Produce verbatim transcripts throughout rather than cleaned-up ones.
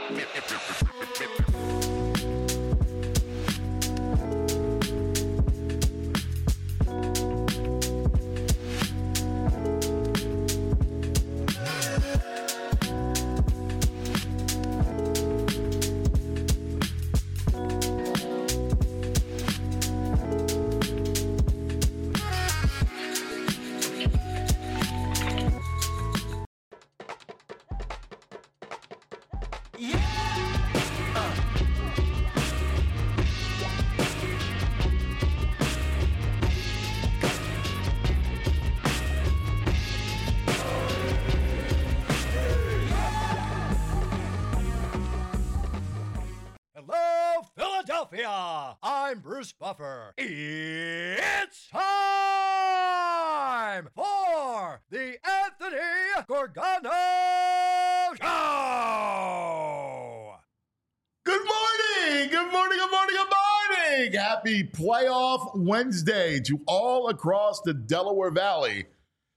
I'm Bruce Buffer. It's time for the Anthony Gorgano Show! Good morning! Good morning, good morning, good morning! Happy Playoff Wednesday to all across the Delaware Valley.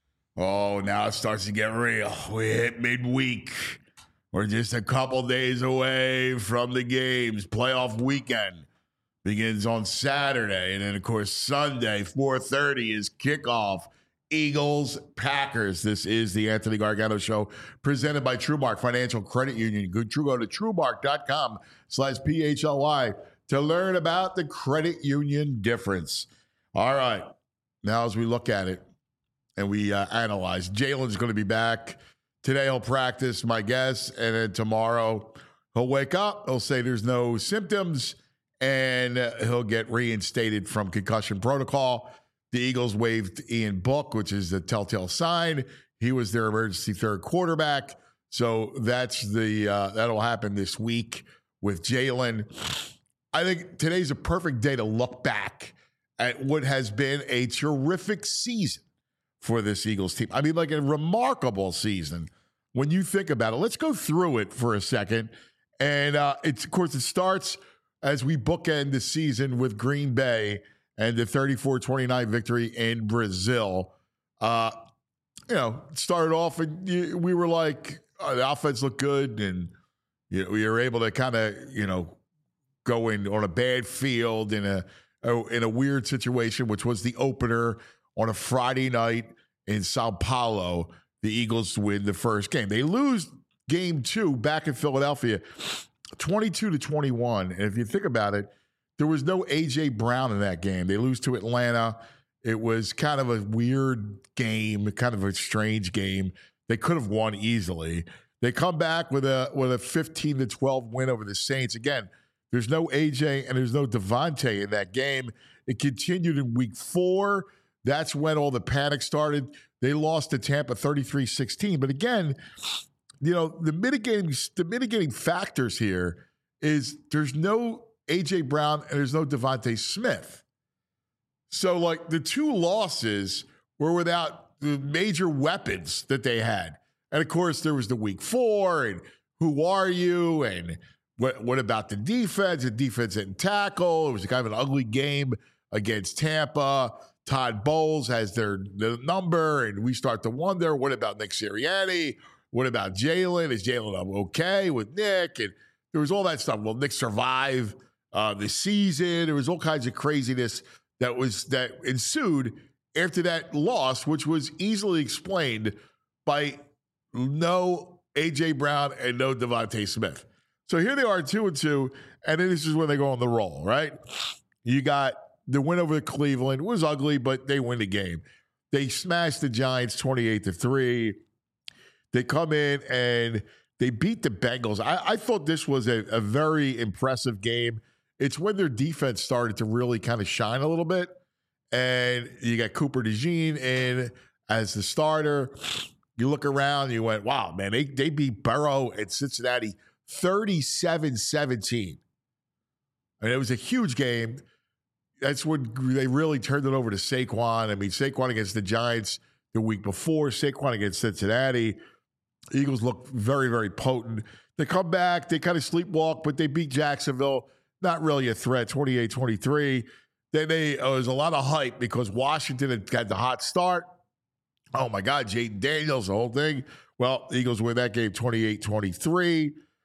Oh, now it starts to get real. We hit midweek. We're just a couple days away from the games. Playoff weekend begins on Saturday. And then, of course, Sunday, four thirty is kickoff. Eagles, Packers. This is the Anthony Gargano Show presented by TrueMark Financial Credit Union. Go to, go to TrueMark.com slash P H L Y to learn about the credit union difference. All right. Now, as we look at it and we uh, analyze, Jalen's going to be back. Today he'll practice, my guess, and then tomorrow he'll wake up, he'll say there's no symptoms, and he'll get reinstated from concussion protocol. The Eagles waived Ian Book, which is the telltale sign. He was their emergency third quarterback. So that's the uh, that'll happen this week with Jalen. I think today's a perfect day to look back at what has been a terrific season for this Eagles team. I mean, like a remarkable season when you think about it. Let's go through it for a second. And uh, it's, of course, it starts as we bookend the season with Green Bay and the thirty-four twenty-nine victory in Brazil. Uh, you know, it started off and you, we were like, oh, the offense looked good. And you know, we were able to kind of, you know, go in on a bad field in a, a in a weird situation, which was the opener on a Friday night in Sao Paulo. The Eagles win the first game. They lose game two back in Philadelphia, twenty-two to twenty-one. And if you think about it, there was no A J Brown in that game. They lose to Atlanta. It was kind of a weird game, kind of a strange game. They could have won easily. They come back with a with a fifteen to twelve win over the Saints. Again, there's no A J and there's no Devontae in that game. It continued in week four. That's when all the panic started. They lost to Tampa thirty-three sixteen. But again, you know, the mitigating the mitigating factors here is there's no A J Brown and there's no Devontae Smith. So, like, the two losses were without the major weapons that they had. And, of course, there was the week four and who are you and what, what about the defense? The defense didn't tackle. It was kind of an ugly game against Tampa. Todd Bowles has their the number, and we start to wonder, what about Nick Sirianni? What about Jalen? Is Jalen okay with Nick? And there was all that stuff. Will Nick survive uh, the season? There was all kinds of craziness that was that ensued after that loss, which was easily explained by no A J Brown and no Devontae Smith. So here they are, two and two, and then this is when they go on the roll, right? You got the win over Cleveland. It was ugly, but they win the game. They smashed the Giants twenty-eight to three. They come in and they beat the Bengals. I, I thought this was a, a very impressive game. It's when their defense started to really kind of shine a little bit. And you got Cooper DeJean in as the starter. You look around, you went, wow, man, they, they beat Burrow and Cincinnati thirty-seven seventeen. I mean, it was a huge game. That's when they really turned it over to Saquon. I mean, Saquon against the Giants the week before, Saquon against Cincinnati. Eagles look very, very potent. They come back, they kind of sleepwalk, but they beat Jacksonville. Not really a threat, twenty-eight twenty-three. Then they, uh, there was a lot of hype because Washington had got the hot start. Oh, my God, Jaden Daniels, the whole thing. Well, the Eagles win that game twenty-eight twenty-three.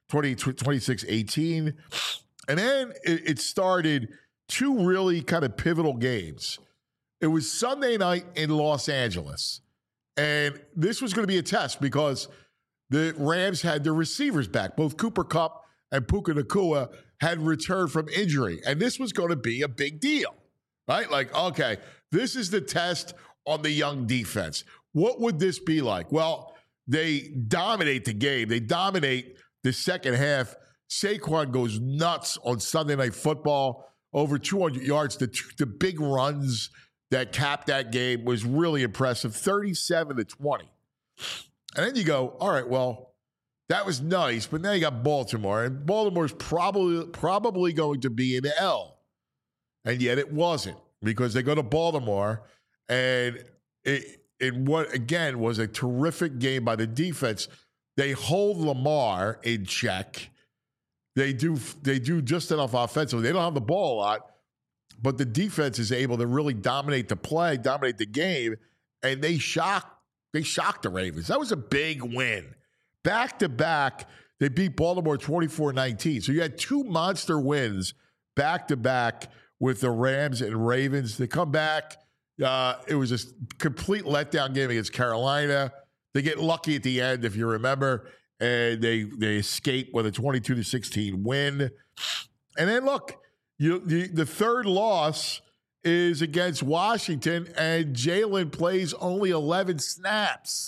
twenty-six eighteen. And then it, it started two really kind of pivotal games. It was Sunday night in Los Angeles. And this was going to be a test because the Rams had their receivers back. Both Cooper Kupp and Puka Nacua had returned from injury. And this was going to be a big deal, right? Like, okay, this is the test on the young defense. What would this be like? Well, they dominate the game. They dominate the second half. Saquon goes nuts on Sunday Night Football, over two hundred yards. The, the big runs that capped that game was really impressive, thirty-seven to twenty. And then you go, all right, well, that was nice, but now you got Baltimore, and Baltimore's probably probably going to be an L. And yet it wasn't, because they go to Baltimore, and it, in what, again, was a terrific game by the defense. They hold Lamar in check. They do they do just enough offensively. They don't have the ball a lot, but the defense is able to really dominate the play, dominate the game, and they shocked they shocked the Ravens. That was a big win. Back to back, they beat Baltimore twenty-four nineteen. So you had two monster wins back to back with the Rams and Ravens. They come back. Uh, it was a complete letdown game against Carolina. They get lucky at the end, if you remember. And they they escape with a twenty-two to sixteen win. And then look, you the, the third loss is against Washington, and Jalen plays only eleven snaps.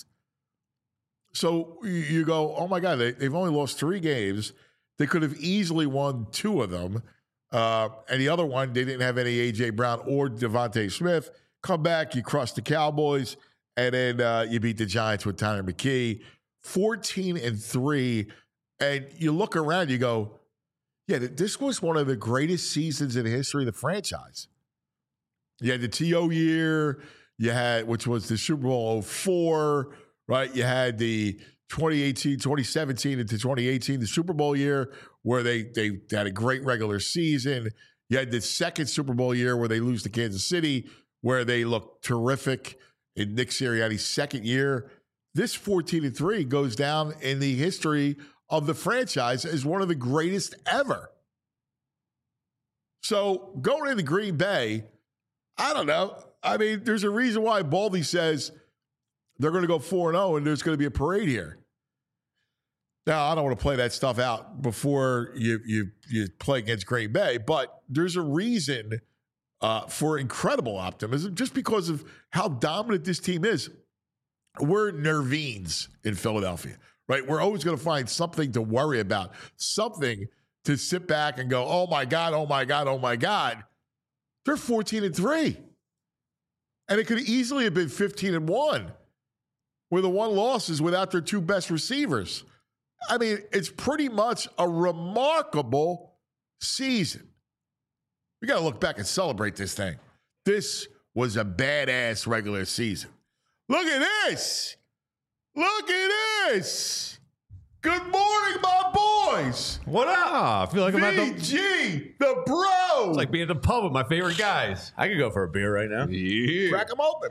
So you go, oh my God, they, they've only lost three games. They could have easily won two of them. Uh, and the other one, they didn't have any A J Brown or Devontae Smith. Come back, you crush the Cowboys, and then uh, you beat the Giants with Tanner McKee. fourteen and three, and you look around, you go, yeah, this was one of the greatest seasons in the history of the franchise. You had the T O year, you had, which was the Super Bowl oh four, right? You had the twenty eighteen, twenty seventeen into twenty eighteen, the Super Bowl year, where they, they had a great regular season. You had the second Super Bowl year where they lose to Kansas City, where they look terrific in Nick Sirianni's second year. This fourteen and three goes down in the history of the franchise as one of the greatest ever. So going into Green Bay, I don't know. I mean, there's a reason why Baldy says they're going to go four and oh and there's going to be a parade here. Now, I don't want to play that stuff out before you you you play against Green Bay, but there's a reason uh, for incredible optimism just because of how dominant this team is. We're nervines in Philadelphia, right? We're always going to find something to worry about, something to sit back and go, oh my God, oh my God, oh my God. They're fourteen and three. And it could easily have been fifteen and one, where the one loss is without their two best receivers. I mean, it's pretty much a remarkable season. We got to look back and celebrate this thing. This was a badass regular season. Look at this. Look at this. Good morning, my boys. What up? I feel like I'm at V the... G, the bro. It's like being at the pub with my favorite guys. I could go for a beer right now. Yeah. Crack them open,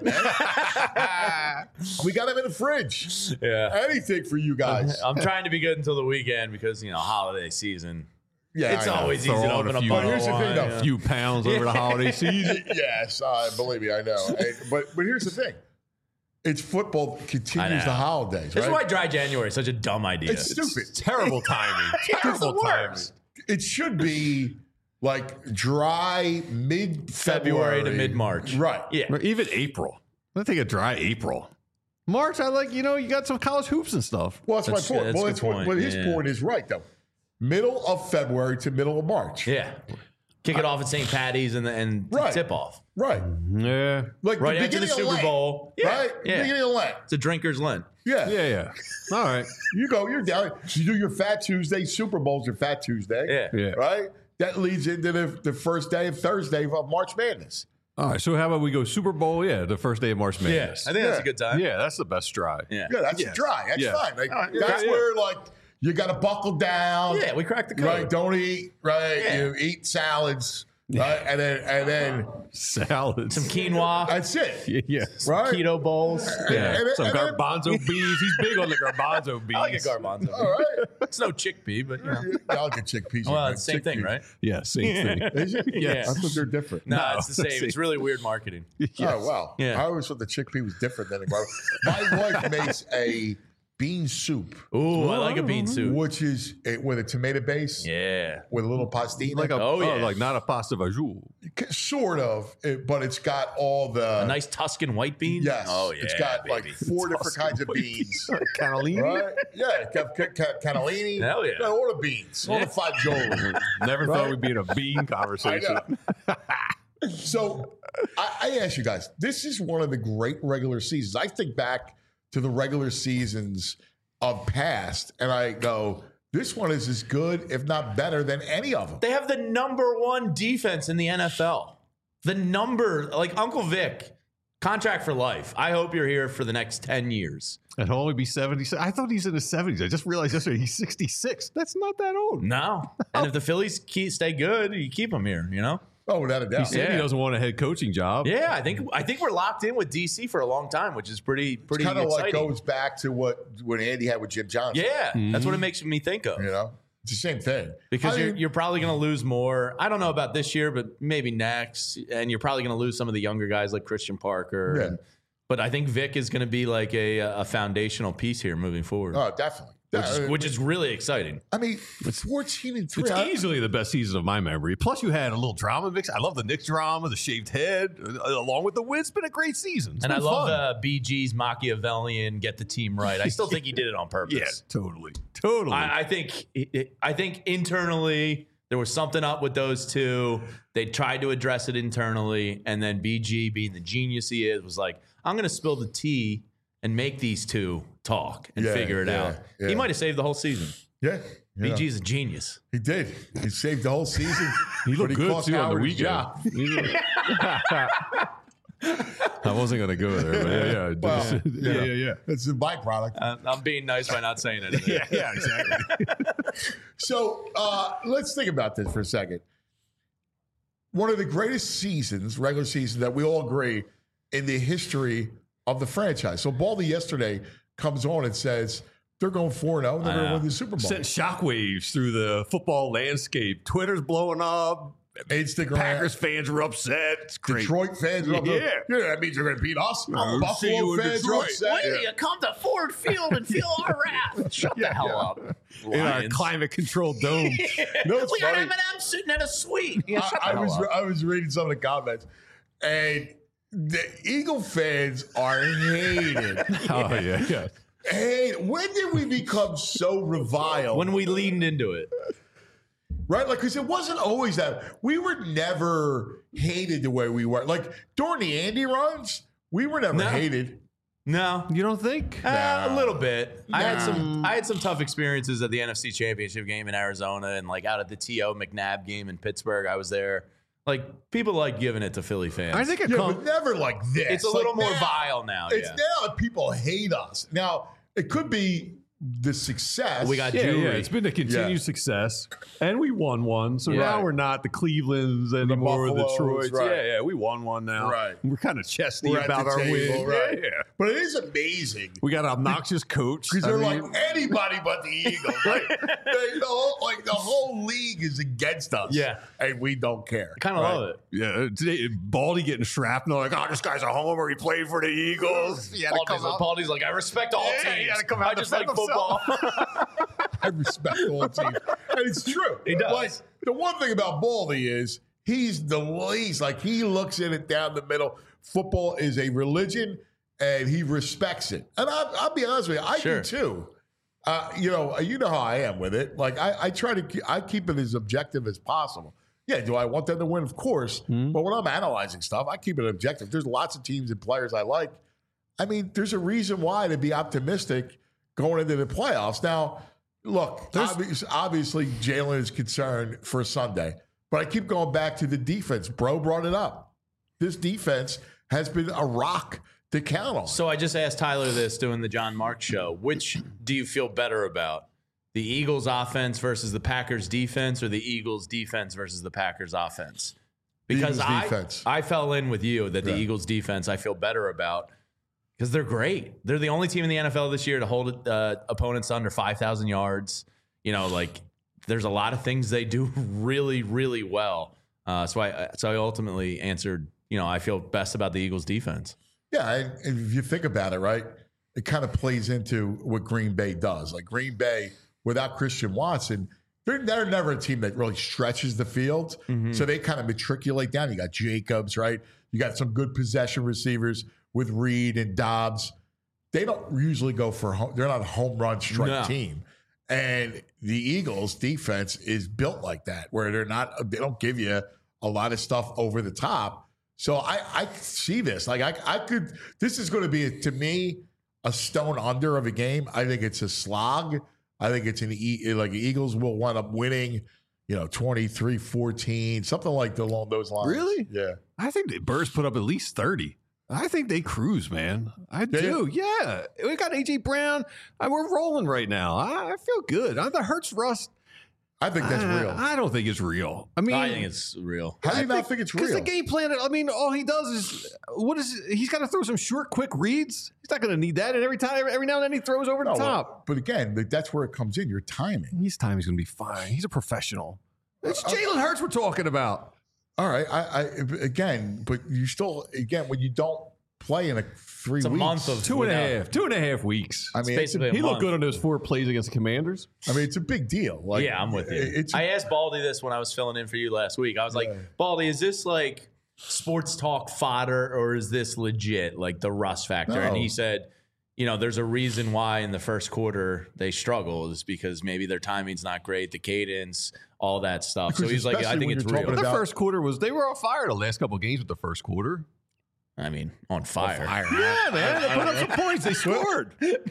man. We got them in the fridge. Yeah. Anything for you guys. I'm trying to be good until the weekend because, you know, holiday season. Yeah, it's I know. always Throw easy to on a open a few- bottle But here's of the thing, wine, though. yeah. A few pounds over the holiday season. Yes, uh, believe me, I know. And- but but here's the thing. It's football continues know. the holidays, This is right? why dry January is such a dumb idea. It's stupid. Terrible timing. Terrible the timing. worst. It should be like dry mid-February. February to mid-March. Right. Yeah. Or even April. I think a dry April. March, I like, you know, you got some college hoops and stuff. Well, that's, That's- my point. that's well, a that's good what, point. but his Yeah. point is right, though. Middle of February to middle of March. Yeah. Kick it off at Saint Patty's and, and Right. tip off. Right. Yeah. Like Right the after the beginning of Super Lent, Bowl. Yeah. Right? Yeah. Beginning of Lent. It's a drinker's Lent. Yeah. Yeah, yeah. All right. You go, you're down. You do your Fat Tuesday. Super Bowl's your Fat Tuesday. Yeah. Yeah. Right? That leads into the, the first day of Thursday of March Madness. All right. So how about we go Super Bowl? Yeah, the first day of March Yeah. Madness. I think that's Yeah. a good time. Yeah, that's the best stride. Yeah. Yeah, that's Yes. dry. That's Yeah. fine. Like, right. that's Yeah, yeah. where, like, you got to buckle down. Yeah, we cracked the code. Right? Don't eat. Right? Yeah. You eat salads. right? And then and then Salad. Some quinoa, that's it, Yeah. yeah. right? keto bowls. Yeah. And- and- Some and then- garbanzo beans. He's big on the garbanzo beans. I like a garbanzo. All right, It's no chickpea, but you know. I like a chickpeas. Well, it's the same thing, right? Yeah, same thing. Is it? Yes. I thought they're different. No, No, it's the same. It's really weird marketing. Yes. Oh wow! Yeah. I always thought the chickpea was different than the garlic. My wife makes a bean soup, Ooh, I like a bean soup. which is a, with a tomato base Yeah. with a little pastina, Like a, Oh, oh, yeah. like not a pasta vajou. sort of, it, but it's got all the A nice Tuscan white bean. yes. Oh yeah. it's got like baby. four different kinds of beans. Cannellini? Right? Yeah, ca- ca- ca- cannellini. Hell yeah. Got all the beans, all the fagioli. Never thought we'd be in a bean I conversation. know. So I, I ask you guys, this is one of the great regular seasons. I think back to the regular seasons of past, and I go, this one is as good, if not better, than any of them. They have the number one defense in the N F L. The number, like Uncle Vic, contract for life. I hope you're here for the next ten years. And he'll only be seventy. I thought he's in his seventies. I just realized yesterday he's sixty-six. That's not that old. No. And if the Phillies keep, stay good, you keep them here, you know? Oh, without a He doubt. said he Yeah. doesn't want a head coaching job. Yeah, I think I think we're locked in with D C for a long time, which is pretty pretty Kind of like exciting. goes back to what what Andy had with Jim Johnson. yeah, that's what it makes me think of. You know, it's the same thing. Because I you're, mean, you're probably going to lose more. I don't know about this year, but maybe next. And you're probably going to lose some of the younger guys like Christian Parker. Yeah. And- but I think Vic is going to be like a, a foundational piece here moving forward, oh, definitely. which, is, Uh, which is really exciting. I mean, fourteen and three. It's I- easily the best season of my memory. Plus, you had a little drama mix. I love the Knicks drama, the shaved head, uh, along with the win. It's been a great season. It's And I been love fun. uh, B G's Machiavellian get the team right. I still think he did it on purpose. Yeah, totally, totally. I, I think I think internally there was something up with those two. They tried to address it internally, and then B G, being the genius he is, was like, "I'm going to spill the tea and make these two talk and Yeah, figure it yeah, out." yeah. He might have saved the whole season. yeah. B yeah. G's a genius. He did. He saved the whole season. he looked but good cost too on the Howard his weekend. job. He looked- I wasn't going to go there, but yeah, yeah, Well, yeah, yeah, yeah. It's a byproduct. Uh, I'm being nice by not saying anything. Yeah, yeah, exactly. So uh, let's think about this for a second. One of the greatest seasons, regular season, that we all agree in the history of the franchise. So Baldy yesterday comes on and says they're going four and oh and they're I going to know. win the Super Bowl. Sent shockwaves through the football landscape. Twitter's blowing up. Instagram. Packers fans were upset. It's great. Detroit fans are up Yeah. there. Yeah, that means they're going to beat us. I'll see Buffalo you in fans are Detroit. upset. When do you come to Ford Field and feel our wrath? Shut the hell up. In our Lions. climate controlled dome. No, it's we got funny. Eminem sitting in a suite. Yeah, shut I, I the hell was up. I was reading some of the comments, and the Eagle fans are hated. Oh, yeah, yeah. Hey, when did we become so reviled? When we leaned into it. right? Like, because it wasn't always that. We were never hated the way we were. Like, during the Andy runs, we were never No. hated. No. You don't think? Uh, Nah. a little bit. I had Nah. some. I had some tough experiences at the N F C Championship game in Arizona, and like out at the T O McNabb game in Pittsburgh. I was there. Like people like giving it to Philly fans. I think it Yeah, comes. but never like this. it's a Like, little more now- vile now. It's Yeah. now that people hate us. Now, it could be the success. We got Yeah, jewelry. yeah, it's been a continued Yeah. success, and we won one. So Yeah. now we're not the Clevelands anymore, the, Buffaloes, Detroits. right. Yeah, yeah, we won one now. Right. We're kind of chesty We're at about the our table, win. right? Yeah, yeah. But it is amazing. We got an obnoxious coach. Because I they're mean, like anybody but the Eagles. Like, they, the whole, like the whole league is against us. Yeah. And we don't care. kind of Right? love it. yeah, today, Baldy getting shrapnel. Like, oh, this guy's a homer. He played for the Eagles. He had to Baldy's come like, out. Baldy's like, I respect all Yeah, teams. he had to come out I and just like defend football. I respect all teams. And it's true. He does. Like, the one thing about Baldy is he's the least. Like, he looks at it down the middle. Football is a religion, and he respects it. And I, I'll be honest with you, I Sure. do too. Uh, you know, you know how I am with it. Like, I, I try to, keep, I keep it as objective as possible. Yeah, do I want them to win? Of course. But when I'm analyzing stuff, I keep it objective. There's lots of teams and players I like. I mean, there's a reason why to be optimistic going into the playoffs. Now, look, obvious, obviously Jalen is concerned for Sunday, but I keep going back to the defense. Bro brought it up. This defense has been a rock to count on. So I just asked Tyler this doing the John Mark show. Which do you feel better about? The Eagles offense versus the Packers defense, or the Eagles defense versus the Packers offense? because Eagles I defense. I fell in with you that the Yeah. Eagles defense I feel better about because they're great. They're the only team in the N F L this year to hold uh, opponents under five thousand yards. You know, like there's a lot of things they do really, really well. Uh, so I so I ultimately answered, you know, I feel best about the Eagles defense. Yeah, and and if you think about it, right, it kind of plays into what Green Bay does. Like Green Bay, without Christian Watson, they're, they're never a team that really stretches the field. Mm-hmm. So they kind of matriculate down. You got Jacobs, right? You got some good possession receivers with Reed and Dobbs. They don't usually go for home. They're not a home run strike No. team. And the Eagles defense is built like that, where they're not, they don't give you a lot of stuff over the top. So I, I see this. Like I, I could, this is going to be, to me, a stone under of a game. I think it's a slog. I think it's an, e- like the Eagles will wind up winning, you know, twenty-three fourteen, something like along those lines. Really? Yeah. I think the Bears put up at least thirty. I think they cruise, man. I They- do. Yeah. We got A J Brown. I, we're rolling right now. I, I feel good. I, the Hurts rust. I think that's I, real. I don't think it's real. I mean, I think it's real. How do you I not think it's Because real? the game plan, I mean, all he does is, what is, he's got to throw some short, quick reads. He's not going to need that. And every time, every now and then he throws over the No, top. But again, like, that's where it comes in, your timing. His time is going to be fine. He's a professional. It's Uh, Jalen Hurts we're talking about. All right. I, I again, but you still, again, when you don't play in a three It's a weeks. month of Two and a without- half. Two and a half weeks. I It's mean, it's a, basically a He looked month. good on those four plays against the Commanders. I mean, it's a big deal. Like, Yeah, I'm with you. It's I asked Baldy this when I was filling in for you last week. I was like, Baldy, is this like sports talk fodder or is this legit, like the rust factor? And No. he said, you know, there's a reason why in the first quarter they struggle is because maybe their timing's not great, the cadence, all that stuff. Because so he's like, I especially think when it's you're real. talking The about- first quarter was, they were on fire the last couple of games with the first quarter. I mean, on fire. Yeah, man. They put up some points. They scored.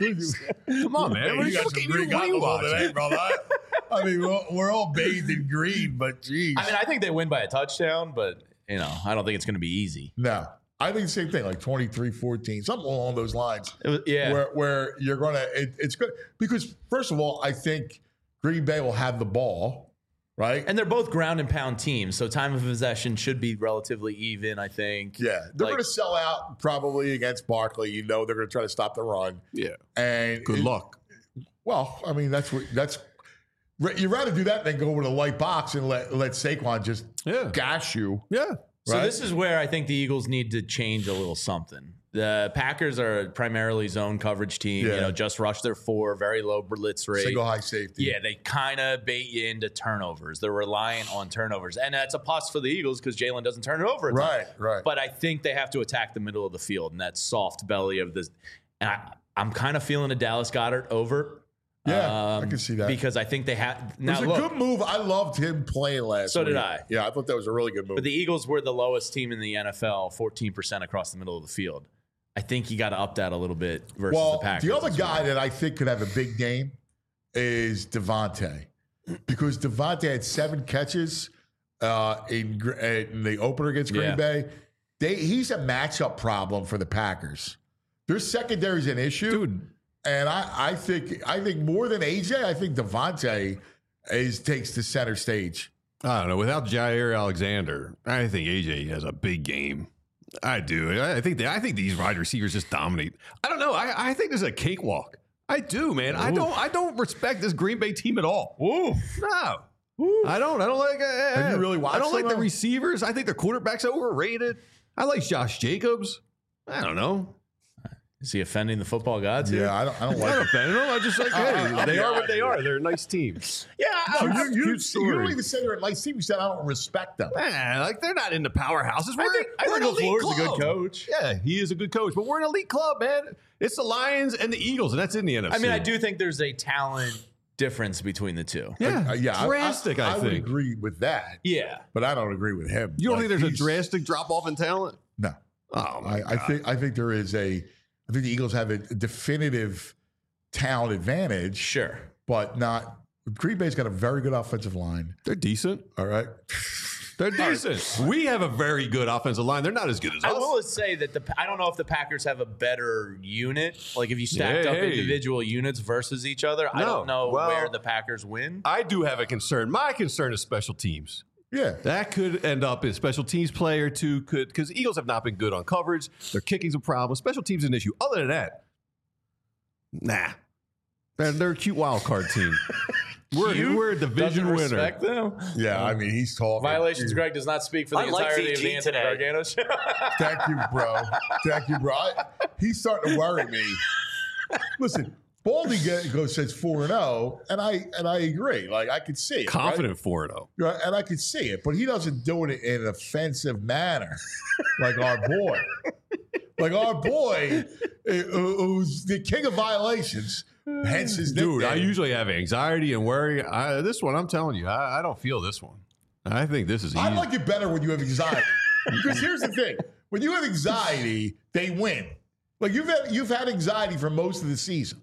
Come on, man. What, you got what some game green you- what are you goggles on watching? today, brother. I mean, we're, we're all bathed in green, but geez. I mean, I think they win by a touchdown, but, you know, I don't think it's going to be easy. no. I think the same thing, like twenty-three fourteen, something along those lines. It was, yeah. Where, where you're going to, it, it's good. Because, first of all, I think Green Bay will have the ball, right? And they're both ground and pound teams, so time of possession should be relatively even, I think. Yeah, they're Like- going to sell out probably against Barkley. You know, they're going to try to stop the run. Yeah. And Good it- luck. Well, I mean, that's what that's. You'd rather do that than go with a light box and let let Saquon just Yeah. gash you. Yeah. So Right? this is where I think the Eagles need to change a little something. The Packers are a primarily zone coverage team. Yeah. You know, just rush their four, very low blitz rate. Single high safety. Yeah, they kind of bait you into turnovers. They're reliant on turnovers, and that's a plus for the Eagles because Jalen doesn't turn it over. A ton. Right, right. But I think they have to attack the middle of the field and that soft belly of this. And I, I'm kind of feeling a Dallas Goedert over. Yeah, I can see that. because I think they have it now. was a Look, good move. I loved him playing last So week. did I. Yeah, I thought that was a really good move. but the Eagles were the lowest team in the N F L, fourteen percent across the middle of the field. I think you got to up that a little bit versus well, the Packers. the other this guy week. that I think could have a big game is Devontae. Because Devontae had seven catches uh, in, Gr- in the opener against Green Yeah. Bay. They, he's a matchup problem for the Packers. Their secondary is an issue. Dude. And I, I think I think more than A J, I think Devontae is takes the center stage. I don't know. Without Jair Alexander, I think A J has a big game. I do. I I think they, I think these wide receivers just dominate. I don't know. I, I think this is a cakewalk. I do, man. I don't. I don't respect this Green Bay team at all. Ooh. No. I don't. I don't like. Uh, Have you really watched I don't like them, the though? receivers. I think the quarterback's overrated. I like Josh Jacobs. I don't know. Is he offending the football gods here? Yeah, I don't I don't I like don't it. offend them. I just like, hey, I'll they be are what honest they with are. They're a nice team. Yeah. No, I- you, you, Cute you story. don't even say they're a nice team. You said I don't respect them. Man, like they're not in the powerhouses. We're, I think, I we're think an elite LaFleur's a good club. coach. Yeah, he is a good coach, but we're an elite club, man. It's the Lions and the Eagles, and that's in the N F C. I mean, I do think there's a talent difference between the two. Yeah, Uh, yeah, I- drastic. I, I, I would think. agree with that, Yeah. but I don't agree with him. You don't Like, think there's a he's- drastic drop off in talent? No, Oh my I, I God. think I think there is a. I think the Eagles have a definitive talent advantage, Sure. but not. Green Bay's got a very good offensive line. they're decent. All right, They're decent. We have a very good offensive line. They're not as good as I us. will say that the I don't know if the Packers have a better unit. Like if you stacked Yeah, up hey. individual units versus each other, I No. don't know Well- where the Packers win. I do have a concern. My concern is special teams. Yeah. That could end up in special teams player too. Could because Eagles have not been good on coverage. Their kicking's a problem. Special teams is an issue. Other than that, nah. They're, they're a cute wild card team. We're, Cute? we're a division Doesn't winner. respect them. Yeah, I mean, he's talking. Violations. Greg does not speak for the I like entirety of V G the Anthony today. Gargano show. Thank you, bro. Thank you, bro. I, he's starting to worry me. Listen, Baldy get, goes says four and zero, and I and I agree. Like I could see it, Confident four and oh. right? Right, and I could see it, but he doesn't do it in an offensive manner, like our boy, like our boy, uh, who's the king of violations. Hence his Dude, nickname. I usually have anxiety and worry. I, this one, I'm telling you, I, I don't feel this one. I think this is easy. I like it better when you have anxiety. Because here's the thing: when you have anxiety, they win. Like you've had you've had anxiety for most of the season.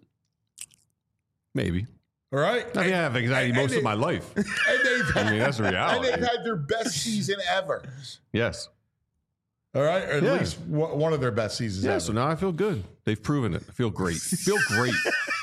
Maybe. All right. I mean, I have anxiety and- most and of my they- life. And they've had, I mean, that's the and reality. they've had their best season ever. Yes. All right, or at Yeah. least one one of their best seasons Yeah, ever. so now I feel good. They've proven it. I feel great. I feel great.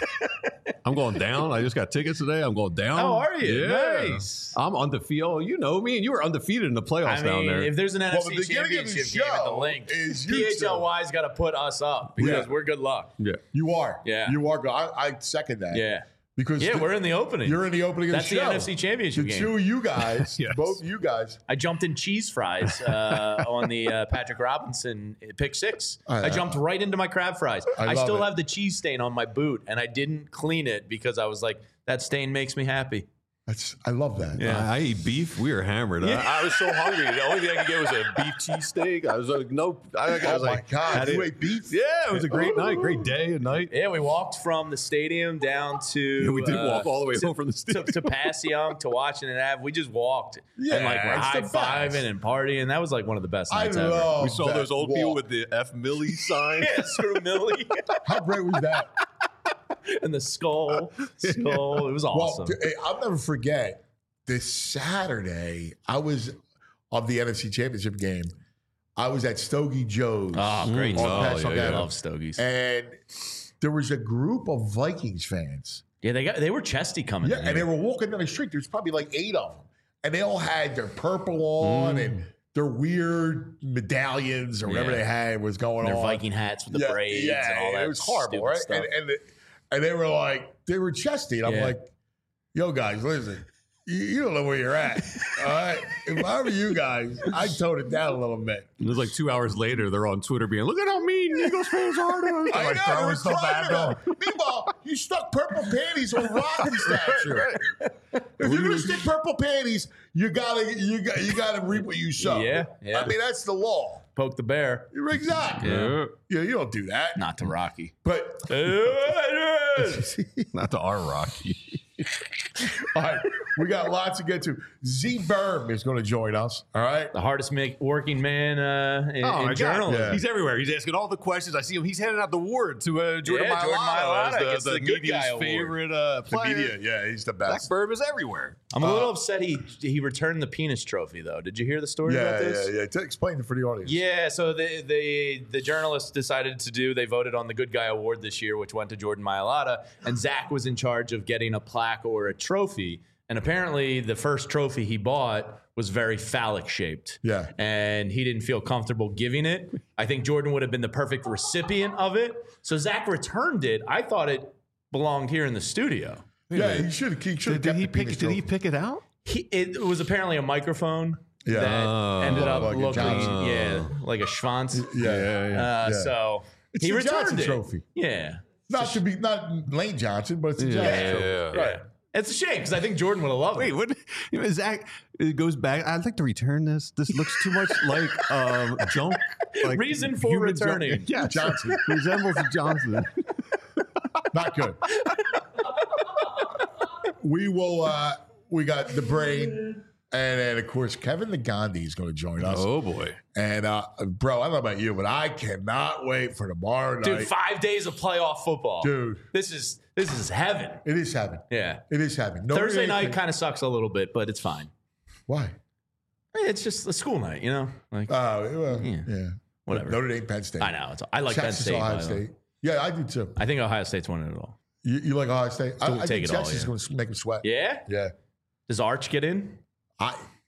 I'm going down. I just got tickets today. I'm going down. Oh, are you? Yeah. Nice. I'm undefeated. You know me, and you were undefeated in the playoffs I down mean, there. if there's an Well, N F the C beginning of the championship game at the show link, is you P H L Y's got to put us up because Yeah. we're good luck. yeah. You are. Yeah. You are. I, I second that. Yeah. Because Yeah, the- we're in the opening. you're in the opening That's of the the show. N F C championship The game. two of you guys, Yes. both you guys. I jumped in cheese fries uh, on the uh, Patrick Robinson pick six. I- I jumped right into my crab fries. I I, love still it. have the cheese stain on my boot, and I didn't clean it because I was like, that stain makes me happy. That's. I love that. I, I eat beef. We were hammered. I, I was so hungry. The only thing I could get was a beef cheesesteak. I was like, no. I, I was Oh like, my God! had You it- ate beef? Yeah, it was a great night, great day and night. Yeah, we walked from the stadium down to. Yeah, we did uh, walk all the way to, home from the to, stadium. to Passyunk to Washington Ave. We just walked Yeah, and like we're it's high the fiving best. and partying. That was like one of the best I nights ever. love. We saw that those old people walk. with the F Millie sign. Yeah, screw Millie How great was that? and the skull, skull. It was awesome. Well, t- I'll never forget this Saturday. I was of the N F C Championship game. I was at Stogie Joe's. Oh, great. on Oh, Passyunk yeah, I Avenue. love Stogies. And there was a group of Vikings fans. Yeah, they got they were chesty coming. Yeah, in and they here. were walking down the street. There's probably like eight of them, and they all had their purple on and their weird medallions or whatever Yeah. they had was going their on. Viking hats with the braids and all that. It was horrible, stupid right? stuff. And and, the, and they were like, they were chesty, and I'm Yeah. like, yo, guys, listen. You, you don't know where you're at. All right. If I were you guys, I'd tone it down a little bit. And it was like two hours later, they're on Twitter being, look at how mean Eagles fans are to us. I Like, know, throwing they were stuff crying at about them. it. Meanwhile, you stuck purple panties on Rock's statue. If you're gonna stick purple panties, you gotta you got you gotta reap what you sow. Yeah, yeah. I mean that's the law. Poke the bear. You're exactly. Yeah. Yeah, you don't do that. Not to Rocky. But Not to our Rocky. all right, we got lots to get to. Z Berm is going to join us. All right. The hardest make, working man uh, in, Oh, in my God. journalism. Yeah. He's everywhere. He's asking all the questions. I see him. He's handing out the award to uh, Jordan Yeah, Jordan Mailata, Mailata as gets the, the the, good media's guy award. favorite uh, The player. media, yeah, he's the Zach best. Berm is everywhere. I'm a little upset he he returned the penis trophy though. Did you hear the story Yeah, about this? yeah, yeah. To explain it for the audience. Yeah, so the, the the journalists decided to do. They voted on the Good Guy Award this year, which went to Jordan Mailata, and Zach was in charge of getting a plaque or a trophy. And apparently, the first trophy he bought was very phallic shaped. Yeah. and he didn't feel comfortable giving it. I think Jordan would have been the perfect recipient of it. So Zach returned it. I thought it belonged here in the studio. Yeah, he should. He should. Did, did he pick? Did he pick it out? He, it was apparently a microphone. Yeah. that Oh. ended up Like a looking, Johnson. yeah, like a Schwanz. Yeah, yeah, yeah. Uh, yeah. So It's he the returned Johnson it. trophy. Yeah. Not to be not Lane Johnson, but it's a Yeah, Johnson yeah, trophy. yeah. Right. It's a shame because I think Jordan would have loved Wait, it. what? You know, Zach it goes back. I'd like to return this. This looks too much like um, junk. Like Reason for human returning. Junk. Yeah, Johnson. resembles a Johnson. Not good. we will. uh We got the brain, and then of course Kevin the Gandhi is going to join us. Oh boy. And uh bro, I don't know about you, but I cannot wait for tomorrow Dude, night. five days of playoff football. Dude. This is this is heaven. It is heaven. Yeah. It is heaven. Notre Thursday Dame night can- kind of sucks a little bit, but it's fine. Why? It's just a school night, you know? Like Oh, well, Yeah. yeah. Whatever. Notre Dame, Penn State. I know. It's, I like Penn Texas, State. Ohio by the way. State. Yeah, I do too. I think Ohio State's winning it all. You, you like Ohio State? I, Don't I take think it all, Texas is yeah. going to make them sweat. Yeah? Yeah. Does Arch get in? I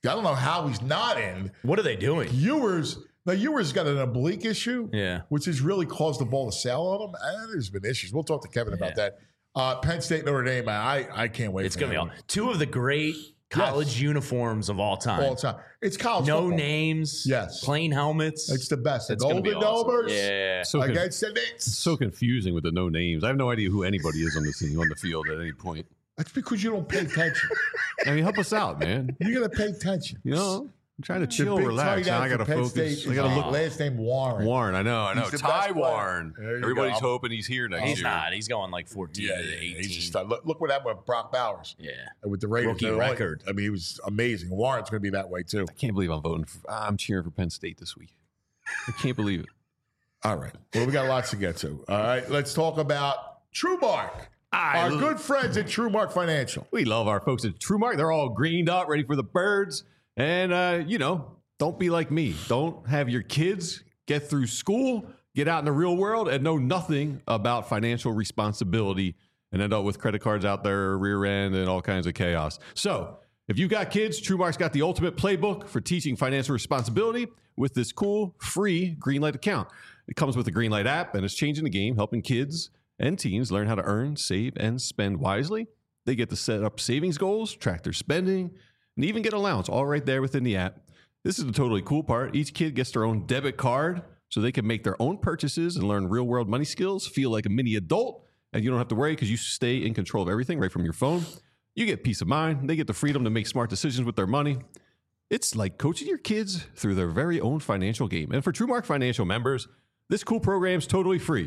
I don't know how he's not in. What are they doing? Ewers, now Ewers got an oblique issue, Yeah. which has really caused the ball to sail on him. And there's been issues. We'll talk to Kevin about Yeah. that. Uh, Penn State, Notre Dame, I, I can't wait. It's for going to be that all two of the great college Yes. uniforms of all time. one. all the time. It's college No football. names. Yes. Plain helmets. It's the best. The It's gonna be Golden awesome. Domers Yeah. So, con- against the Knicks. so confusing with the no names. I have no idea who anybody is on the scene, on the field at any point. That's because you don't pay attention. I mean, help us out, man. You got to pay attention. You know, I'm trying to The chill, big relax. tight Now end I for got to Penn focus. State I got to is, look. uh, last name Warren. Warren, I know, I know. He's the Ty best player. Warren. There you Everybody's go. hoping he's here next He's year. not. He's going like fourteen Yeah, to yeah, eighteen. he's just, uh, look, look what happened with Brock Bowers yeah. uh, with the Raiders. Rookie They're only- record. I mean, he was amazing. Warren's going to be that way too. I can't believe I'm voting. For, I'm cheering for Penn State this week. I can't believe it. All right. Well, we got lots to get to. All right. Let's talk about TrueMark. I Our lo- good friends at TrueMark Financial. We love our folks at TrueMark. They're all greened up, ready for the birds. And, uh, you know, don't be like me. Don't have your kids get through school, get out in the real world, and know nothing about financial responsibility and end up with credit cards out there, rear end, and all kinds of chaos. So if you've got kids, TrueMark's got the ultimate playbook for teaching financial responsibility with this cool, free Greenlight account. It comes with the Greenlight app, and it's changing the game, helping kids and teens learn how to earn, save, and spend wisely. They get to set up savings goals, track their spending, and even get allowance all right there within the app. This is the totally cool part. Each kid gets their own debit card so they can make their own purchases and learn real-world money skills, feel like a mini adult, and you don't have to worry because you stay in control of everything right from your phone. You get peace of mind. They get the freedom to make smart decisions with their money. It's like coaching your kids through their very own financial game. And for TrueMark Financial members, this cool program is totally free.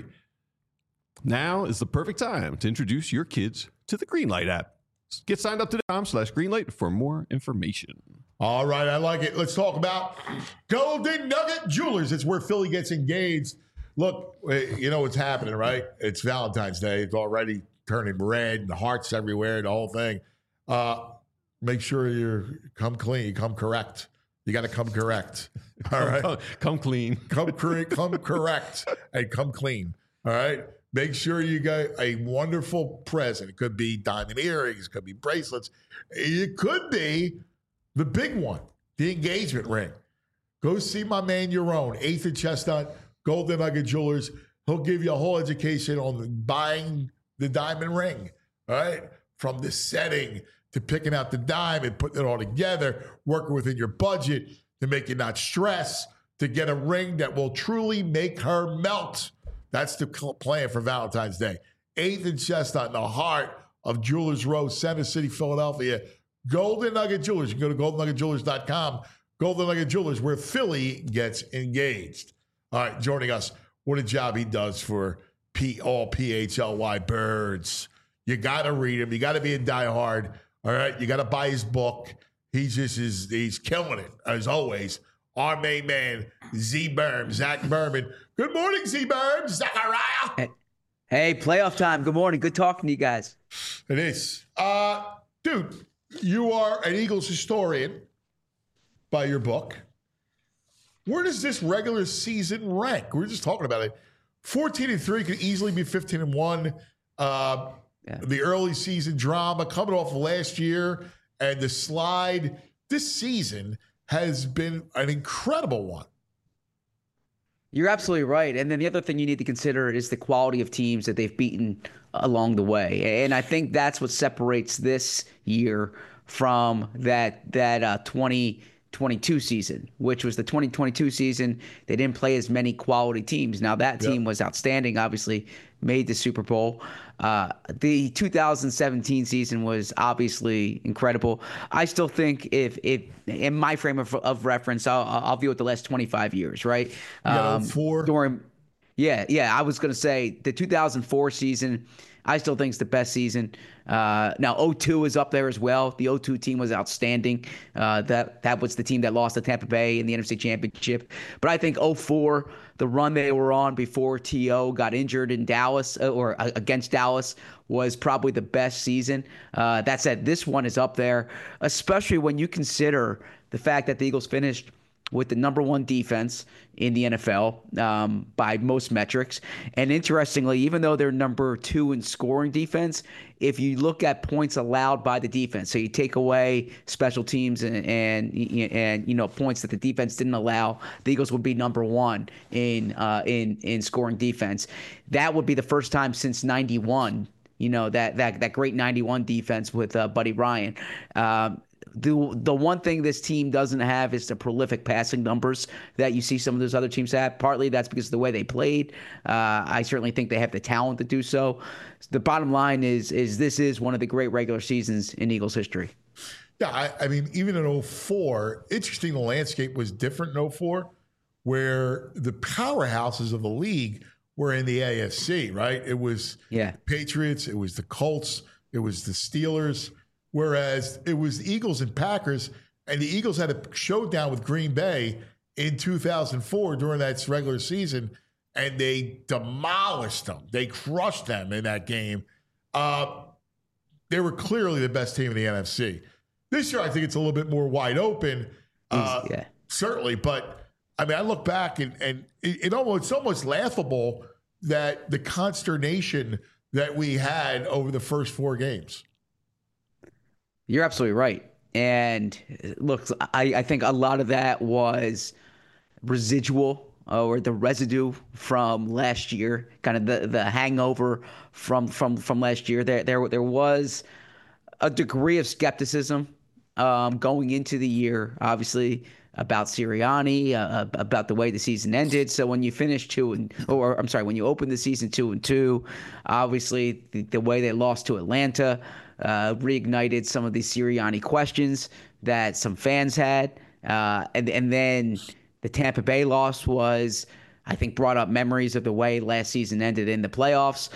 Now is the perfect time to introduce your kids to the Greenlight app. Get signed up to com slash Greenlight for more information. All right. I like it. Let's talk about Golden Nugget Jewelers. It's where Philly gets engaged. Look, you know what's happening, right? It's Valentine's Day. It's already turning red and hearts everywhere, the whole thing. Uh, make sure you come clean, come correct. You got to come correct. All right. Come, come clean. Come, cor- come correct and come clean. All right. Make sure you get a wonderful present. It could be diamond earrings, it could be bracelets. It could be the big one, the engagement ring. Go see my man, your own, eighth and Chestnut, Golden Nugget Jewelers. He'll give you a whole education on buying the diamond ring, all right? From the setting to picking out the diamond, putting it all together, working within your budget to make you not stress, to get a ring that will truly make her melt. That's the plan for Valentine's Day. eighth and Chestnut in the heart of Jewelers Row, Center City, Philadelphia. Golden Nugget Jewelers. You can go to golden nugget jewelers dot com. Golden Nugget Jewelers, where Philly gets engaged. All right, joining us. What a job he does for P all P H L Y birds. You got to read him. You got to be a diehard. All right, you got to buy his book. He just is, he's killing it, as always. Our main man, Z Berm, Zach Berman. Good morning, Z Berm, Zachariah. Hey, hey, playoff time. Good morning. Good talking to you guys. It is. Uh, dude, you are an Eagles historian by your book. Where does this regular season rank? We were just talking about it. fourteen and three could easily be fifteen and one. Uh, Yeah. The early season drama coming off of last year and the slide this season has been an incredible one. You're absolutely right. And then the other thing you need to consider is the quality of teams that they've beaten along the way. And I think that's what separates this year from that that uh, twenty twenty-two season, which was the twenty twenty-two season. They didn't play as many quality teams. Now, that team Yep. was outstanding, obviously, made the Super Bowl. Uh, the two thousand seventeen season was obviously incredible. I still think if, if in my frame of, of reference, I'll, I'll view it the last twenty-five years, right? got oh four. During, yeah, yeah, I was going to say the two thousand four season, I still think it's the best season. Uh, now, oh two is up there as well. The oh two team was outstanding. Uh, that that was the team that lost to Tampa Bay in the N F C Championship. But I think oh four, the run they were on before T O got injured in Dallas uh, or uh, against Dallas, was probably the best season. Uh, that said, this one is up there, especially when you consider the fact that the Eagles finished with the number one defense in the N F L um, by most metrics. And interestingly, even though they're number two in scoring defense, if you look at points allowed by the defense, so you take away special teams and and, and you know points that the defense didn't allow, the Eagles would be number one in uh, in in scoring defense. That would be the first time since ninety-one. You know that that that great ninety-one defense with uh, Buddy Ryan. Um, The the one thing this team doesn't have is the prolific passing numbers that you see some of those other teams have. Partly that's because of the way they played. Uh, I certainly think they have the talent to do so. The bottom line is is this is one of the great regular seasons in Eagles history. Yeah, I, I mean, even in oh four, interesting, the landscape was different in oh four, where the powerhouses of the league were in the A F C, right? It was yeah. Patriots, it was the Colts, it was the Steelers. Whereas it was the Eagles and Packers, and the Eagles had a showdown with Green Bay in two thousand four during that regular season, and they demolished them. They crushed them in that game. Uh, they were clearly the best team in the N F C. This year, I think it's a little bit more wide open, uh, yeah. certainly. But, I mean, I look back, and, and it, it almost, it's almost laughable that the consternation that we had over the first four games. You're absolutely right. And look, I, I think a lot of that was residual uh, or the residue from last year, kind of the, the hangover from from from last year. There there there was a degree of skepticism um, going into the year, obviously, about Sirianni, uh, about the way the season ended. So when you finish two and, or I'm sorry, when you open the season two and two, obviously the, the way they lost to Atlanta uh, reignited some of the Sirianni questions that some fans had, uh, and and then the Tampa Bay loss was, I think, brought up memories of the way last season ended in the playoffs.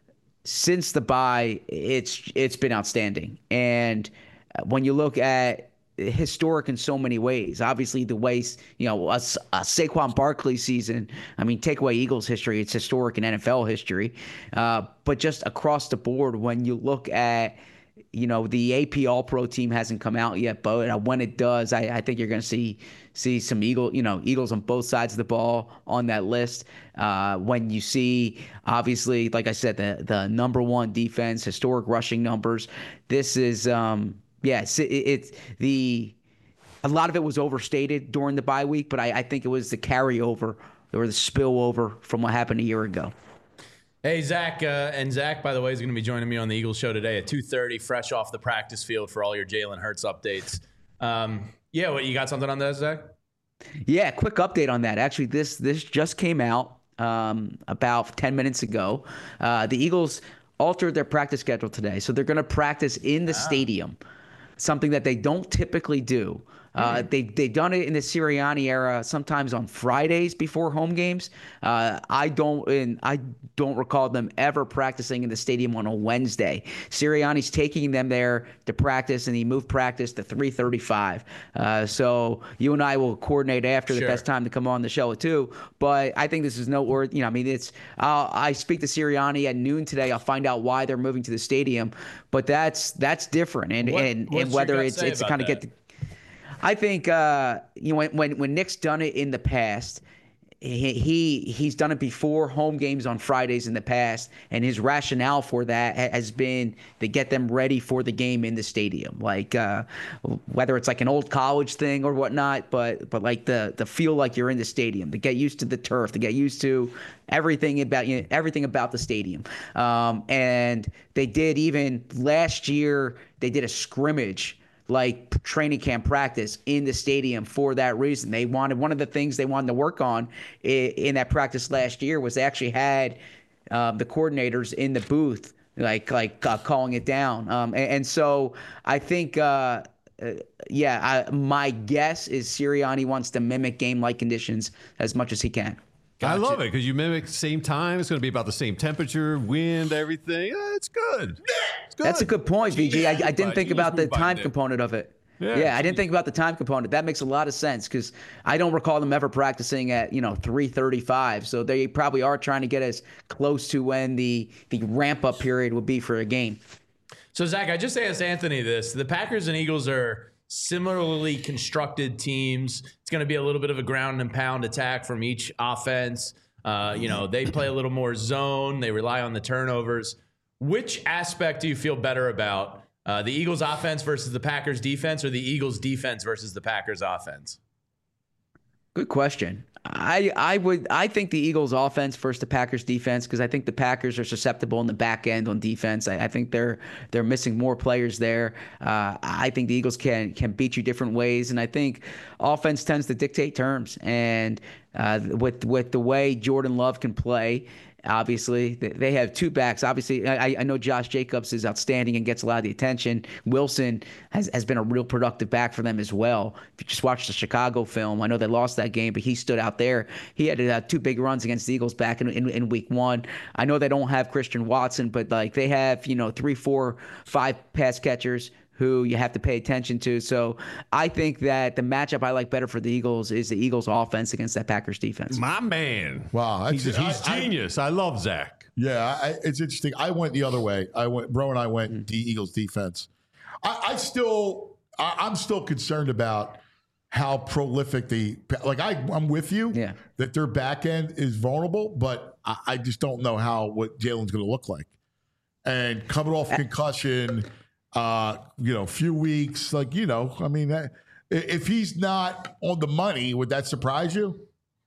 Since the bye, it's it's been outstanding, and when you look at historic in so many ways. Obviously, the way, you know, a, a Saquon Barkley season, I mean, take away Eagles history, it's historic in N F L history. Uh, but just across the board, when you look at, you know, the A P All-Pro team hasn't come out yet, but when it does, I, I think you're going to see see some Eagle, you know, Eagles on both sides of the ball on that list. Uh, when you see, obviously, like I said, the the number one defense, historic rushing numbers, this is um, – Yes, it, it's the a lot of it was overstated during the bye week, but I, I think it was the carryover or the spillover from what happened a year ago. Hey, Zach, uh, and Zach, by the way, is going to be joining me on the Eagles show today at two thirty, fresh off the practice field for all your Jalen Hurts updates. Um, yeah, what, you got something on that, Zach? Yeah, quick update on that. Actually, this this just came out um, about ten minutes ago. Uh, the Eagles altered their practice schedule today, so they're going to practice in the ah. stadium. Something that they don't typically do. Uh, mm-hmm. they, they've done it in the Sirianni era, sometimes on Fridays before home games. Uh, I don't and I don't recall them ever practicing in the stadium on a Wednesday. Sirianni's taking them there to practice, and he moved practice to three thirty-five. Uh, so you and I will coordinate after sure. the best time to come on the show at two. But I think this is noteworthy. You know, I mean, it's uh, I speak to Sirianni at noon today. I'll find out why they're moving to the stadium. But that's that's different, and what, and, and whether it's it's to kind of get the I think uh, you know when, when when Nick's done it in the past, he, he he's done it before home games on Fridays in the past, and his rationale for that has been to get them ready for the game in the stadium, like uh, whether it's like an old college thing or whatnot, but but like the the feel like you're in the stadium, to get used to the turf, to get used to everything about you know, everything about the stadium. Um, and they did even last year. They did a scrimmage, like training camp practice in the stadium for that reason. They wanted, one of the things they wanted to work on in, in that practice last year was they actually had um, the coordinators in the booth, like like uh, calling it down. Um, and, and so I think, uh, uh, yeah, I, my guess is Sirianni wants to mimic game-like conditions as much as he can. Gotcha. I love it because you mimic the same time. It's going to be about the same temperature, wind, everything. Yeah, it's good. It's good. That's a good point, V G. I, I didn't think about the time there. component of it. Yeah. yeah, I didn't think about the time component. That makes a lot of sense because I don't recall them ever practicing at, you know, three thirty-five. So they probably are trying to get as close to when the, the ramp-up period would be for a game. So, Zach, I just asked Anthony this. The Packers and Eagles are similarly constructed teams. It's going to be a little bit of a ground and pound attack from each offense. Uh, you know, they play a little more zone. They rely on the turnovers. Which aspect do you feel better about? Uh, the Eagles offense versus the Packers defense, or the Eagles defense versus the Packers offense? Good question. I I would I think the Eagles offense versus the Packers defense, because I think the Packers are susceptible in the back end on defense. I, I think they're they're missing more players there. Uh, I think the Eagles can can beat you different ways, and I think offense tends to dictate terms. And uh, with with the way Jordan Love can play, obviously they have two backs. Obviously, I, I know Josh Jacobs is outstanding and gets a lot of the attention. Wilson has, has been a real productive back for them as well. If you just watch the Chicago film, I know they lost that game, but he stood out there. He had uh, two big runs against the Eagles back in, in, in week one. I know they don't have Christian Watson, but like they have, you know, three, four, five pass catchers who you have to pay attention to. So I think that the matchup I like better for the Eagles is the Eagles offense against that Packers defense. My man. Wow, that's, he's, he's I, genius. I, I love Zach. Yeah, I, it's interesting. I went the other way. I went, Bro and I went mm. the Eagles defense. I, I still, I, I'm still concerned about how prolific the like. I, I'm with you. Yeah. That their back end is vulnerable, but I, I just don't know how what Jalen's going to look like. And coming off concussion. Uh, you know, few weeks, like, you know, I mean, uh, if he's not on the money, would that surprise you?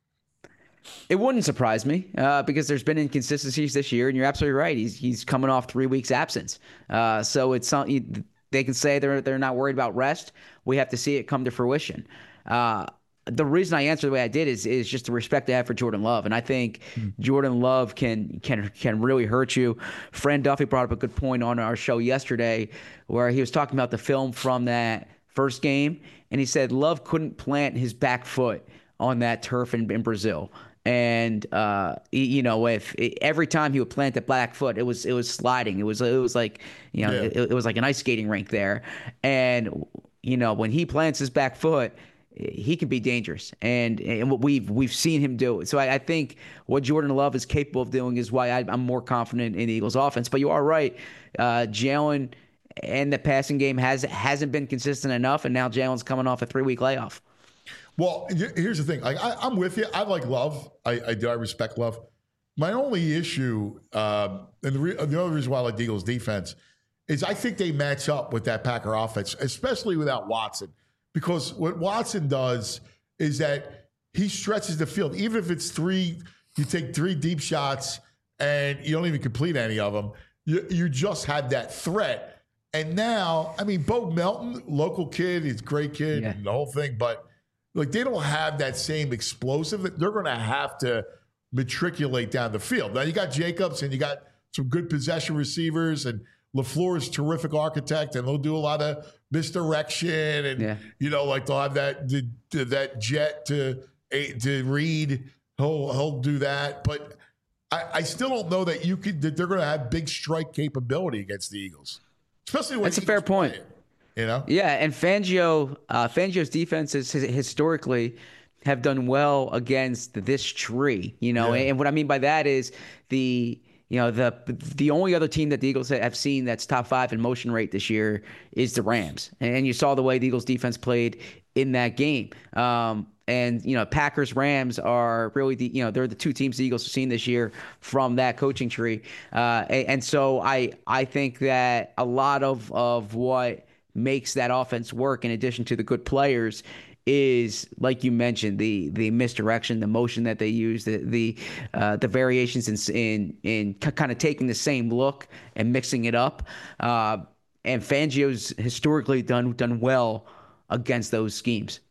It wouldn't surprise me uh, because there's been inconsistencies this year, and you're absolutely right. He's he's coming off three weeks absence, uh, so it's something they can say they're they're not worried about rest. We have to see it come to fruition. Uh, the reason I answer the way I did is is just the respect I have for Jordan Love, and I think mm. Jordan Love can can can really hurt you. Fran Duffy brought up a good point on our show yesterday, where he was talking about the film from that first game, and he said Love couldn't plant his back foot on that turf in, in Brazil. And uh, you know, if every time he would plant the back foot, it was it was sliding. It was it was like you know, yeah. it, it was like an ice skating rink there. And you know, when he plants his back foot, he can be dangerous, and and what we've we've seen him do. So I, I think what Jordan Love is capable of doing is why I, I'm more confident in the Eagles' offense. But you are right, uh, Jalen and the passing game has hasn't been consistent enough, and now Jalen's coming off a three week layoff. Well, here's the thing. Like, I, I'm with you. I like Love. I, I do. I respect Love. My only issue, um, and the, re- the other reason why I like the Eagles' defense, is I think they match up with that Packer offense, especially without Watson. Because what Watson does is that he stretches the field. Even if it's three, you take three deep shots and you don't even complete any of them, you, you just had that threat. And now, I mean, Bo Melton, local kid, he's a great kid, yeah. and the whole thing, but like they don't have that same explosive. They're going to have to matriculate down the field. Now, you got Jacobs and you got some good possession receivers, and LaFleur is a terrific architect, and they'll do a lot of misdirection, and yeah. you know, like they'll have that the, the, that jet to to read. He'll he'll do that, but I, I still don't know that you could that they're going to have big strike capability against the Eagles, especially when that's a fair point. Playing, you know, yeah, and Fangio uh, Fangio's defenses historically have done well against this tree. You know, yeah. and what I mean by that is the. You know, the the only other team that the Eagles have seen that's top five in motion rate this year is the Rams. And you saw the way the Eagles defense played in that game. Um, and, you know, Packers, Rams are really the, you know, they're the two teams the Eagles have seen this year from that coaching tree. Uh, and, and so I I think that a lot of, of what makes that offense work, in addition to the good players, is, like you mentioned, the the misdirection, the motion that they use, the the uh, the variations in in in kind of taking the same look and mixing it up. Uh, and Fangio's historically done done well against those schemes.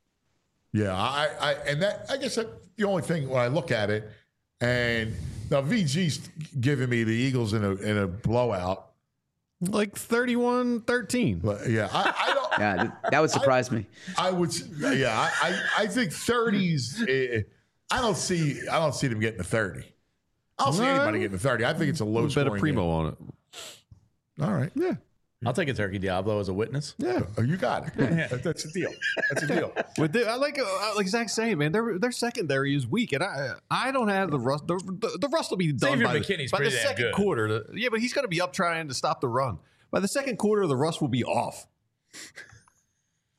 Yeah, I, I and that I guess that the only thing when I look at it, and now V G's giving me the Eagles in a in a blowout. Like thirty-one thirteen. But yeah, I, I don't. Yeah, that would surprise I, me. I would. Yeah, I, I, I think thirties. I don't see. I don't see them getting to thirty. I don't see right. anybody getting to thirty. I think it's a low. Bet a primo game. on it. All right. Yeah. I'll take a Turkey Diablo as a witness. Yeah, oh, you got it. Yeah. That, that's a deal. That's a deal. With the, I like uh, like Zach's saying, man, their their secondary is weak, and I I don't have the rust. The, the, the rust will be done Xavier by, McKinney's the, by the pretty damn second good. quarter. The, yeah, but he's going to be up trying to stop the run. By the second quarter, the rust will be off.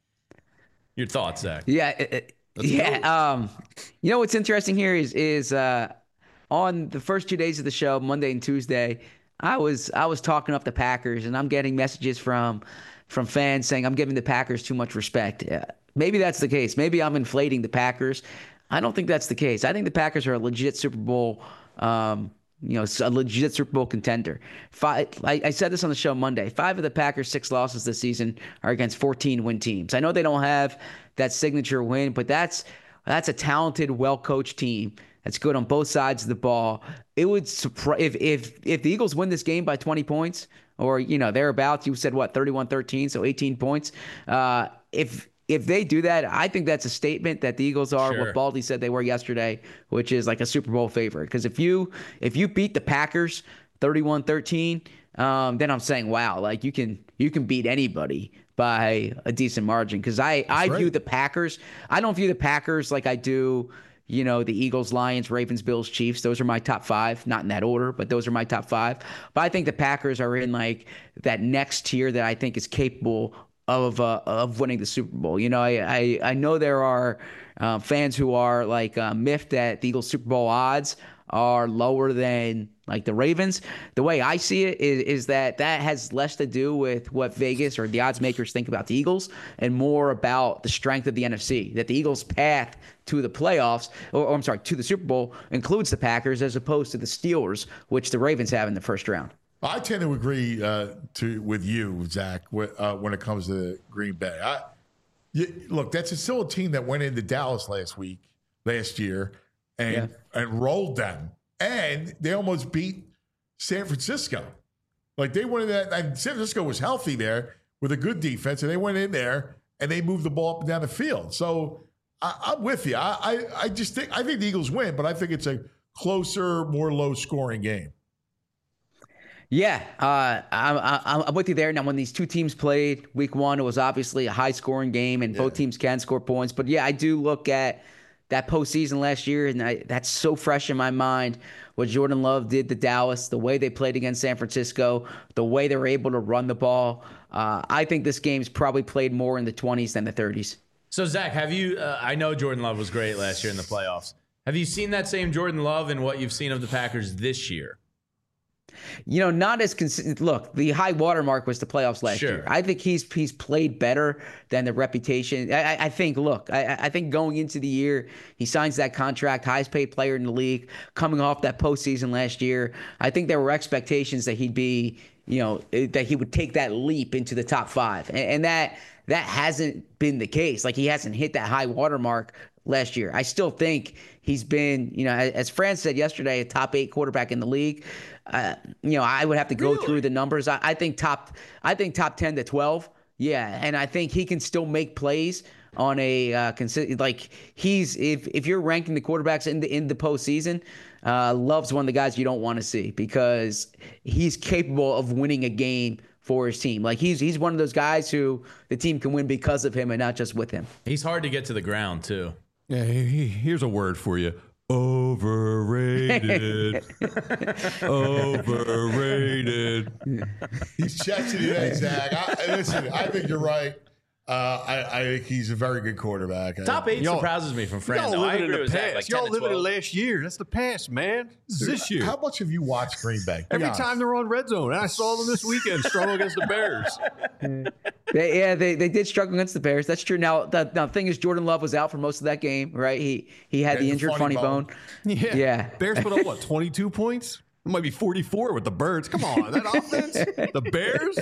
Your thoughts, Zach? Yeah, it, it, yeah. Um, you know what's interesting here is is uh, on the first two days of the show, Monday and Tuesday, I was I was talking up the Packers, and I'm getting messages from from fans saying I'm giving the Packers too much respect. Yeah, maybe that's the case. Maybe I'm inflating the Packers. I don't think that's the case. I think the Packers are a legit Super Bowl. Um, You know, a legit Super Bowl contender. Five, I, I said this on the show Monday. Five of the Packers' six losses this season are against fourteen-win teams. I know they don't have that signature win, but that's that's a talented, well-coached team that's good on both sides of the ball. It would surprise if if if the Eagles win this game by twenty points, or you know thereabouts. You said what, thirty-one thirteen, so eighteen points. Uh, if If they do that, I think that's a statement that the Eagles are Sure. what Baldy said they were yesterday, which is like a Super Bowl favorite. Because if you if you beat the Packers thirty-one thirteen, um, then I'm saying, wow, like you can you can beat anybody by a decent margin. Because I, I right. view the Packers, I don't view the Packers like I do, you know, the Eagles, Lions, Ravens, Bills, Chiefs. Those are my top five, not in that order, but those are my top five. But I think the Packers are in like that next tier that I think is capable of uh, of winning the Super Bowl. You know, I I, I know there are uh, fans who are like uh, miffed that the Eagles Super Bowl odds are lower than like the Ravens. The way I see it is, is that that has less to do with what Vegas or the odds makers think about the Eagles and more about the strength of the N F C, that the Eagles' path to the playoffs, or, or I'm sorry, to the Super Bowl includes the Packers as opposed to the Steelers, which the Ravens have in the first round. I tend to agree uh, to with you, Zach, wh- uh, when it comes to Green Bay. I, you, look, that's a, still a team that went into Dallas last week, last year, and Yeah. and rolled them, and they almost beat San Francisco. Like they went in that, and San Francisco was healthy there with a good defense, and they went in there and they moved the ball up and down the field. So I, I'm with you. I, I I just think I think the Eagles win, but I think it's a closer, more low scoring game. Yeah, uh, I'm, I'm I'm with you there. Now, when these two teams played week one, it was obviously a high-scoring game, and both teams can score points. But, yeah, I do look at that postseason last year, and I, that's so fresh in my mind, what Jordan Love did to Dallas, the way they played against San Francisco, the way they were able to run the ball. Uh, I think this game's probably played more in the twenties than the thirties. So, Zach, have you uh, – I know Jordan Love was great last year in the playoffs. Have you seen that same Jordan Love in what you've seen of the Packers this year? You know, not as consistent. Look, the high watermark was the playoffs last Sure. year. I think he's he's played better than the reputation. I, I think. Look, I, I think going into the year, he signs that contract, highest paid player in the league, coming off that postseason last year. I think there were expectations that he'd be, you know, that he would take that leap into the top five, and, and that that hasn't been the case. Like he hasn't hit that high watermark last year. I still think he's been, you know, as Fran said yesterday, a top eight quarterback in the league. Uh, you know, I would have to go Really? through the numbers. I, I think top, I think top ten to twelve. Yeah, and I think he can still make plays on a uh, consistent. Like he's if if you're ranking the quarterbacks in the in the postseason, uh, Love's one of the guys you don't want to see because he's capable of winning a game for his team. Like he's he's one of those guys who the team can win because of him and not just with him. He's hard to get to the ground, too. Yeah, he- he- here's a word for you. Overrated. Overrated. He's checking it out, Zach. I, listen, I think you're right. Uh, I, I think he's a very good quarterback. I- Top eight Y'all- surprises me from Fran. Y'all though. I living in agree the with Zach, past. like Y'all ten to living in twelve. last year. That's the past, man. This is this year. How much have you watched Green Bay? Be Every honest. time they're on red zone. And I saw them this weekend struggle against the Bears. They, yeah, they, they did struggle against the Bears. That's true. Now the, the thing is, Jordan Love was out for most of that game, right? He he had Yeah, the the injured funny funny bone. bone. Yeah. Yeah. Bears put up, what, twenty-two points? It might be forty-four with the Birds. Come on. That offense? The Bears?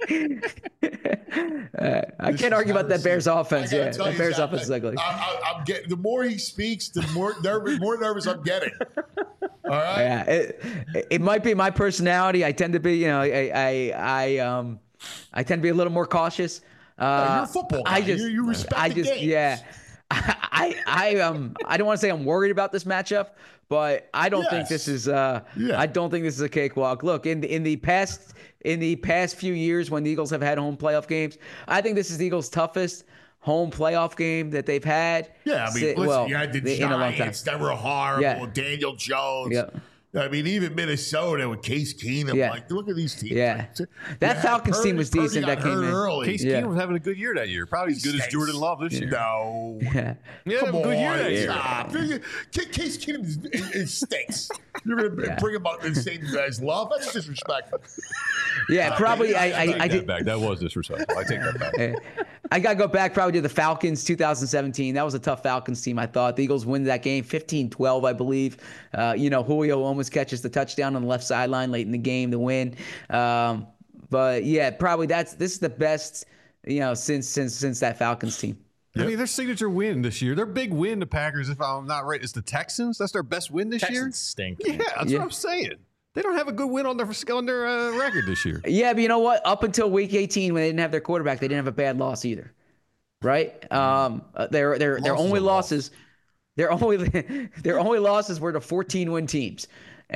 Uh, I can't argue about that Bears offense. I gotta Yeah, tell that you, Bears Zach, offense is ugly. I, I, I'm getting the more he speaks, the more nervous, more nervous I'm getting. All right. Yeah, it, it might be my personality. I tend to be, you know, I I, I um I tend to be a little more cautious. Uh, you're a football guy. I just, You- you respect I the just, game. yeah. I I um I don't want to say I'm worried about this matchup, but I don't think Yes. this is uh Yeah. I don't think this is a cakewalk. Look, in the in the past in the past few years when the Eagles have had home playoff games, I think this is the Eagles' toughest home playoff game that they've had. Yeah, I mean, si- listen, well, you had the in a long time. Giants that were horrible. Yeah. Daniel Jones. Yeah. I mean, even Minnesota with Case Keenum. Yeah. Like, look at these teams. Yeah. Like, That yeah, Falcons Purdy- team was Purdy decent got that came hurt in. early. Case Yeah. Keenum was having a good year that year. Probably as good as Stinks. Jordan Love this year. No. Yeah. Yeah, Come a good year on, that year. stop. Case Keenum is, is, is stinks. You're going to Yeah. bring him up and say guys love? That's disrespectful. Yeah, probably. I, I, I take I that did. back. That was disrespectful. I take that back. Eh, I got to go back probably to the Falcons two thousand seventeen. That was a tough Falcons team, I thought. The Eagles win that game fifteen twelve, I believe. Uh, you know, Julio almost catches the touchdown on the left sideline late in the game to win. Um, but, yeah, probably that's this is the best, you know, since since since that Falcons team. I mean, their signature win this year, their big win, the Packers, if I'm not right, is the Texans. That's their best win this year? Texans stink. Yeah, that's Yeah. what I'm saying. They don't have a good win on their on their uh, record this year. Yeah, but you know what? Up until week eighteen, when they didn't have their quarterback, they didn't have a bad loss either, right? Um, uh, their their their Losses only are loss. losses, their only their only losses were to fourteen win teams.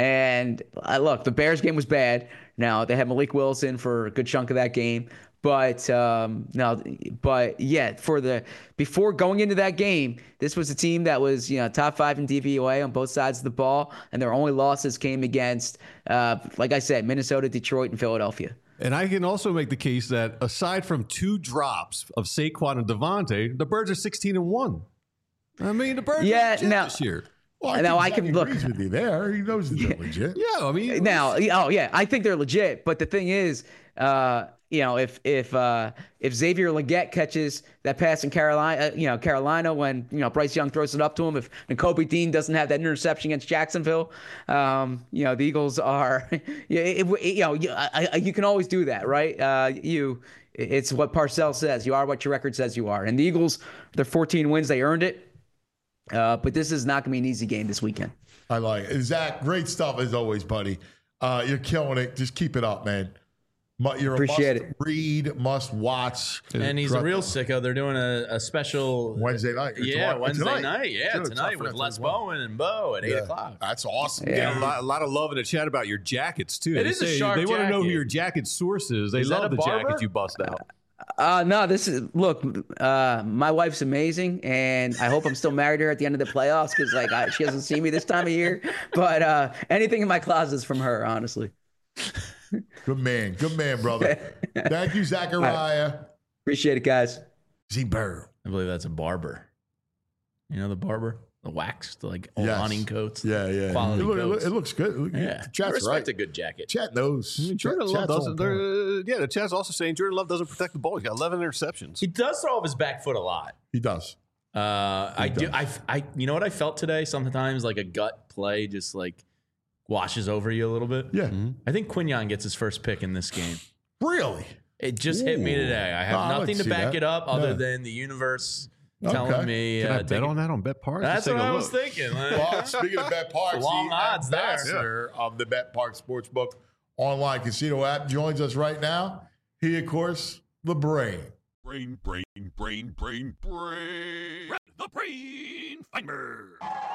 And uh, look, the Bears game was bad. Now they had Malik Wilson for a good chunk of that game, but um, no, but yeah, for the before going into that game, this was a team that was you know top five in D V O A on both sides of the ball, and their only losses came against, uh, like I said, Minnesota, Detroit, and Philadelphia. And I can also make the case that aside from two drops of Saquon and Devontae, the Birds are sixteen and one. I mean, the Birds Yeah, are legit now- this year. Well, I Now, think I Zach can- look- agrees with you there. He knows they're legit. Yeah, I mean, Now, oh yeah, I think they're legit. But the thing is, uh, you know, if if uh, if Xavier Legette catches that pass in Carolina, uh, you know, Carolina when you know Bryce Young throws it up to him, if N'Kobe Dean doesn't have that interception against Jacksonville, um, you know, the Eagles are, yeah, it, it, you know, you, I, I, you can always do that, right? Uh, you, it's what Parcells says. You are what your record says you are. And the Eagles, their fourteen wins, they earned it. Uh, but this is not going to be an easy game this weekend. I like it. Zach, great stuff as always, buddy. Uh, you're killing it. Just keep it up, man. Mu- You're Appreciate a must it. read, must watch. And he's a real sicko. They're doing a, a special Wednesday night. or Yeah, tomorrow- Wednesday tonight. night. Yeah, Sure, tonight tough with enough Les as well. Bowen and Bo at eight Yeah. o'clock. That's awesome. Yeah. Getting a lot, a lot of love in the chat about your jackets too. It they is a say sharp they want to know who jacket. your jacket source is. They Is that love a the barber? jackets you bust out. Uh, no, this is look. Uh, my wife's amazing, and I hope I'm still married to her at the end of the playoffs because like I, she doesn't see me this time of year. But uh, anything in my closet is from her, honestly. Good man. Good man, brother. Thank you, Zachariah. Appreciate it, guys. Z Bird. I believe that's a barber. You know the barber, the wax, the like old Yes. hunting coats. Yeah, yeah. Quality it, look- it look- coats. it looks good. Look- Yeah, I Chat's respect right. a good jacket. Chat knows. I mean, Jordan Chat- Love chat's doesn't. on point. they're- Yeah, the chat's also saying Jordan Love doesn't protect the ball. He's got eleven interceptions. He does throw off his back foot a lot. He does. Uh, I do. does. I, I. You know what I felt today? Sometimes like a gut play just like washes over you a little bit. Yeah. I think Quinyon gets his first pick in this game. Really? It just hit me Ooh. today. I have No, I like nothing to to see back that. it up other Yeah. than the universe Okay. telling me. Can uh, I take bet it- on that on Bet Parks? That's Let's take what a I was look. thinking. Well, speaking of Bet Parks, Long the odds there. ambassador of the Bet Parks Sportsbook online casino app joins us right now. He, of course, the brain. Brain, brain, brain, brain, brain. The brain finder.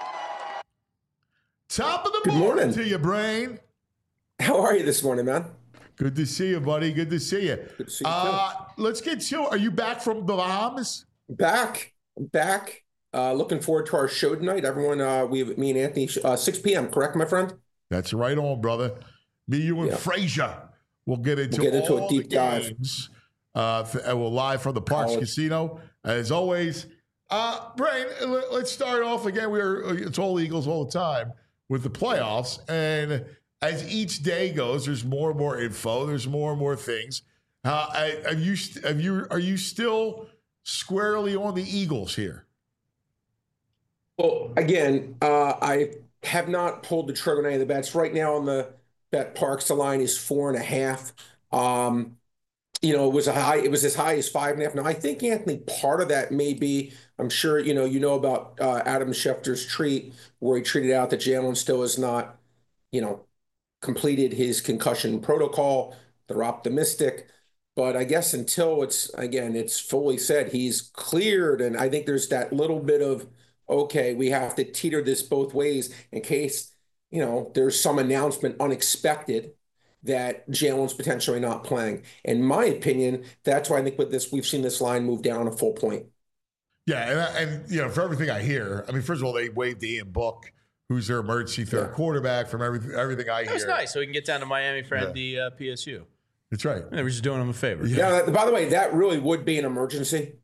Top of the Good morning morning. to you, brain. How are you this morning, man? Good to see you, buddy. Good to see you. Good to see you Uh, let's get to. Are you back from the Bahamas? Back, back. Uh, looking forward to our show tonight. Everyone, uh, we have me and Anthony, uh, six p.m. Correct, my friend? That's right on, brother. Me, you, and Yeah. Frazier. We'll get into, We'll get into a all deep the dive. games. Uh, f- and we're live from the Parks College. Casino as always. Uh, Brain, let- let's start off again. We're it's all Eagles all the time with the playoffs, and as each day goes, there's more and more info. There's more and more things. Uh, I- have you? st- Have you? Are you still squarely on the Eagles here? Well, again, uh, I have not pulled the trigger on any of the bets. Right now on the Bet Parks, the line is four and a half. Um, you know, it was a high, it was as high as five and a half. Now, I think, Anthony, part of that may be, I'm sure, you know, you know about uh, Adam Schefter's treat where he treated out that Jalen still has not, you know, completed his concussion protocol. They're optimistic. But I guess until it's, again, it's fully said he's cleared. And I think there's that little bit of, okay, we have to teeter this both ways in case, you know, there's some announcement unexpected that Jalen's potentially not playing. In my opinion, that's why I think with this, we've seen this line move down a full point. Yeah, and, and you know, for everything I hear, I mean, first of all, they waived Ian Book who's their emergency third Yeah. quarterback. From everything, everything I That hear, was nice. So we can get down to Miami for Yeah. the uh, P S U. That's right. They were just doing them a favor. Yeah. that- by the way, that really would be an emergency.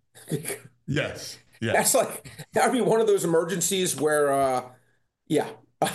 Yes. Yeah. That's like that would be one of those emergencies where, uh, yeah,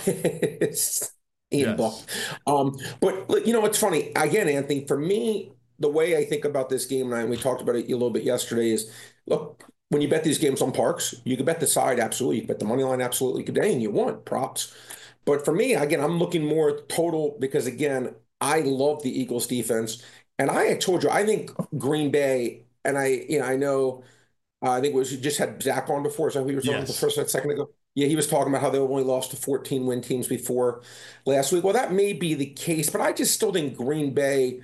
it's in Yes. book. Um, but look, you know, it's funny again, Anthony. For me, the way I think about this game, and we talked about it a little bit yesterday, is look, when you bet these games on parks, you can bet the side absolutely, you can bet the money line absolutely, you can bet anything you want, props. But for me, again, I'm looking more total because again, I love the Eagles defense, and I had told you I think Green Bay, and I, you know, I know. Uh, I think it was you just had Zach on before. Is that who you were talking Yes. the first a second ago? Yeah, he was talking about how they only lost to fourteen win teams before last week. Well, that may be the case, but I just still think Green Bay.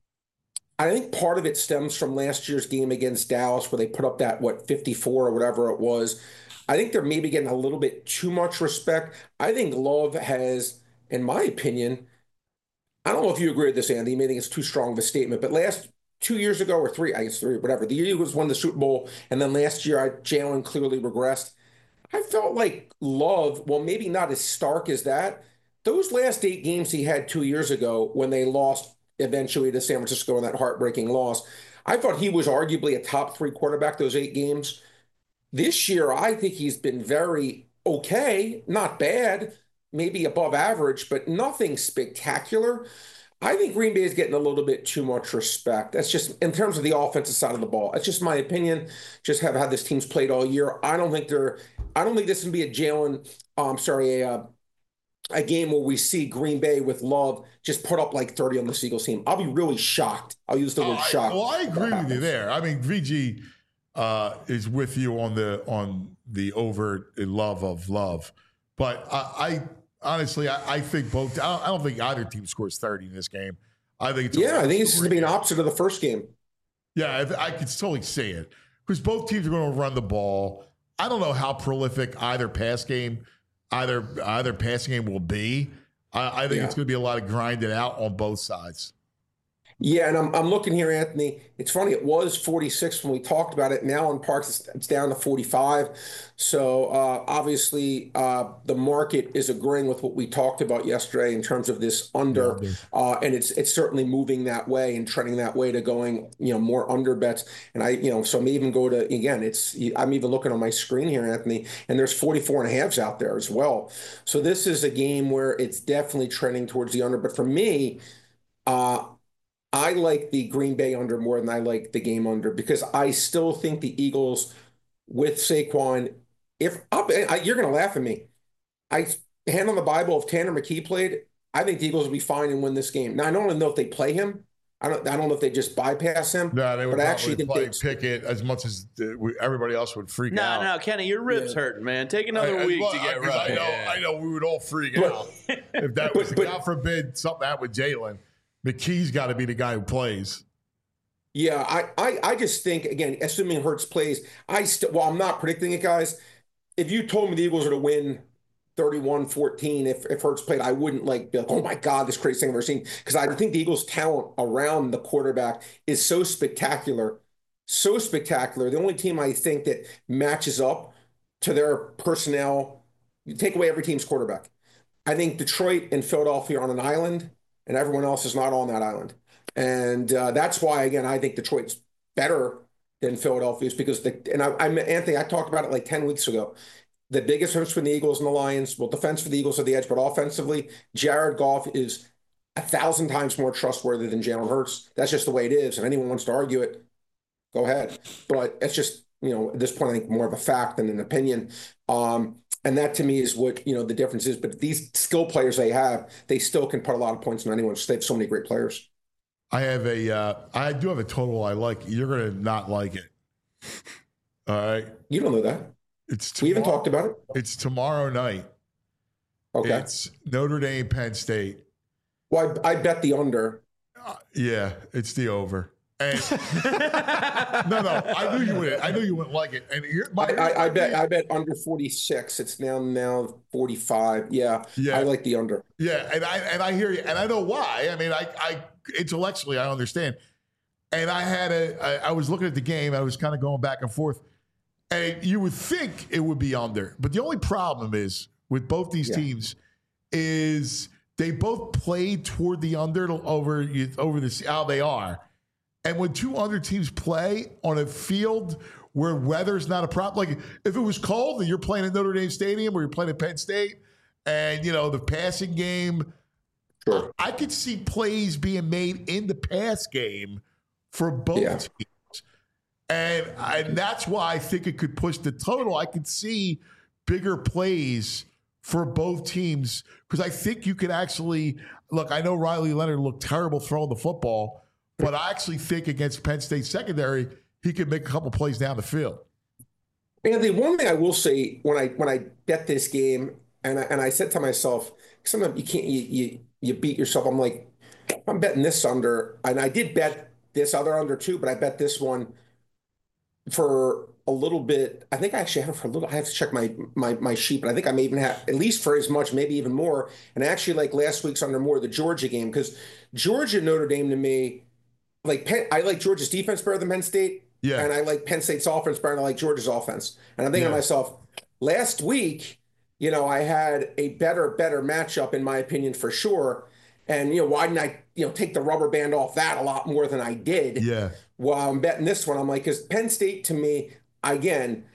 I think part of it stems from last year's game against Dallas, where they put up that what fifty-four or whatever it was. I think they're maybe getting a little bit too much respect. I think Love has, in my opinion, I don't know if you agree with this, Andy. You may think it's too strong of a statement, but last. Two years ago or three, I guess three, whatever. The Eagles won the Super Bowl, and then last year, I, Jalen clearly regressed. I felt like Love, well, maybe not as stark as that. Those last eight games he had two years ago when they lost eventually to San Francisco in that heartbreaking loss, I thought he was arguably a top three quarterback those eight games. This year, I think he's been very okay, not bad, maybe above average, but nothing spectacular. I think Green Bay is getting a little bit too much respect. That's just in terms of the offensive side of the ball. That's just my opinion. Just have how this team's played all year. I don't think they're. I don't think this can be a Jalen. Oh, I'm sorry, a uh, a game where we see Green Bay with Love just put up like thirty on the Eagles team. I'll be really shocked. I'll use the Oh, word I- shocked. well, I agree with you there. I mean, V G uh, is with you on the on the overt love of love, but I. I Honestly, I, I think both. I don't, I don't think either team scores thirty in this game. I think it's a yeah, I think it's going to be an opposite of the first game. Yeah, I, I could totally see it because both teams are going to run the ball. I don't know how prolific either pass game, either either passing game will be. I, I think Yeah. it's going to be a lot of grinding out on both sides. Yeah, and I'm I'm looking here, Anthony. It's funny. It was forty-six when we talked about it. Now in Parks, it's, it's down to forty-five. So uh, obviously, uh, the market is agreeing with what we talked about yesterday in terms of this under, Yeah, uh, and it's it's certainly moving that way and trending that way to going, you know, more under bets. And I, you know, so I'm even go to again. It's I'm even looking on my screen here, Anthony, and there's forty-four and a halves out there as well. So this is a game where it's definitely trending towards the under. But for me, uh, I like the Green Bay under more than I like the game under because I still think the Eagles with Saquon, if up, I, you're going to laugh at me. I hand on the Bible, if Tanner McKee played, I think the Eagles will be fine and win this game. Now, I don't know if they play him. I don't I don't know if they just bypass him. No, they would but I probably actually think play they- Pickett as much as uh, we- everybody else would freak No, out. no, Kenny, your ribs Yeah. hurting, man. Take another I- I- week well, to get I- 'cause right. I know, Yeah. I know, we would all freak But- out if that was. but- but- God forbid something happened with Jalen. McKee's got to be the guy who plays. Yeah, I, I, I just think, again, assuming Hurts plays, I still, well, I'm not predicting it, guys. If you told me the Eagles are to win thirty-one fourteen, if, if Hurts played, I wouldn't like be like, oh my God, this crazy thing I've ever seen. Because I think the Eagles' talent around the quarterback is so spectacular, so spectacular. The only team I think that matches up to their personnel, you take away every team's quarterback. I think Detroit and Philadelphia are on an island, and everyone else is not on that island. And uh, that's why, again, I think Detroit's better than Philadelphia is because the and I, I Anthony, I talked about it like ten weeks ago. The biggest difference between the Eagles and the Lions, well, defense for the Eagles are the edge, but offensively, Jared Goff is a thousand times more trustworthy than Jalen Hurts. That's just the way it is. And anyone wants to argue it, go ahead. But it's just, you know, at this point, I think more of a fact than an opinion. Um, and that to me is what, you know, the difference is. But these skill players they have, they still can put a lot of points on anyone. They have so many great players. I have a, uh, I do have a total I like. You're going to not like it. All right. You don't know that. It's We even tomorrow- talked about it. It's tomorrow night. Okay. It's Notre Dame, Penn State. Well, I, I bet the under. Uh, yeah, it's the over. And no, no, I knew you would. I knew you wouldn't like it. And here, my, I, I, I bet I bet under forty-six. It's now now forty-five. Yeah, Yeah. I like the under. Yeah, and I and I hear you, and I know why. I mean, I, I intellectually I understand. And I had a, I, I was looking at the game. I was kind of going back and forth, and you would think it would be under, but the only problem is with both these Yeah. teams is they both played toward the under over over this how they are. And when two under teams play on a field where weather's not a problem, like if it was cold and you're playing at Notre Dame Stadium or you're playing at Penn State, and you know the passing game, Sure. I could see plays being made in the pass game for both Yeah. teams. And, and that's why I think it could push the total. I could see bigger plays for both teams because I think you could actually look. I know Riley Leonard looked terrible throwing the football, but I actually think against Penn State secondary, he could make a couple plays down the field. Anthony, one thing I will say when I when I bet this game, and I, and I said to myself, sometimes you can't you, you you beat yourself. I'm like, I'm betting this under, and I did bet this other under too, but I bet this one for a little bit. I think I actually have it for a little. I have to check my my my sheet, but I think I may even have at least for as much, maybe even more. And actually, like last week's under more the Georgia game because Georgia Notre Dame to me, like Penn, I like Georgia's defense better than Penn State. Yeah. And I like Penn State's offense better than I like Georgia's offense. And I'm thinking Yeah. to myself, last week, you know, I had a better, better matchup, in my opinion, for sure. And, you know, why didn't I, you know, take the rubber band off that a lot more than I did? Yeah. While I'm betting this one, I'm like, because Penn State to me, again,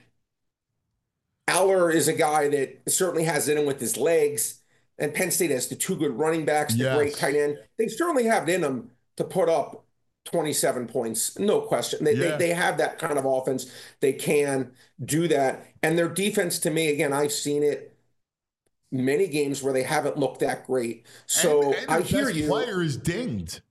Aller is a guy that certainly has it in with his legs. And Penn State has the two good running backs, the Yes. great tight end. They certainly have it in them to put up twenty-seven points, no question. They, Yeah. they they have that kind of offense. They can do that. And their defense, to me, again, I've seen it many games where they haven't looked that great. So and, and I the hear best you. player is dinged.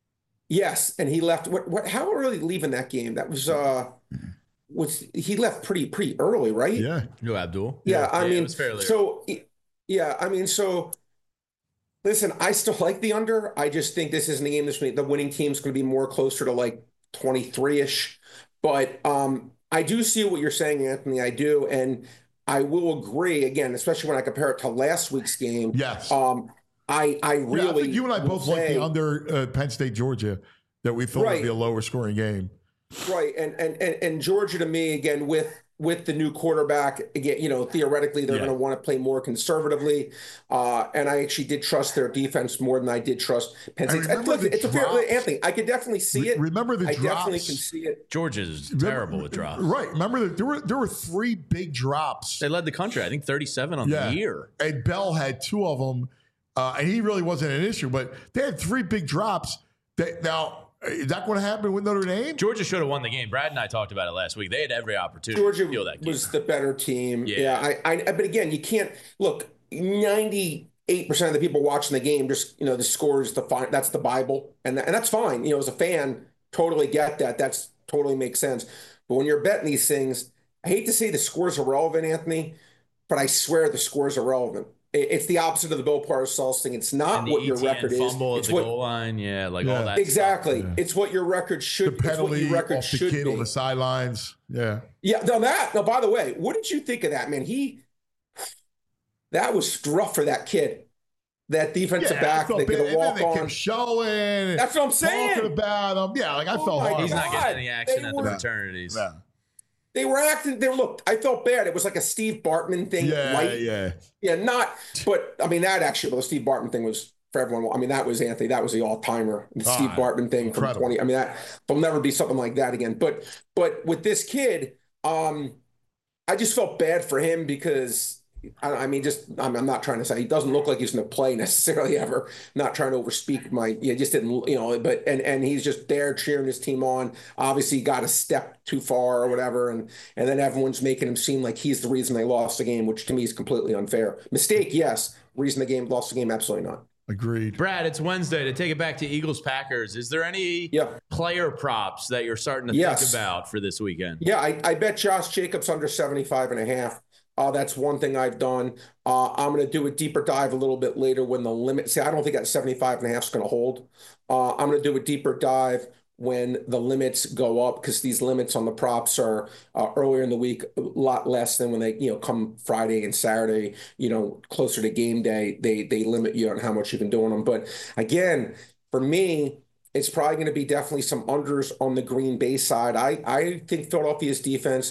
Yes, and he left. What? What? How early leaving that game? That was uh, was he left pretty pretty early, right? Yeah. No, Abdul. Yeah, I Yeah, it mean, was fairly so yeah, I mean, so listen, I still like the under. I just think this isn't a game this week. The winning team's going to be more closer to like twenty-three ish. But um, I do see what you're saying, Anthony. I do, and I will agree again, especially when I compare it to last week's game. Yes. Um, I I really Yeah, I think you and I will both like say- the under uh, Penn State Georgia that we thought Right. would be a lower scoring game. Right, and and and, and Georgia to me again with with the new quarterback again, you know, theoretically they're Yeah. going to want to play more conservatively, uh, and I actually did trust their defense more than I did trust Penn And State. remember Look, the it's a fair, drops. Anthony. I could definitely see Re- it. remember the I definitely drops? can see it. Georgia's Remember- terrible with drops. Right. Remember that there were there were three big drops. They led the country. I think thirty-seven on Yeah. the year. And Bell had two of them, uh, and he really wasn't an issue. But they had three big drops. That now is that going to happen with Notre Dame? Georgia should have won the game. Brad and I talked about it last week. They had every opportunity Georgia to steal that game. was the better team. Yeah. Yeah, I, I. But again, you can't look. Ninety-eight percent of the people watching the game just, you know, the score is the fine. That's the Bible, and and that's fine. You know, as a fan, totally get that. That's totally makes sense. But when you're betting these things, I hate to say the scores are relevant, Anthony, but I swear the scores are relevant. It, it's the opposite of the Bill Parcells thing. It's not And the what your E T N record is. fumble at It's the what goal line. Yeah, like Yeah. all that. exactly. Yeah. It's what your record The should. It's what penalty your record off the should kid be. on the sidelines. Yeah. Yeah, no, that. No, by the way, what did you think of that, man? He, that was rough for that kid, that defensive Yeah, I back felt that bad. could And then walk they on. kept showing. That's what I'm saying. Talking about him. Yeah, like I Oh felt my hard. He's not God. getting any action They at were- the fraternities. Yeah. They were acting. They were look. I felt bad. It was like a Steve Bartman thing. Yeah, light. yeah. yeah, not. But I mean, that actually, well, the Steve Bartman thing was for everyone. I mean, that was Anthony. That was the all timer. The Ah, Steve Bartman thing from incredible. twenty. I mean, that there'll never be something like that again. But but with this kid, um, I just felt bad for him because. I, I mean, just I'm, I'm not trying to say he doesn't look like he's going to play necessarily ever. Not trying to overspeak my, yeah, just didn't, you know. But and and he's just there cheering his team on. Obviously, got a step too far or whatever, and and then everyone's making him seem like he's the reason they lost the game, which to me is completely unfair. Mistake, yes. Reason the game lost the game, absolutely not. Agreed. Brad, it's Wednesday. To take it back to Eagles Packers, is there any Yeah. player props that you're starting to Yes. think about for this weekend? Yeah, I, I bet Josh Jacobs under seventy-five and a half. Uh, that's one thing I've done. Uh, I'm going to do a deeper dive a little bit later when the limit. See, I don't think that seventy-five and a half is going to hold. Uh, I'm going to do a deeper dive when the limits go up because these limits on the props are uh, earlier in the week a lot less than when they, you know, come Friday and Saturday, you know, closer to game day, they they limit you on how much you can do on them. But again, for me, it's probably going to be definitely some unders on the Green Bay side. I, I think Philadelphia's defense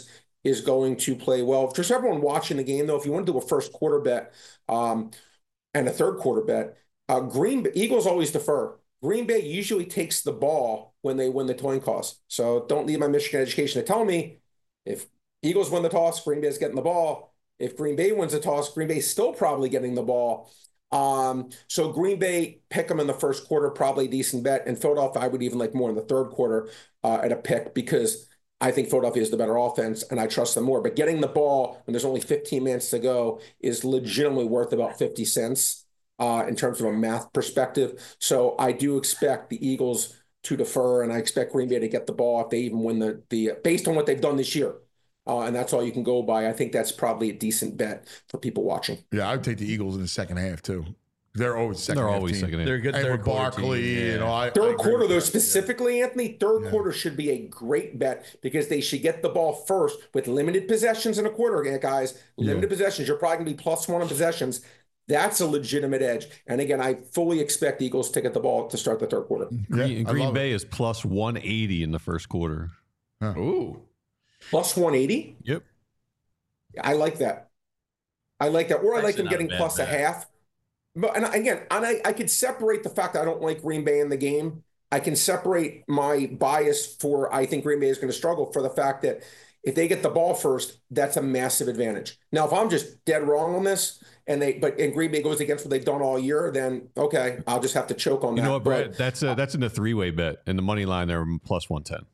is going to play well. Just everyone watching the game, though, if you want to do a first quarter bet um, and a third quarter bet, uh, Green Eagles always defer. Green Bay usually takes the ball when they win the coin toss. So don't leave my Michigan education to tell me if Eagles win the toss, Green Bay's getting the ball. If Green Bay wins the toss, Green Bay's still probably getting the ball. Um, so Green Bay, pick them in the first quarter, probably a decent bet. And Philadelphia, I would even like more in the third quarter uh, at a pick because I think Philadelphia is the better offense and I trust them more. But getting the ball when there's only fifteen minutes to go is legitimately worth about fifty cents uh, in terms of a math perspective. So I do expect the Eagles to defer, and I expect Green Bay to get the ball if they even win the, the based on what they've done this year. Uh, and that's all you can go by. I think that's probably a decent bet for people watching. Yeah, I would take the Eagles in the second half too. They're always second. They're half always team. second half. They're good. And Third with quarter Barkley, team, yeah. you know, I, I Third agree quarter, with though, that. specifically, Anthony, third Yeah. quarter should be a great bet because they should get the ball first with limited possessions in a quarter, guys. Limited Yeah. possessions. You're probably going to be plus one in possessions. That's a legitimate edge. And again, I fully expect the Eagles to get the ball to start the third quarter. Green, Yeah, I Green love Bay is plus one eighty in the first quarter. Ooh. Plus one eighty? Yep. I like that. I like that. Or I like Actually them not a getting bad plus a bet. half. But and again, and I, I could separate the fact that I don't like Green Bay in the game. I can separate my bias for I think Green Bay is going to struggle for the fact that if they get the ball first, that's a massive advantage. Now, if I'm just dead wrong on this and they but and Green Bay goes against what they've done all year, then okay, I'll just have to choke on You that. know what, Brad? But That's a, that's in the three way bet. In the money line, they're plus one ten.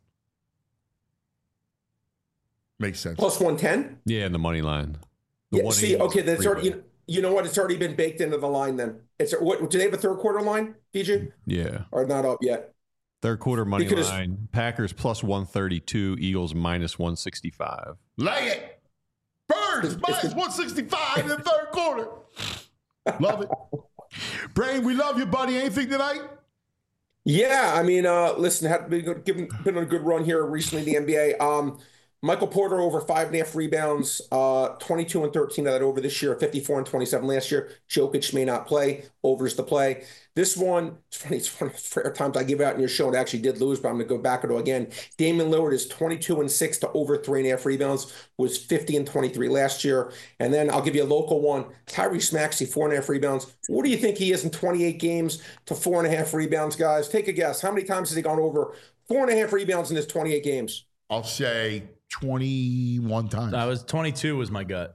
Makes sense. plus one ten? Yeah, in the money line. The Yeah, see, 180 is okay, that's three-way. already you, you know what? It's already been baked into the line then. It's what do they have a third quarter line, P J? Yeah. Or not up yet? Third quarter money Because- line. Packers plus one thirty-two. Eagles minus one sixty-five. Lay it. Birds, minus one sixty-five in the third quarter. Love it. Brain, we love you, buddy. Anything tonight? Yeah, I mean, uh, listen, had been, good- given, been on a good run here recently in the N B A. Um, Michael Porter over five and a half rebounds, uh, twenty-two and thirteen of that over this year, fifty-four and twenty-seven last year. Jokic may not play, overs the play. This one, it's funny, it's one of the rare times I give out in your show and actually did lose, but I'm going to go back and do it again. Damian Lillard is twenty-two and six to over three and a half rebounds, was fifty and twenty-three last year. And then I'll give you a local one, Tyrese Maxey, four and a half rebounds. What do you think he is in twenty-eight games to four and a half rebounds, guys? Take a guess. How many times has he gone over four and a half rebounds in his twenty-eight games? I'll say twenty-one times. I was twenty-two was my gut.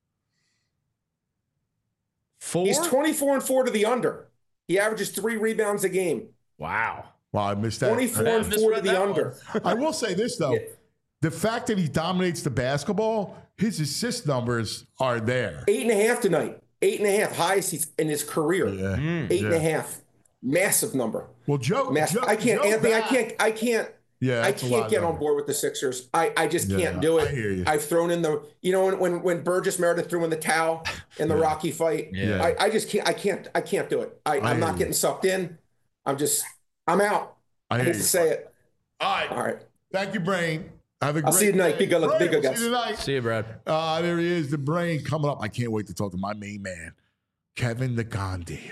Four? He's twenty-four and four to the under. He averages three rebounds a game. Wow. Wow, I missed that. twenty-four I and four to misread the that under. I will say this, though. Yeah. The fact that he dominates the basketball, his assist numbers are there. Eight and a half tonight. Eight and a half. Highest he's in his career. Yeah. Eight and a Yeah. half. Massive number. Well, Joe, Massive. Joe I can't, Joe Anthony, I back- can't, I can't, Yeah, I that's a can't lot get of on board with the Sixers. I, I just Yeah, can't do I it. hear you. I've thrown in the, you know, when when, when Burgess Meredith threw in the towel in the Rocky fight. Yeah. I, I just can't, I can't, I can't do it. I, I I'm hear not you. getting sucked in. I'm just, I'm out. I I hear hate you. to say it. All right. All right. Thank you, Brain. Have a great I'll see you tonight. day. Be good luck. Be Brain, good, we'll guys. See you tonight. See you, Brad. Uh, there he is, the Brain coming up. I can't wait to talk to my main man, Kevin the Gandhi.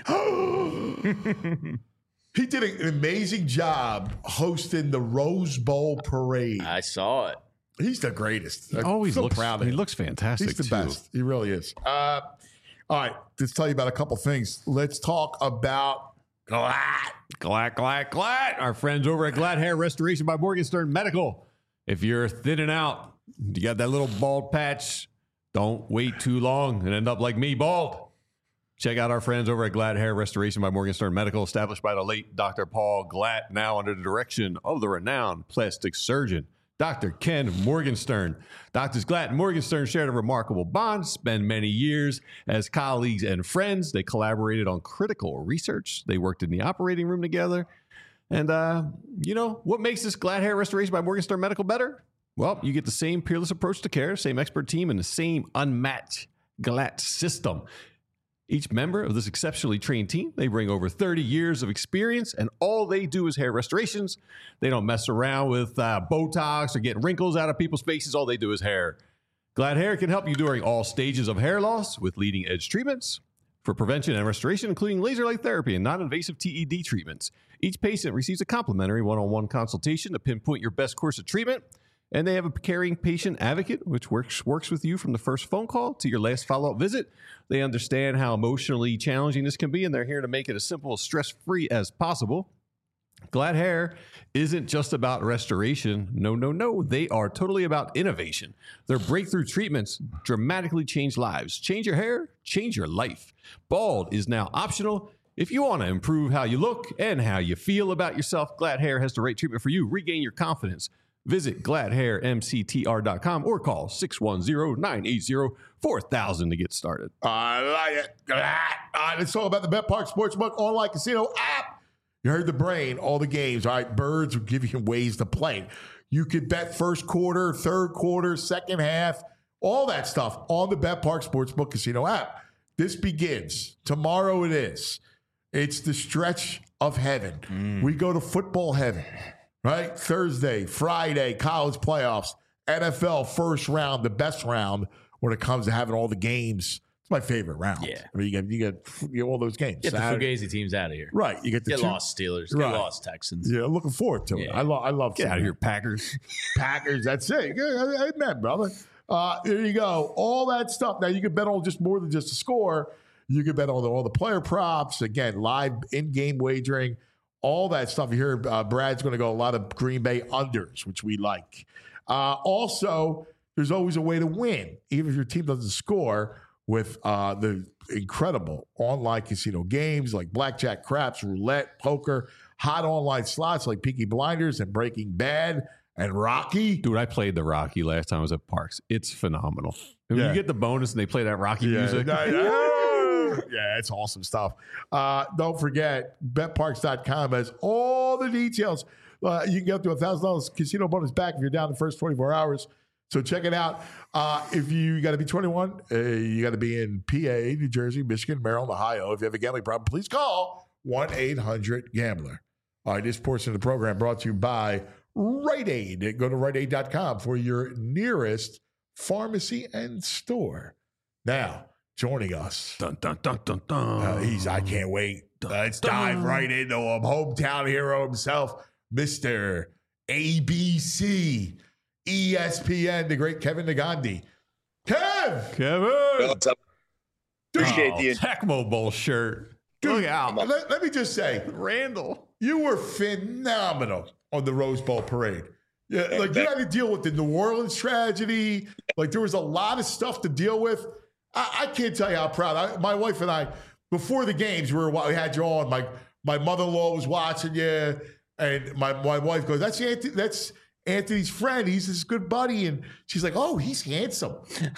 He did an amazing job hosting the Rose Bowl parade. I saw it. He's the greatest. He I'm always so looks. proud of He him. looks fantastic He's the too. best. He really is. Uh, all right, let's tell you about a couple things. Let's talk about Glad. Glad, glad, glad. Our friends over at Glad Hair Restoration by Morgenstern Medical. If you're thinning out, you got that little bald patch, don't wait too long and end up like me, bald. Check out our friends over at Glad Hair Restoration by Morgenstern Medical, established by the late Doctor Paul Glatt, now under the direction of the renowned plastic surgeon, Doctor Ken Morgenstern. Doctors Glatt and Morgenstern shared a remarkable bond, spent many years as colleagues and friends. They collaborated on critical research. They worked in the operating room together. And, uh, you know, what makes this Glad Hair Restoration by Morgenstern Medical better? Well, you get the same peerless approach to care, same expert team, and the same unmatched Glatt system. Each member of this exceptionally trained team, they bring over thirty years of experience, and all they do is hair restorations. They don't mess around with uh, Botox or getting wrinkles out of people's faces. All they do is hair. Glad Hair can help you during all stages of hair loss with leading-edge treatments for prevention and restoration, including laser light therapy and non-invasive T E D treatments. Each patient receives a complimentary one-on-one consultation to pinpoint your best course of treatment. And they have a caring patient advocate, which works works with you from the first phone call to your last follow-up visit. They understand how emotionally challenging this can be, and they're here to make it as simple as stress-free as possible. Glad Hair isn't just about restoration. No, no, no. They are totally about innovation. Their breakthrough treatments dramatically change lives. Change your hair, change your life. Bald is now optional. If you want to improve how you look and how you feel about yourself, Glad Hair has the right treatment for you. Regain your confidence. Visit glad hair m c t r dot com or call six one zero, nine eight zero, four thousand to get started. I like it. All right, let's talk about the BetParx Sportsbook online casino app. You heard the brain, all the games. All right, Birds will give you ways to play. You could bet first quarter, third quarter, second half, all that stuff on the BetParx Sportsbook casino app. This begins. Tomorrow it is. It's the stretch of heaven. Mm. We go to football heaven. Right? Thursday, Friday, college playoffs, N F L first round, the best round when it comes to having all the games. It's my favorite round. Yeah. I mean, you get, you get, you get all those games. Get Saturday. the Fugazi teams out of here. Right. You get the get two, lost Steelers. Get right. lost Texans. Yeah, looking forward to it. Yeah. I, lo- I love Get out of here, Packers. Packers, that's it. Amen, brother. Uh, there you go. All that stuff. Now, you can bet on just more than just a score. You can bet on the, all the player props. Again, live in-game wagering. All that stuff. You hear uh, Brad's going to go a lot of Green Bay unders, which we like. Uh, also, there's always a way to win, even if your team doesn't score, with uh, the incredible online casino games like blackjack, craps, roulette, poker, hot online slots like Peaky Blinders and Breaking Bad and Rocky. Dude, I played the Rocky last time I was at Parks. It's phenomenal. And when Yeah. you get the bonus and they play that Rocky music. Yeah, it's awesome stuff. Uh, don't forget, bet parx dot com has all the details. Uh, you can get up to a one thousand dollars casino bonus back if you're down the first twenty-four hours. So check it out. Uh, if you got to be twenty-one, uh, you got to be in P A, New Jersey, Michigan, Maryland, Ohio. If you have a gambling problem, please call one eight hundred gambler. All right, this portion of the program brought to you by Rite Aid. Go to rite aid dot com for your nearest pharmacy and store. Now, joining us. Dun, dun, dun, dun, dun. Uh, he's, I can't wait. Uh, let's dive right into him. Hometown hero himself, Mister A B C, E S P N, the great Kevin Negandhi. Kev! Kevin! What's up? Appreciate oh, the Tecmo Bowl shirt. Look out. Let, let me just say, Randall. you were phenomenal on the Rose Bowl parade. Yeah, like you had to deal with the New Orleans tragedy. Like there was a lot of stuff to deal with. I, I can't tell you how proud. I, my wife and I, before the games, we were we had you on. My my mother-in-law was watching you, and my my wife goes, "That's Anthony, that's Anthony's friend. He's his good buddy." And she's like, "Oh, he's handsome."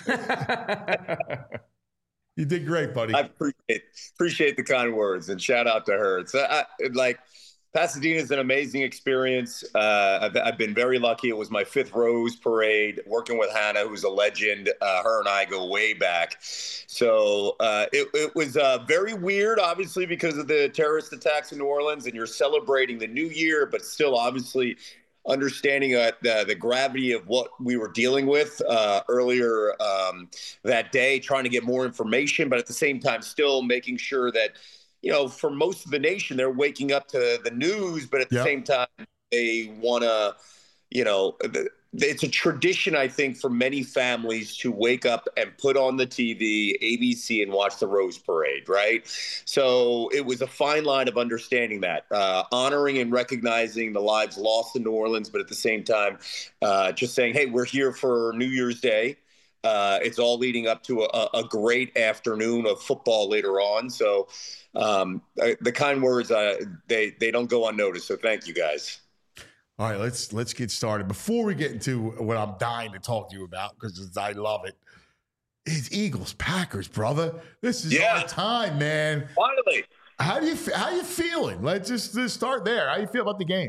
You did great, buddy. I appreciate appreciate the kind words and shout out to her. It's I, like Pasadena is an amazing experience. Uh, I've, I've been very lucky. It was my fifth Rose Parade, working with Hannah, who's a legend. Uh, her and I go way back. So uh, it, it was uh, very weird, obviously, because of the terrorist attacks in New Orleans, and you're celebrating the new year, but still obviously understanding uh, the, the gravity of what we were dealing with uh, earlier um, that day, trying to get more information, but at the same time still making sure that, you know, for most of the nation, they're waking up to the news, but at the Yep. same time, they want to, you know, it's a tradition, I think, for many families to wake up and put on the T V, A B C, and watch the Rose Parade, right? So it was a fine line of understanding that, uh, honoring and recognizing the lives lost in New Orleans, but at the same time, uh, just saying, hey, we're here for New Year's Day. Uh, it's all leading up to a, a great afternoon of football later on. So um, the kind words, uh, they they don't go unnoticed. So thank you, guys. All right, let's let's get started. Before we get into what I'm dying to talk to you about, because I love it, it's Eagles Packers, brother. This is Yeah. our time, man. Finally. How do you how you feeling? Let's just, just start there. How you feel about the game?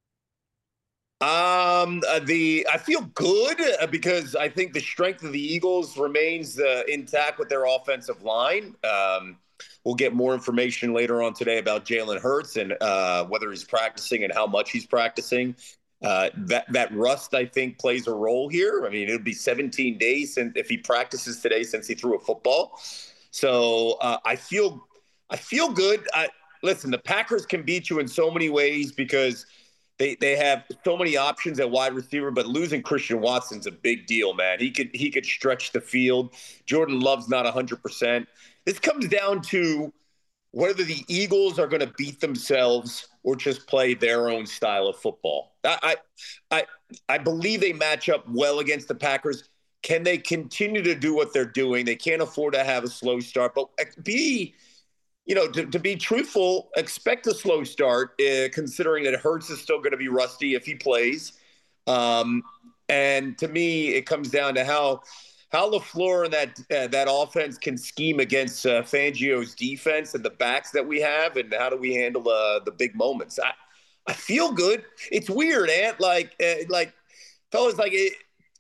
Um, uh, the I feel good uh, because I think the strength of the Eagles remains uh, intact with their offensive line. Um, we'll get more information later on today about Jalen Hurts and uh, whether he's practicing and how much he's practicing. Uh, that that rust, I think, plays a role here. I mean, it'll be seventeen days since if he practices today since he threw a football. So uh, I feel I feel good. I, listen, the Packers can beat you in so many ways because They they have so many options at wide receiver, but losing Christian Watson's a big deal, man. He could he could stretch the field. Jordan Love's not one hundred percent. This comes down to whether the Eagles are going to beat themselves or just play their own style of football. I I I believe they match up well against the Packers. Can they continue to do what they're doing? They can't afford to have a slow start, but be You know, to, to be truthful, expect a slow start, uh, considering that Hurts is still going to be rusty if he plays. Um, and to me, it comes down to how how LaFleur and that uh, that offense can scheme against uh, Fangio's defense and the backs that we have, and how do we handle uh, the big moments. I I feel good. It's weird, Ant. Like uh, like fellas, like it,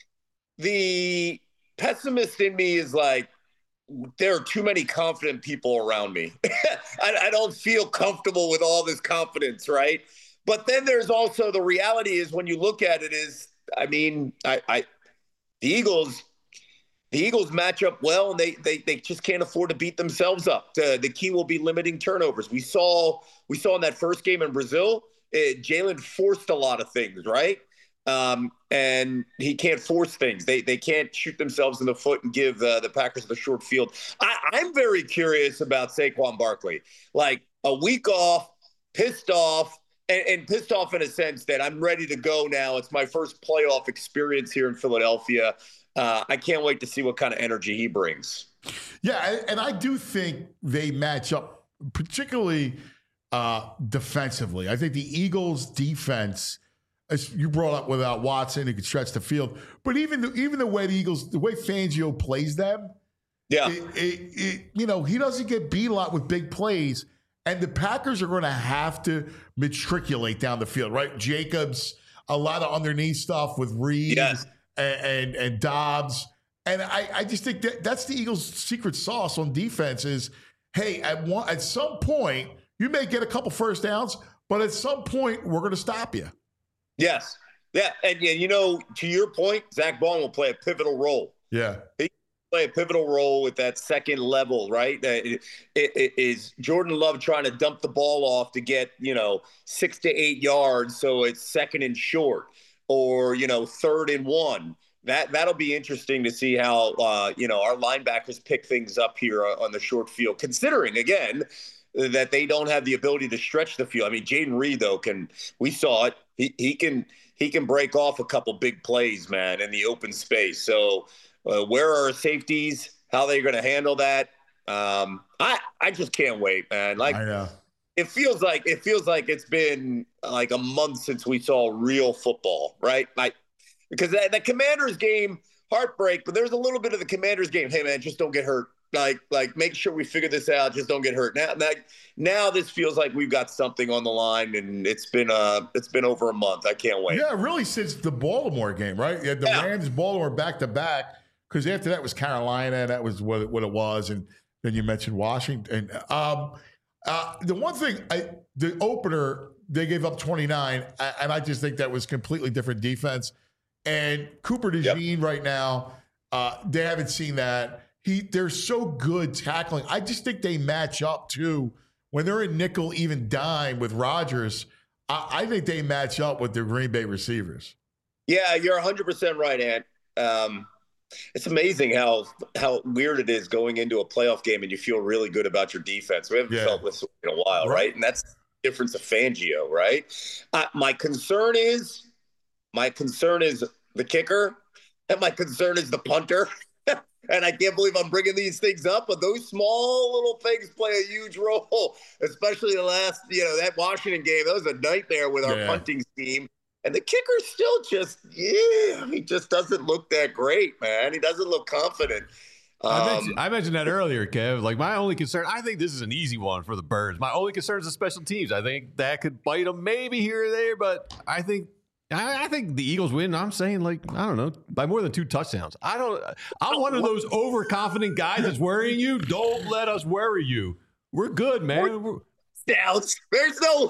the pessimist in me is like, there are too many confident people around me. I, I don't feel comfortable with all this confidence, right? But then there's also the reality is when you look at it is, I mean, I, I the Eagles, the Eagles match up well, and they they they just can't afford to beat themselves up. The, the key will be limiting turnovers. We saw we saw in that first game in Brazil, uh, Jalen forced a lot of things, right? Um, and he can't force things. They they can't shoot themselves in the foot and give uh, the Packers the short field. I, I'm very curious about Saquon Barkley. Like a week off, pissed off, and, and pissed off in a sense that I'm ready to go now. It's my first playoff experience here in Philadelphia. Uh, I can't wait to see what kind of energy he brings. Yeah, and I do think they match up particularly uh, defensively. I think the Eagles' defense, as you brought up without Watson, who could stretch the field, but even the, even the way the Eagles, the way Fangio plays them, yeah, it, it, it, you know, he doesn't get beat a lot with big plays, and the Packers are going to have to matriculate down the field, right? Jacobs, a lot of underneath stuff with Reed yes. and, and and Dobbs, and I, I just think that that's the Eagles' secret sauce on defense is, hey, at one at some point you may get a couple first downs, but at some point we're going to stop you. Yes. Yeah. And, and, you know, to your point, Zach Bond will play a pivotal role. Yeah. He play a pivotal role with that second level, right? It, it, it is Jordan Love trying to dump the ball off to get, you know, six to eight yards. So it's second and short, or, you know, third and one. That, that'll be interesting to see how, uh, you know, our linebackers pick things up here on the short field, considering, again, that they don't have the ability to stretch the field. I mean, Jaden Reed, though, can we saw it. He he can he can break off a couple big plays, man, in the open space. So uh, where are our safeties? How are they going to handle that? Um, I I just can't wait, man. Like I know. It feels like it feels like it's been like a month since we saw real football, right? Like because that, the Commanders game, heartbreak, but there's a little bit of the Commanders game. Hey, man, just don't get hurt. Like, like, make sure we figure this out. Just don't get hurt. Now, now, now, this feels like we've got something on the line, and it's been uh, it's been over a month. I can't wait. Yeah, really, since the Baltimore game, right? You had the Yeah. Rams, Baltimore back to back, because after that was Carolina. That was what it, what it was, and then you mentioned Washington. Um, uh, the one thing, I, the opener, they gave up twenty-nine, and I just think that was completely different defense. And Cooper DeJean Yep. right now, uh, they haven't seen that. He, they're so good tackling. I just think they match up too. When they're in nickel, even dime with Rodgers, I, I think they match up with the Green Bay receivers. Yeah, you're one hundred percent right, Ant. Um, it's amazing how how weird it is going into a playoff game and you feel really good about your defense. We haven't Yeah. felt this in a while, Right. right? And that's the difference of Fangio, right? Uh, my concern is, my concern is the kicker, and my concern is the punter. And I can't believe I'm bringing these things up, but those small little things play a huge role, especially the last, you know, that Washington game. That was a nightmare with our Yeah. punting scheme. And the kicker still just, yeah, he just doesn't look that great, man. He doesn't look confident. I, Um, mentioned, I mentioned that earlier, Kev. Like, my only concern, I think this is an easy one for the Birds. My only concern is the special teams. I think that could bite them maybe here or there, but I think I, I think the Eagles win. I'm saying, like, I don't know, by more than two touchdowns. I don't. I'm one of those overconfident guys that's worrying you. Don't let us worry you. We're good, man. We're, Touchdowns. There's no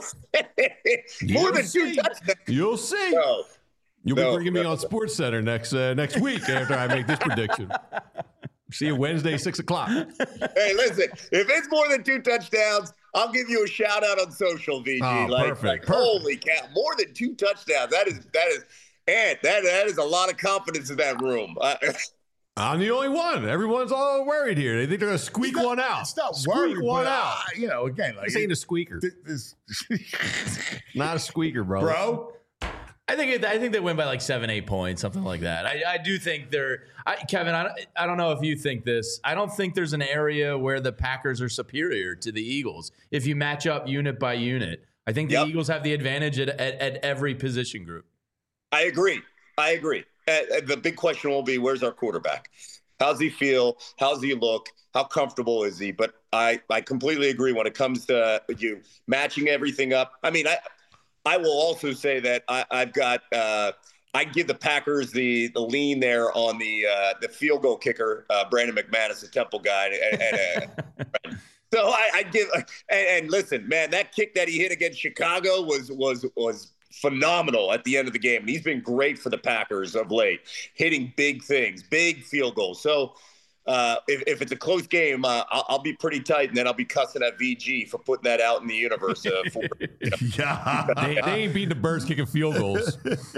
more than see. two touchdowns. You'll see. No. You'll No, be bringing me no, on no. Sports Center next uh, next week after I make this prediction. See you Wednesday, six o'clock. Hey, listen, if it's more than two touchdowns, I'll give you a shout out on social, V G. Oh, like, perfect, like perfect. holy cow, more than two touchdowns. That is that is, and that that is a lot of confidence in that room. Uh, I'm the only one. Everyone's all worried here. They think they're gonna squeak not- one out. It's not squeak worried, one but, out. uh, you know, again, like This ain't a squeaker. this, Not a squeaker, bro. bro. I think it, I think they win by like seven, eight points, something like that. I, I do think they're I, Kevin. I, don't- I don't know if you think this. I don't think there's an area where the Packers are superior to the Eagles. If you match up unit by unit, I think the Yep. Eagles have the advantage at, at, at every position group. I agree. I agree. Uh, uh, the big question will be, where's our quarterback? How's he feel? How's he look? How comfortable is he? But I, I completely agree when it comes to you matching everything up. I mean, I I will also say that I, I've got uh, I give the Packers the the lean there on the uh, the field goal kicker, uh, Brandon McManus, the Temple guy. And, and, uh, so I, I give and, and listen, man, that kick that he hit against Chicago was was was phenomenal at the end of the game. And he's been great for the Packers of late, hitting big things, big field goals. So uh, if, if it's a close game, uh, I'll, I'll be pretty tight, and then I'll be cussing at V G for putting that out in the universe. Uh, for, you know. Yeah. They, they ain't beating the Birds kicking field goals.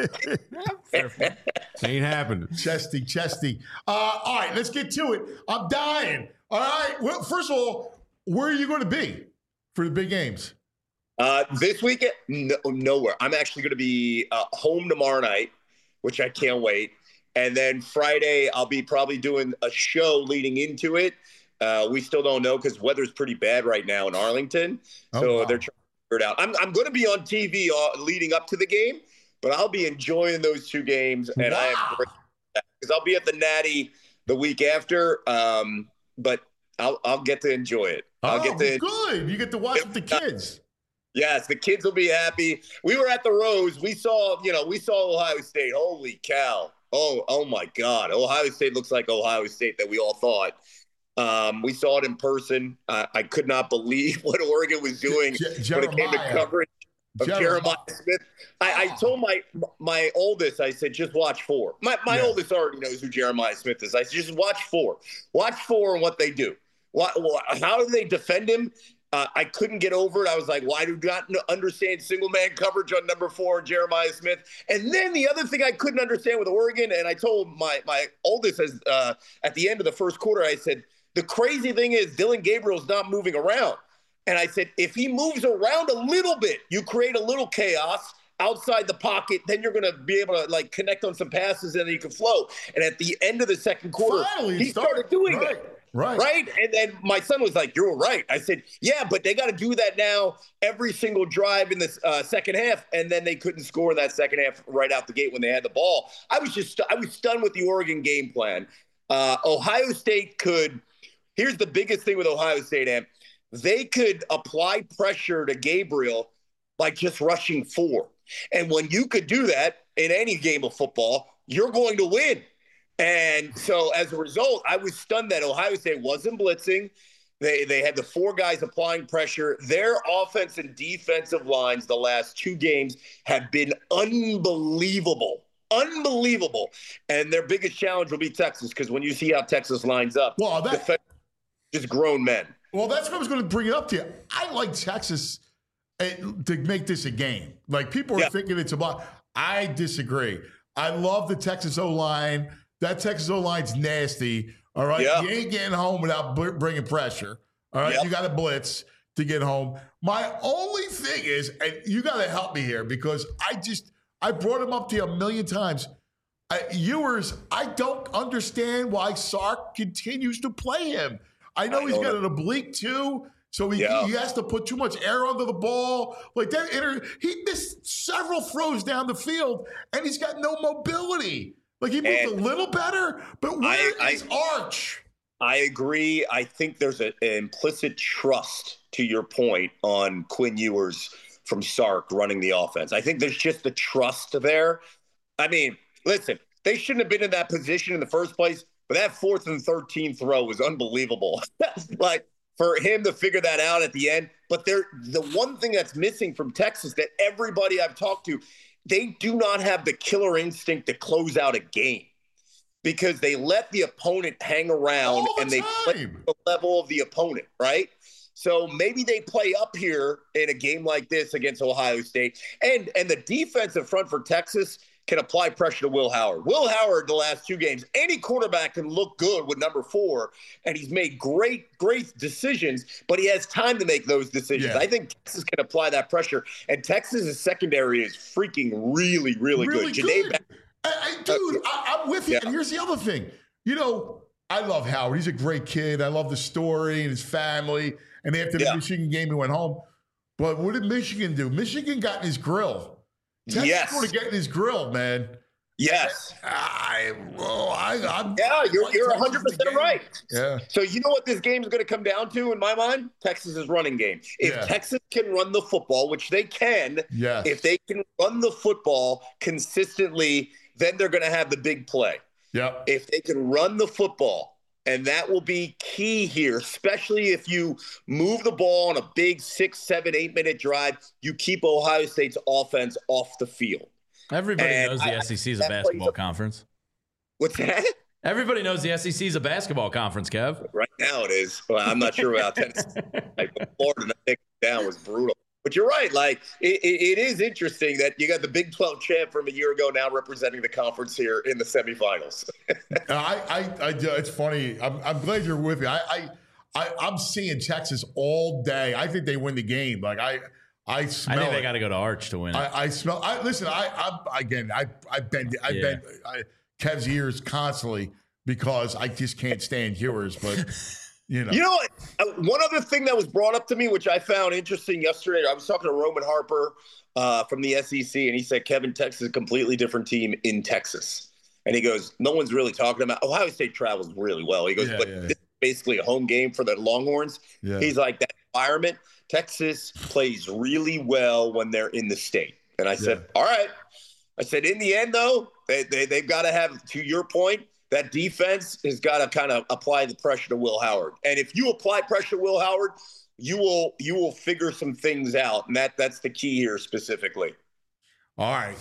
Ain't happening. Chesty, chesty. Uh, all right, let's get to it. I'm dying. All right. Well, first of all, where are you going to be for the big games? Uh, this weekend, no, nowhere. I'm actually going to be uh, home tomorrow night, which I can't wait. And then Friday, I'll be probably doing a show leading into it. Uh, we still don't know because weather's pretty bad right now in Arlington. Oh, so wow. they're trying to figure it out. I'm, I'm going to be on T V uh, leading up to the game, but I'll be enjoying those two games. And I Wow. am because I'll be at the Natty the week after. Um, but I'll, I'll get to enjoy it. I'll oh, get to good. You get to watch with the kids. Yes, the kids will be happy. We were at the Rose. We saw, you know, we saw Ohio State. Holy cow. Oh, oh my God. Ohio State looks like Ohio State that we all thought. Um, we saw it in person. Uh, I could not believe what Oregon was doing Je- when it came to Jeremiah. coverage of Jeremiah. Jeremiah Smith. I, I told my my oldest, I said, just watch four. My, my Yeah. oldest already knows who Jeremiah Smith is. I said, just watch four. Watch four and what they do. What, what, how do they defend him? Uh, I couldn't get over it. I was like, well, I do not understand single man coverage on number four, Jeremiah Smith. And then the other thing I couldn't understand with Oregon, and I told my my oldest as uh, at the end of the first quarter, I said, the crazy thing is Dylan Gabriel's not moving around. And I said, if he moves around a little bit, you create a little chaos outside the pocket, then you're going to be able to like connect on some passes and then you can flow. And at the end of the second quarter, Finally, he it started. started doing Right. it. Right. Right. And then my son was like, you're right. I said, yeah, but they got to do that now every single drive in the uh, second half. And then they couldn't score in that second half right out the gate when they had the ball. I was just, I was stunned with the Oregon game plan. Uh, Ohio State could, here's the biggest thing with Ohio State, Am. They could apply pressure to Gabriel by just rushing four. And when you could do that in any game of football, you're going to win. And so as a result, I was stunned that Ohio State wasn't blitzing. They they had the four guys applying pressure. Their offense and defensive lines the last two games have been unbelievable. Unbelievable. And their biggest challenge will be Texas, because when you see how Texas lines up, Well, that- defense- just grown men. Well, that's what I was going to bring it up to you. I like Texas uh, to make this a game. Like, people are Yeah. thinking it's about. I disagree. I love the Texas O-line. That Texas O-line's nasty. All right. Yeah. You ain't getting home without br- bringing pressure. All right. Yep. You got to blitz to get home. My only thing is, and you got to help me here because I just, I brought him up to you a million times. Uh, Ewers, I don't understand why Sark continues to play him. I know I he's know got it. an oblique too, so he, Yeah. he has to put too much air under the ball. Like that, inter- he missed several throws down the field, and he's got no mobility. Like he moved And a little better, but where I- is Arch? I agree. I think there's a, an implicit trust, to your point, on Quinn Ewers from Sark running the offense. I think there's just the trust there. I mean, listen, they shouldn't have been in that position in the first place, but that fourth and thirteen throw was unbelievable. Like, for him to figure that out at the end. But there, the one thing that's missing from Texas that everybody I've talked to, they do not have the killer instinct to close out a game, because they let the opponent hang around All the and they play time. the level of the opponent, right? So maybe they play up here in a game like this against Ohio State. And and the defensive front for Texas can apply pressure to Will Howard. Will Howard, the last two games, any quarterback can look good with number four, and he's made great, great decisions, but he has time to make those decisions. Yeah. I think Texas can apply that pressure, and Texas's secondary is freaking really, really, Really good. good. Janae, I, I, dude, I, I'm with you. Yeah. And here's the other thing. You know, I love Howard. He's a great kid. I love the story and his family. And after the Yeah. Michigan game, he went home. But what did Michigan do? Michigan got in his grill. Texas Yes. going to get in his grill, man. yes. I, well, I, I'm, Yeah, you're, you're Texas one hundred in the percent game. right. Yeah. So you know what this game is going to come down to in my mind? Texas's running game. If Yeah. Texas can run the football, which they can, Yes. if they can run the football consistently, then they're going to have the big play. Yep. If they can run the football, and that will be key here, especially if you move the ball on a big six, seven, eight minute drive, you keep Ohio State's offense off the field. Everybody And knows the I- S E C is a that plays basketball a- conference. What's that? Everybody knows the S E C is a basketball conference, Kev. Right now it is. Well, I'm not sure about Tennessee. Like, Florida taking it down was brutal. But you're right. Like it, it, it is interesting that you got the Big twelve champ from a year ago now representing the conference here in the semifinals. I, I, I, it's funny. I'm, I'm glad you're with me. I, I, I, I'm seeing Texas all day. I think they win the game. Like I, I smell I think they it. got to go to Arch to win it. I, I smell. I listen. I, I again. I, I bend. I Yeah. bend I, Kev's ears constantly because I just can't stand Ewers. But you know, You know what? Uh, one other thing that was brought up to me, which I found interesting yesterday, I was talking to Roman Harper uh, from the S E C, and he said, Kevin, Texas is a completely different team in Texas. And he goes, no one's really talking about Ohio State travels really well. He goes, Yeah, but yeah. this is basically a home game for the Longhorns. Yeah. He's like, that environment, Texas plays really well when they're in the state. And I said, Yeah. all right. I said, in the end, though, they, they, they've got to have, to your point, that defense has got to kind of apply the pressure to Will Howard. And if you apply pressure to Will Howard, you will you will figure some things out. And that that's the key here specifically. all right.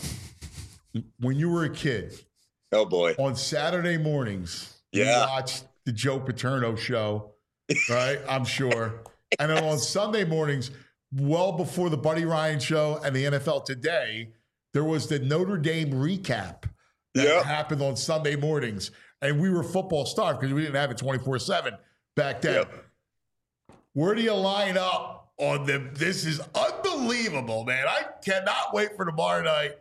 When you were a kid, Oh, boy. on Saturday mornings, you Yeah. watched the Joe Paterno show, right? I'm sure. And then on Sunday mornings, well before the Buddy Ryan show and the N F L Today, there was the Notre Dame recap that Yeah. happened on Sunday mornings. And we were football starved because we didn't have it twenty-four seven back then. Yeah. Where do you line up on them? This is unbelievable, man. I cannot wait for tomorrow night.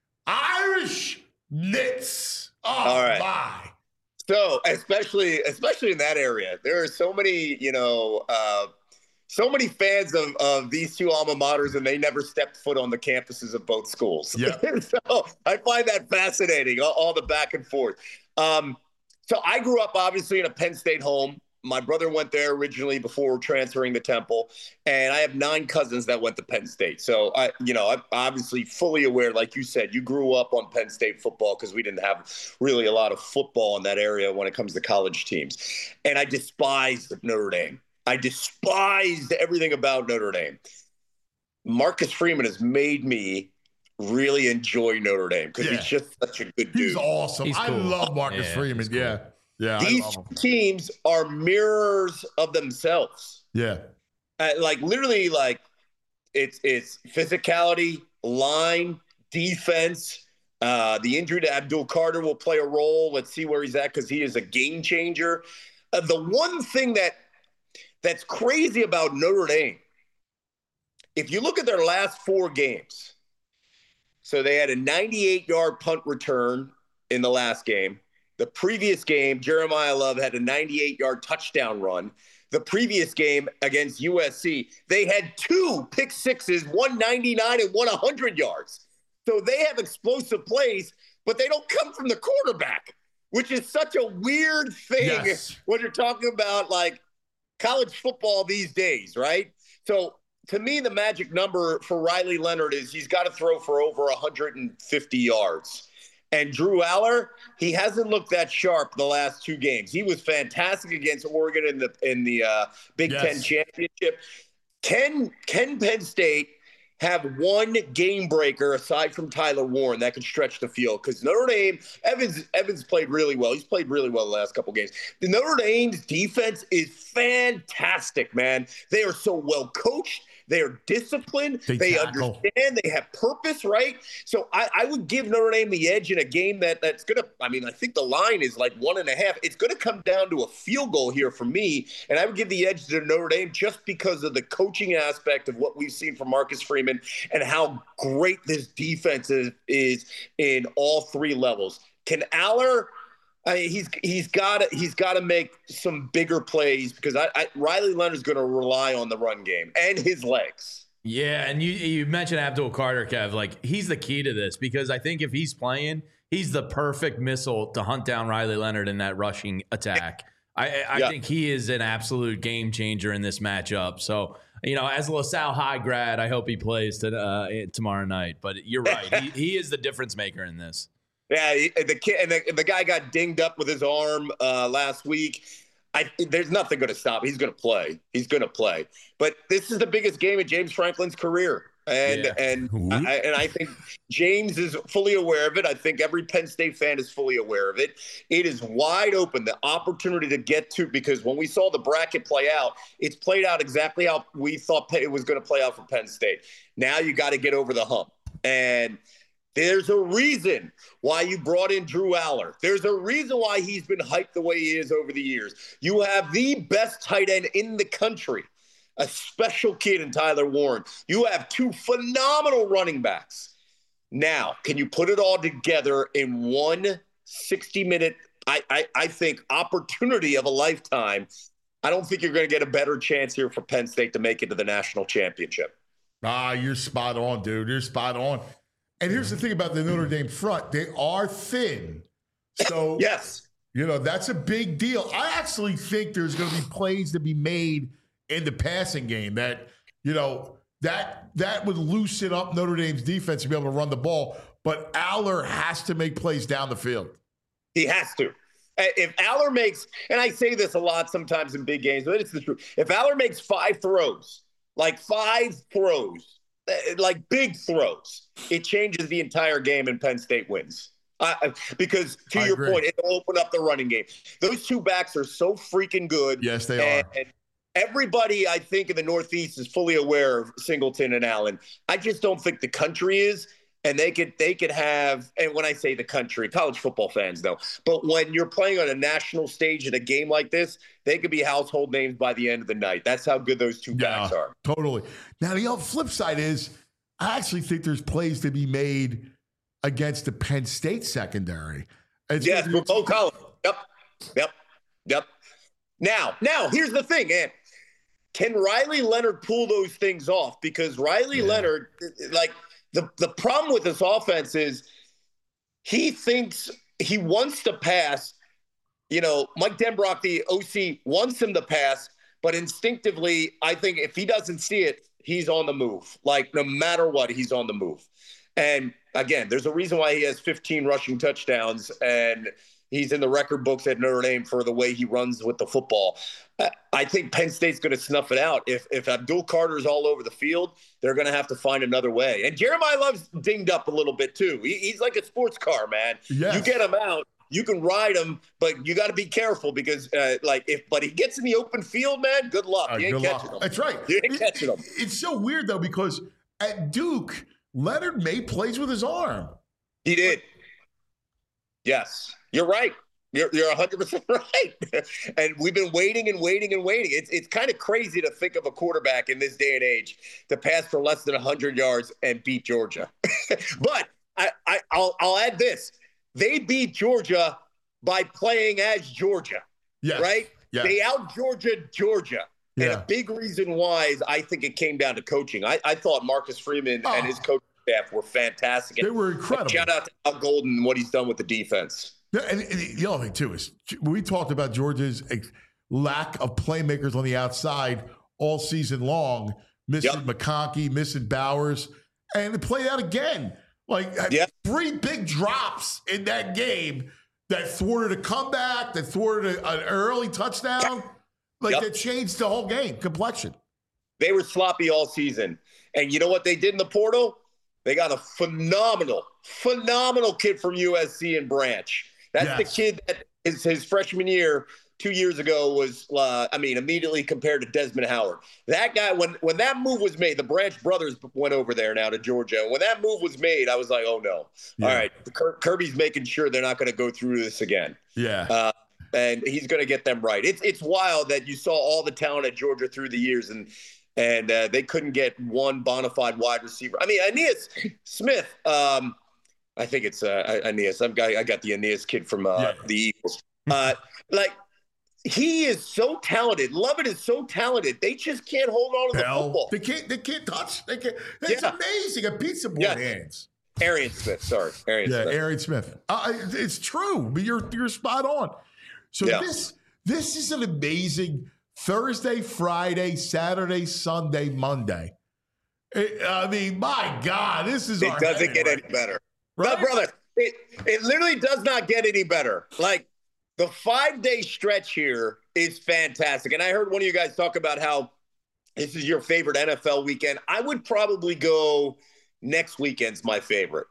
Irish Knits. Oh, All right. my. So especially especially in that area, there are so many, you know, uh, so many fans of, of these two alma maters, and they never stepped foot on the campuses of both schools. Yeah. So I find that fascinating, all, all the back and forth. Um, so I grew up obviously in a Penn State home. My brother went there originally before transferring to Temple, and I have nine cousins that went to Penn State. So I, you know, I'm obviously fully aware, like you said, you grew up on Penn State football because we didn't have really a lot of football in that area when it comes to college teams. And I despised Notre Dame. I despised everything about Notre Dame. Marcus Freeman has made me really enjoy Notre Dame because Yeah. he's just such a good dude. He's awesome. He's I cool. love Marcus Yeah, Freeman. he's cool. Yeah. Yeah. I These love him. teams are mirrors of themselves. Yeah. Uh, like literally, like it's it's physicality, line, defense. Uh, the injury to Abdul Carter will play a role. Let's see where he's at because he is a game changer. Uh, the one thing that that's crazy about Notre Dame, if you look at their last four games, so they had a ninety-eight yard punt return in the last game. The previous game, Jeremiah Love had a ninety-eight yard touchdown run. The previous game against U S C, they had two pick sixes, one ninety-nine and one one hundred yards. So they have explosive plays, but they don't come from the quarterback, which is such a weird thing Yes. when you're talking about like college football these days, right? So to me, the magic number for Riley Leonard is he's got to throw for over one hundred fifty yards. And Drew Aller, he hasn't looked that sharp the last two games. He was fantastic against Oregon in the in the uh, Big Yes. Ten championship. Can can Penn State have one game breaker aside from Tyler Warren that can stretch the field. Because Notre Dame, Evans Evans played really well. He's played really well the last couple games. The Notre Dame's defense is fantastic, man. They are so well coached. They are disciplined. They, they understand. They have purpose, right? So I, I would give Notre Dame the edge in a game that that's going to, I mean, I think the line is like one and a half. It's going to come down to a field goal here for me. And I would give the edge to Notre Dame just because of the coaching aspect of what we've seen from Marcus Freeman and how great this defense is, is in all three levels. Can Aller... I mean, he's he's got to he's got to make some bigger plays because I, I Riley Leonard's going to rely on the run game and his legs. Yeah, and you you mentioned Abdul Carter, Kev. Like, he's the key to this because I think if he's playing, he's the perfect missile to hunt down Riley Leonard in that rushing attack. I I yeah. think he is an absolute game changer in this matchup. So, you know, as a LaSalle High grad, I hope he plays to, uh, tomorrow night. But you're right, he he is the difference maker in this. Yeah, the kid and the, the guy got dinged up with his arm uh, last week. I, there's nothing going to stop. He's going to play. He's going to play. But this is the biggest game of James Franklin's career, and yeah. and I, and I think James is fully aware of it. I think every Penn State fan is fully aware of it. It is wide open, the opportunity to get to, because when we saw the bracket play out, it's played out exactly how we thought it was going to play out for Penn State. Now you got to get over the hump, and there's a reason why you brought in Drew Aller. There's a reason why he's been hyped the way he is over the years. You have the best tight end in the country, a special kid in Tyler Warren. You have two phenomenal running backs. Now, can you put it all together in one sixty-minute, I, I, I think, opportunity of a lifetime? I don't think you're going to get a better chance here for Penn State to make it to the national championship. Ah, you're spot on, dude. You're spot on. And here's the thing about the Notre Dame front. They are thin. So, yes, you know, that's a big deal. I actually think there's going to be plays to be made in the passing game that, you know, that that would loosen up Notre Dame's defense to be able to run the ball. But Aller has to make plays down the field. He has to. If Aller makes, and I say this a lot sometimes in big games, but it's the truth. If Aller makes five throws, like five throws, like big throws, it changes the entire game and Penn State wins. Uh, because to I your agree. point, it'll open up the running game. Those two backs are so freaking good. Yes, they and, are. And everybody, I think, in the Northeast is fully aware of Singleton and Allen. I just don't think the country is. And they could they could have, and when I say the country, college football fans though, but when you're playing on a national stage in a game like this, they could be household names by the end of the night. That's how good those two yeah, backs are. Totally. Now the flip side is, I actually think there's plays to be made against the Penn State secondary. It's yes, for Bo Collins. Yep, yep, yep. Now, now here's the thing, man. Can Riley Leonard pull those things off? Because Riley yeah. Leonard, like. The the problem with this offense is he thinks he wants to pass. You know, Mike Denbrock, the O C, wants him to pass, but instinctively, I think if he doesn't see it, he's on the move. Like, no matter what, he's on the move. And, again, there's a reason why he has fifteen rushing touchdowns, and he's in the record books at Notre Dame for the way he runs with the football. I think Penn State's going to snuff it out. If if Abdul Carter's all over the field, they're going to have to find another way. And Jeremiah Love's dinged up a little bit too. He, he's like a sports car, man. Yes. You get him out, you can ride him, but you got to be careful because, uh, like, if but he gets in the open field, man, good luck. Uh, you ain't catching luck. him. That's right. You ain't it, catching him. It's so weird though because at Duke, Leonard made plays with his arm. He did. Yes, you're right. You're you're one hundred percent right. And we've been waiting and waiting and waiting. It's it's kind of crazy to think of a quarterback in this day and age to pass for less than one hundred yards and beat Georgia. But I, I I'll I'll add this. They beat Georgia by playing as Georgia. Yes. Right? Yes. They out Georgia Georgia. Yeah. And a big reason why is I think it came down to coaching. I, I thought Marcus Freeman oh. and his coaching staff were fantastic. They were incredible. Shout out to Al Golden and what he's done with the defense. Yeah, and, and the other thing, too, is we talked about Georgia's lack of playmakers on the outside all season long, missing yep. McConkey, missing Bowers, and they played out again. Like, yep. three big drops in that game that thwarted a comeback, that thwarted a, an early touchdown. Like, yep. that changed the whole game complexion. They were sloppy all season. And you know what they did in the portal? They got a phenomenal, phenomenal kid from U S C in Branch. That's yes. the kid that is his freshman year two years ago was, uh, I mean, immediately compared to Desmond Howard. That guy, when when that move was made, the Branch brothers went over there now to Georgia. When that move was made, I was like, oh, no. Yeah. All right, Kirby's making sure they're not going to go through this again. Yeah. Uh, and he's going to get them right. It's it's wild that you saw all the talent at Georgia through the years, and and uh, they couldn't get one bona fide wide receiver. I mean, Aeneas Smith, um, I think it's uh, Aeneas. I'm, I got the Aeneas kid from uh, yeah. the Eagles. Uh, like, he is so talented. Lovett is so talented. They just can't hold on to the Hell, football. They can't. They can't touch. They can't. It's yeah. amazing. A pizza board yes. hands. Arian Smith. Sorry, Arian yeah, Smith. Arian Smith. Uh, it's true. But you're you're spot on. So yeah. this this is an amazing Thursday, Friday, Saturday, Sunday, Monday. It, I mean, my God, this is. It doesn't get right. any better, right? No, brother. It it literally does not get any better. Like. The five-day stretch here is fantastic. And I heard one of you guys talk about how this is your favorite N F L weekend. I would probably go next weekend's my favorite.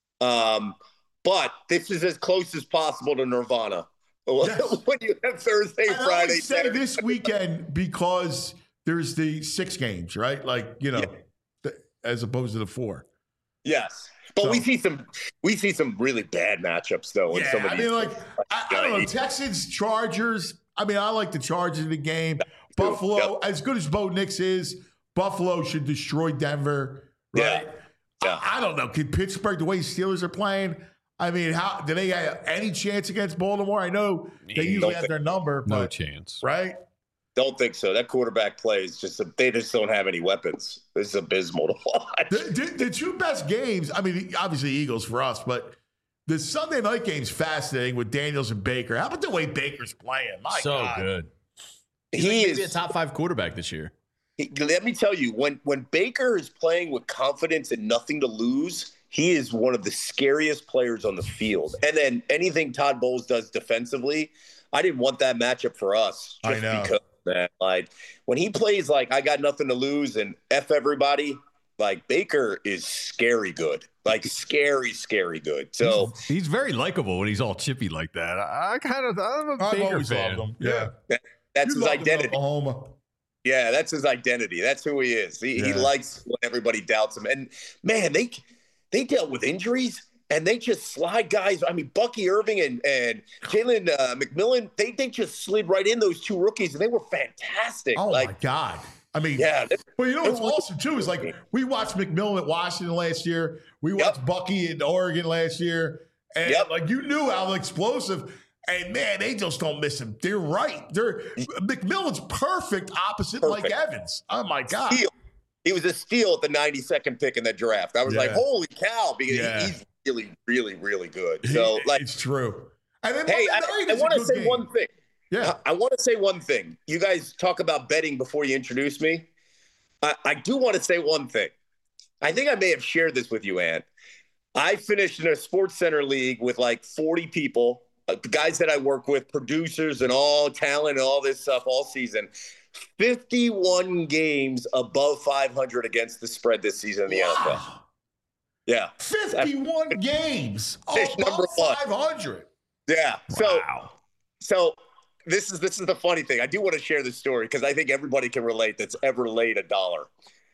Um, but this is as close as possible to Nirvana. Yes. When you have Thursday, and Friday, I would say Saturday. this weekend because there's the six games, right? Like, you know, yeah. th- as opposed to the four. Yes. But so, we see some we see some really bad matchups though. In yeah, some of I these mean, like I, I don't know, Texans, Chargers. I mean, I like the Chargers in the game. Buffalo, yep. as good as Bo Nix is, Buffalo should destroy Denver. Right? Yeah. yeah. I, I don't know. Can Pittsburgh, the way Steelers are playing, I mean, how do they have any chance against Baltimore? I know they usually have their number, but no chance, right? Don't think so. That quarterback play is just – they just don't have any weapons. This is abysmal to watch. The, the, the two best games – I mean, obviously Eagles for us, but the Sunday night game's fascinating with Daniels and Baker. How about the way Baker's playing? My so God. good. He's he like is maybe a top five quarterback this year. He, let me tell you, when, when Baker is playing with confidence and nothing to lose, he is one of the scariest players on the field. And then anything Todd Bowles does defensively, I didn't want that matchup for us. Just I know. Because man, like when he plays like I got nothing to lose and F everybody, like Baker is scary good, like scary, scary good. So he's, he's very likable when he's all chippy like that. I, I kind of I'm a I've Baker fan. Him. Yeah, that, that's you his identity. Oklahoma. Yeah, that's his identity. That's who he is. He, yeah. he likes when everybody doubts him. And man, they they dealt with injuries. And they just slide guys. I mean, Bucky Irving and, and Jalen uh, McMillan, they, they just slid right in, those two rookies, and they were fantastic. Oh, like, my God. I mean, yeah. But you know what's awesome, too, is like we watched McMillan at Washington last year. We watched yep. Bucky in Oregon last year. And, yep. like, you knew how explosive. And, man, they just don't miss him. They're right. They're McMillan's perfect opposite perfect. Mike Evans. Oh, my God. Steal. He was a steal at the ninety-second pick in the draft. I was yeah. like, holy cow, because yeah. he's really, really, really good. So, he, like, it's true. And then hey, I, I want to say game. one thing. Yeah, I, I want to say one thing. You guys talk about betting before you introduce me. I, I do want to say one thing. I think I may have shared this with you, Ann. I finished in a Sports Center league with like forty people, uh, guys that I work with, producers and all talent and all this stuff all season. fifty-one games above five hundred against the spread this season in the wow. N F L. Yeah. fifty-one That's, games. Fish oh, number one. five hundred. Yeah. So, wow. so this is this is the funny thing. I do want to share this story because I think everybody can relate that's ever laid a dollar.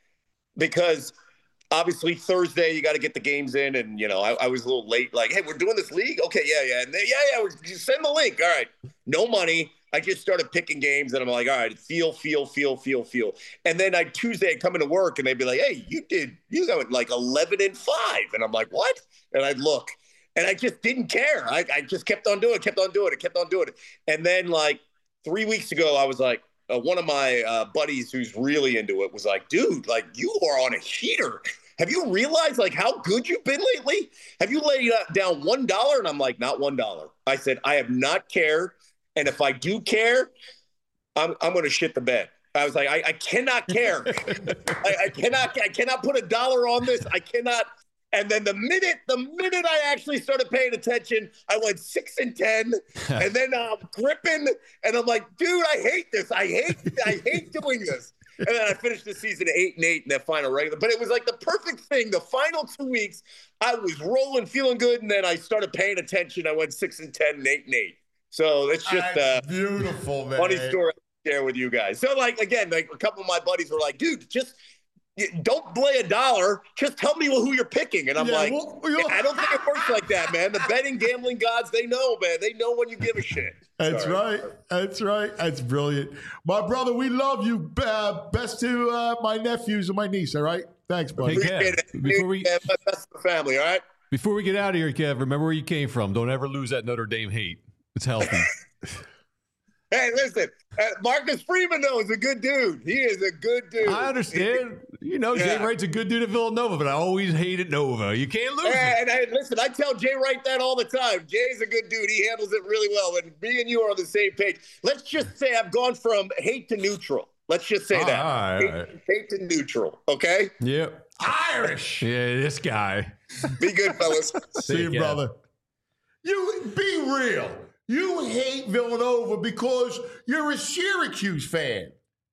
Because obviously Thursday you got to get the games in, and you know I, I was a little late. Like, hey, we're doing this league. Okay, yeah, yeah, and they, yeah, yeah. We're, just send the link. All right. No money. I just started picking games, and I'm like, all right, feel, feel, feel, feel, feel. And then I Tuesday I come into work, and they'd be like, hey, you did, you got like eleven and five, and I'm like, what? And I'd look, and I just didn't care. I, I just kept on doing it, kept on doing it, kept on doing it. And then like three weeks ago, I was like, uh, one of my uh, buddies who's really into it was like, dude, like you are on a heater. Have you realized like how good you've been lately? Have you laid down one dollar? And I'm like, not one dollar. I said, I have not cared. And if I do care, I'm I'm going to shit the bed. I was like, I, I cannot care. I, I cannot I cannot put a dollar on this. I cannot. And then the minute the minute I actually started paying attention, I went six and ten, and then I'm gripping, and I'm like, dude, I hate this. I hate I hate doing this. And then I finished the season eight and eight in that final regular. But it was like the perfect thing. The final two weeks, I was rolling, feeling good, and then I started paying attention. I went six and ten and eight and eight. So it's just That's uh, beautiful, man. funny story to share with you guys. So like again, like a couple of my buddies were like, "Dude, just." Don't play a dollar. Just tell me who you're picking. And I'm Yeah, like, well, well, I don't think it works like that, man. The betting, gambling gods, they know, man. They know when you give a shit. That's Sorry. right. That's right. That's brilliant. My brother, we love you. Uh, best to uh, my nephews and my niece, all right? Thanks, buddy. Hey, Kev, Appreciate it. before we- Yeah, best of the family, all right? Before we get out of here, Kev, remember where you came from. Don't ever lose that Notre Dame hate. It's healthy. Hey, listen, uh, Marcus Freeman, though, is a good dude. He is a good dude. I understand. You know, Jay Yeah. Wright's a good dude at Villanova, but I always hated Nova. You can't lose it. And, and listen, I tell Jay Wright that all the time. Jay's a good dude. He handles it really well. And me and you are on the same page. Let's just say I've gone from hate to neutral. Let's just say All that. right, all hate, right. hate to neutral, okay? Yep. Irish. Yeah, this guy. Be good, fellas. See you, Kev. brother. You be real. You hate Villanova because you're a Syracuse fan.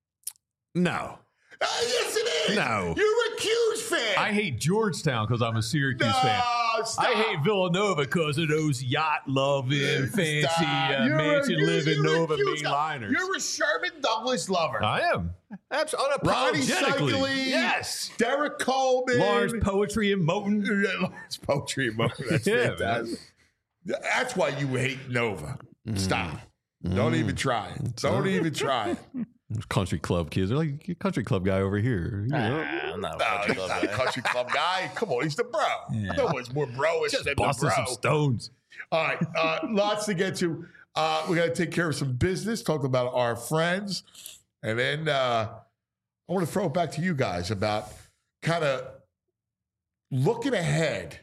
No. Uh, yes, it is. No. You're a Cuse fan. I hate Georgetown because I'm a Syracuse no, fan. stop. I hate Villanova because of those yacht-loving, fancy, Stop. uh, You're a- mansion-living you're a Nova Cuse guy. mainliners. You're a Sherman Douglas lover. I am. Absolutely. Ronnie Unapologetically. Cycli, Yes. Derek Coleman, Lawrence Poetry and Moten. Yeah, Lawrence Poetry and Moten. That's Yeah, fantastic. That's why you hate Nova. Stop. Don't even try it. Don't even try it. Country club kids. They're like, "You country club guy over here. You know? Ah, I'm not a No, country he's club not a guy. country club guy. Come on, he's the bro. No one's more bro-ish Just than the busting bro. some stones. All right, uh, lots to get to. Uh, we got to take care of some business, talk about our friends, and then uh, I want to throw it back to you guys about kind of looking ahead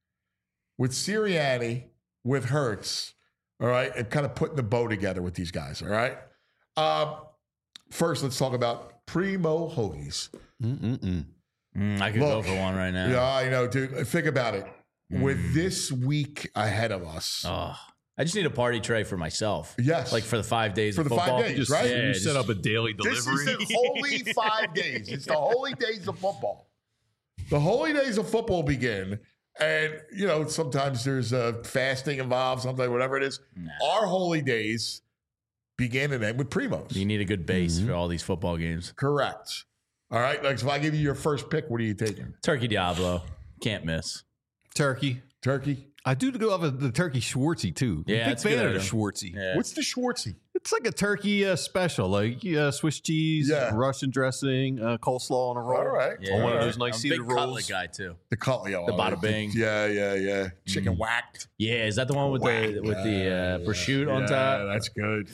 with Sirianni, with Hurts, all right, and kind of putting the bow together with these guys, all right? Um, first, let's talk about Primo Hoagies. Mm-mm-mm. Mm, I could go Look, for one right now. Yeah, I know, dude. Think about it. With this week ahead of us, Oh, I just need a party tray for myself. yes, Like for the five days For of the five football. days, Just, right? You Yeah, set just- up a daily this delivery. is the holy five days. It's the holy days of football. The holy days of football begin, and you know sometimes there's uh, fasting involved, something whatever it is. Nah. Our holy days begin and end with Primos. You need a good base for all these football games. Correct. All right. Like, so if I give you your first pick, what are you taking? Turkey Diablo. Can't miss. Turkey. Turkey. I do go with the turkey Schwartzy too. Yeah, Big that's a fan good of the item. Schwartzy. Yeah. What's the Schwartzy? It's like a turkey uh, special, like uh, Swiss cheese, Yeah. Russian dressing, uh, coleslaw on a roll. All right. Yeah. On one of All those right. nice I'm a cedar big cutlet rolls. guy too. The cutlet. oh, The bada uh, bing. Yeah, yeah, yeah. Chicken whacked. Yeah, is that the one with the with the uh, prosciutto on Yeah, top? that's good.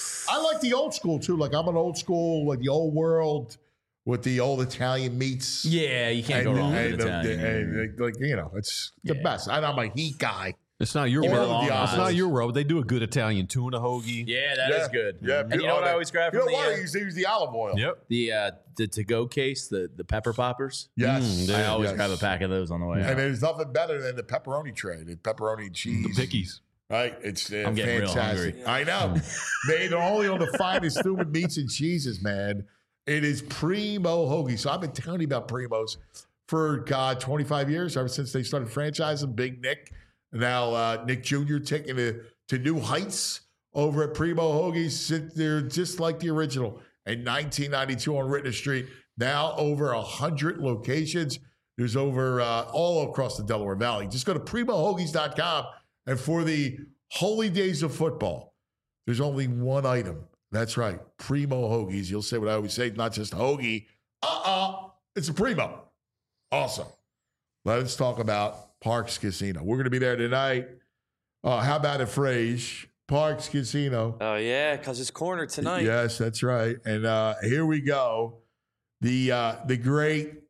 I like the old school too. Like I'm an old school, like the old world with the old Italian meats. Yeah, you can't go wrong with the- Italian. the- and, like you know, it's the Yeah. best. And I'm a heat guy. It's not your Or world. the It's opposite. not your world. They do a good Italian tuna hoagie. Yeah, that is Yeah. good. Yeah, and you know oh, what I that- always grab You from know the what? I uh, used to use the olive oil. Yep. the uh, the to go case, the the pepper poppers. Yes. Mm, I Yeah, always yes. grab a pack of those on the way. And out. there's nothing better than the pepperoni tray, the pepperoni cheese. The pickies. Right? It's uh, I'm getting real fantastic. hungry. I know. Made only on the finest human meats and cheeses, man. It is Primo Hoagie. So I've been telling you about Primos for, God, twenty-five years, ever since they started franchising Big Nick. Now uh, Nick Junior taking it to new heights over at Primo Hoagies. They're just like the original in nineteen ninety-two on Rittner Street. Now over one hundred locations. There's over uh, all across the Delaware Valley. Just go to primo hoagies dot com. And for the holy days of football, there's only one item. That's right, Primo Hoagies. You'll say what I always say, not just hoagie. Uh-uh, it's a Primo. Awesome. Let's talk about Parks Casino. We're going to be there tonight. Uh, how about it, Frage? Parks Casino. Oh, yeah, because it's corner tonight. Yes, that's right. And uh, here we go. The uh, the great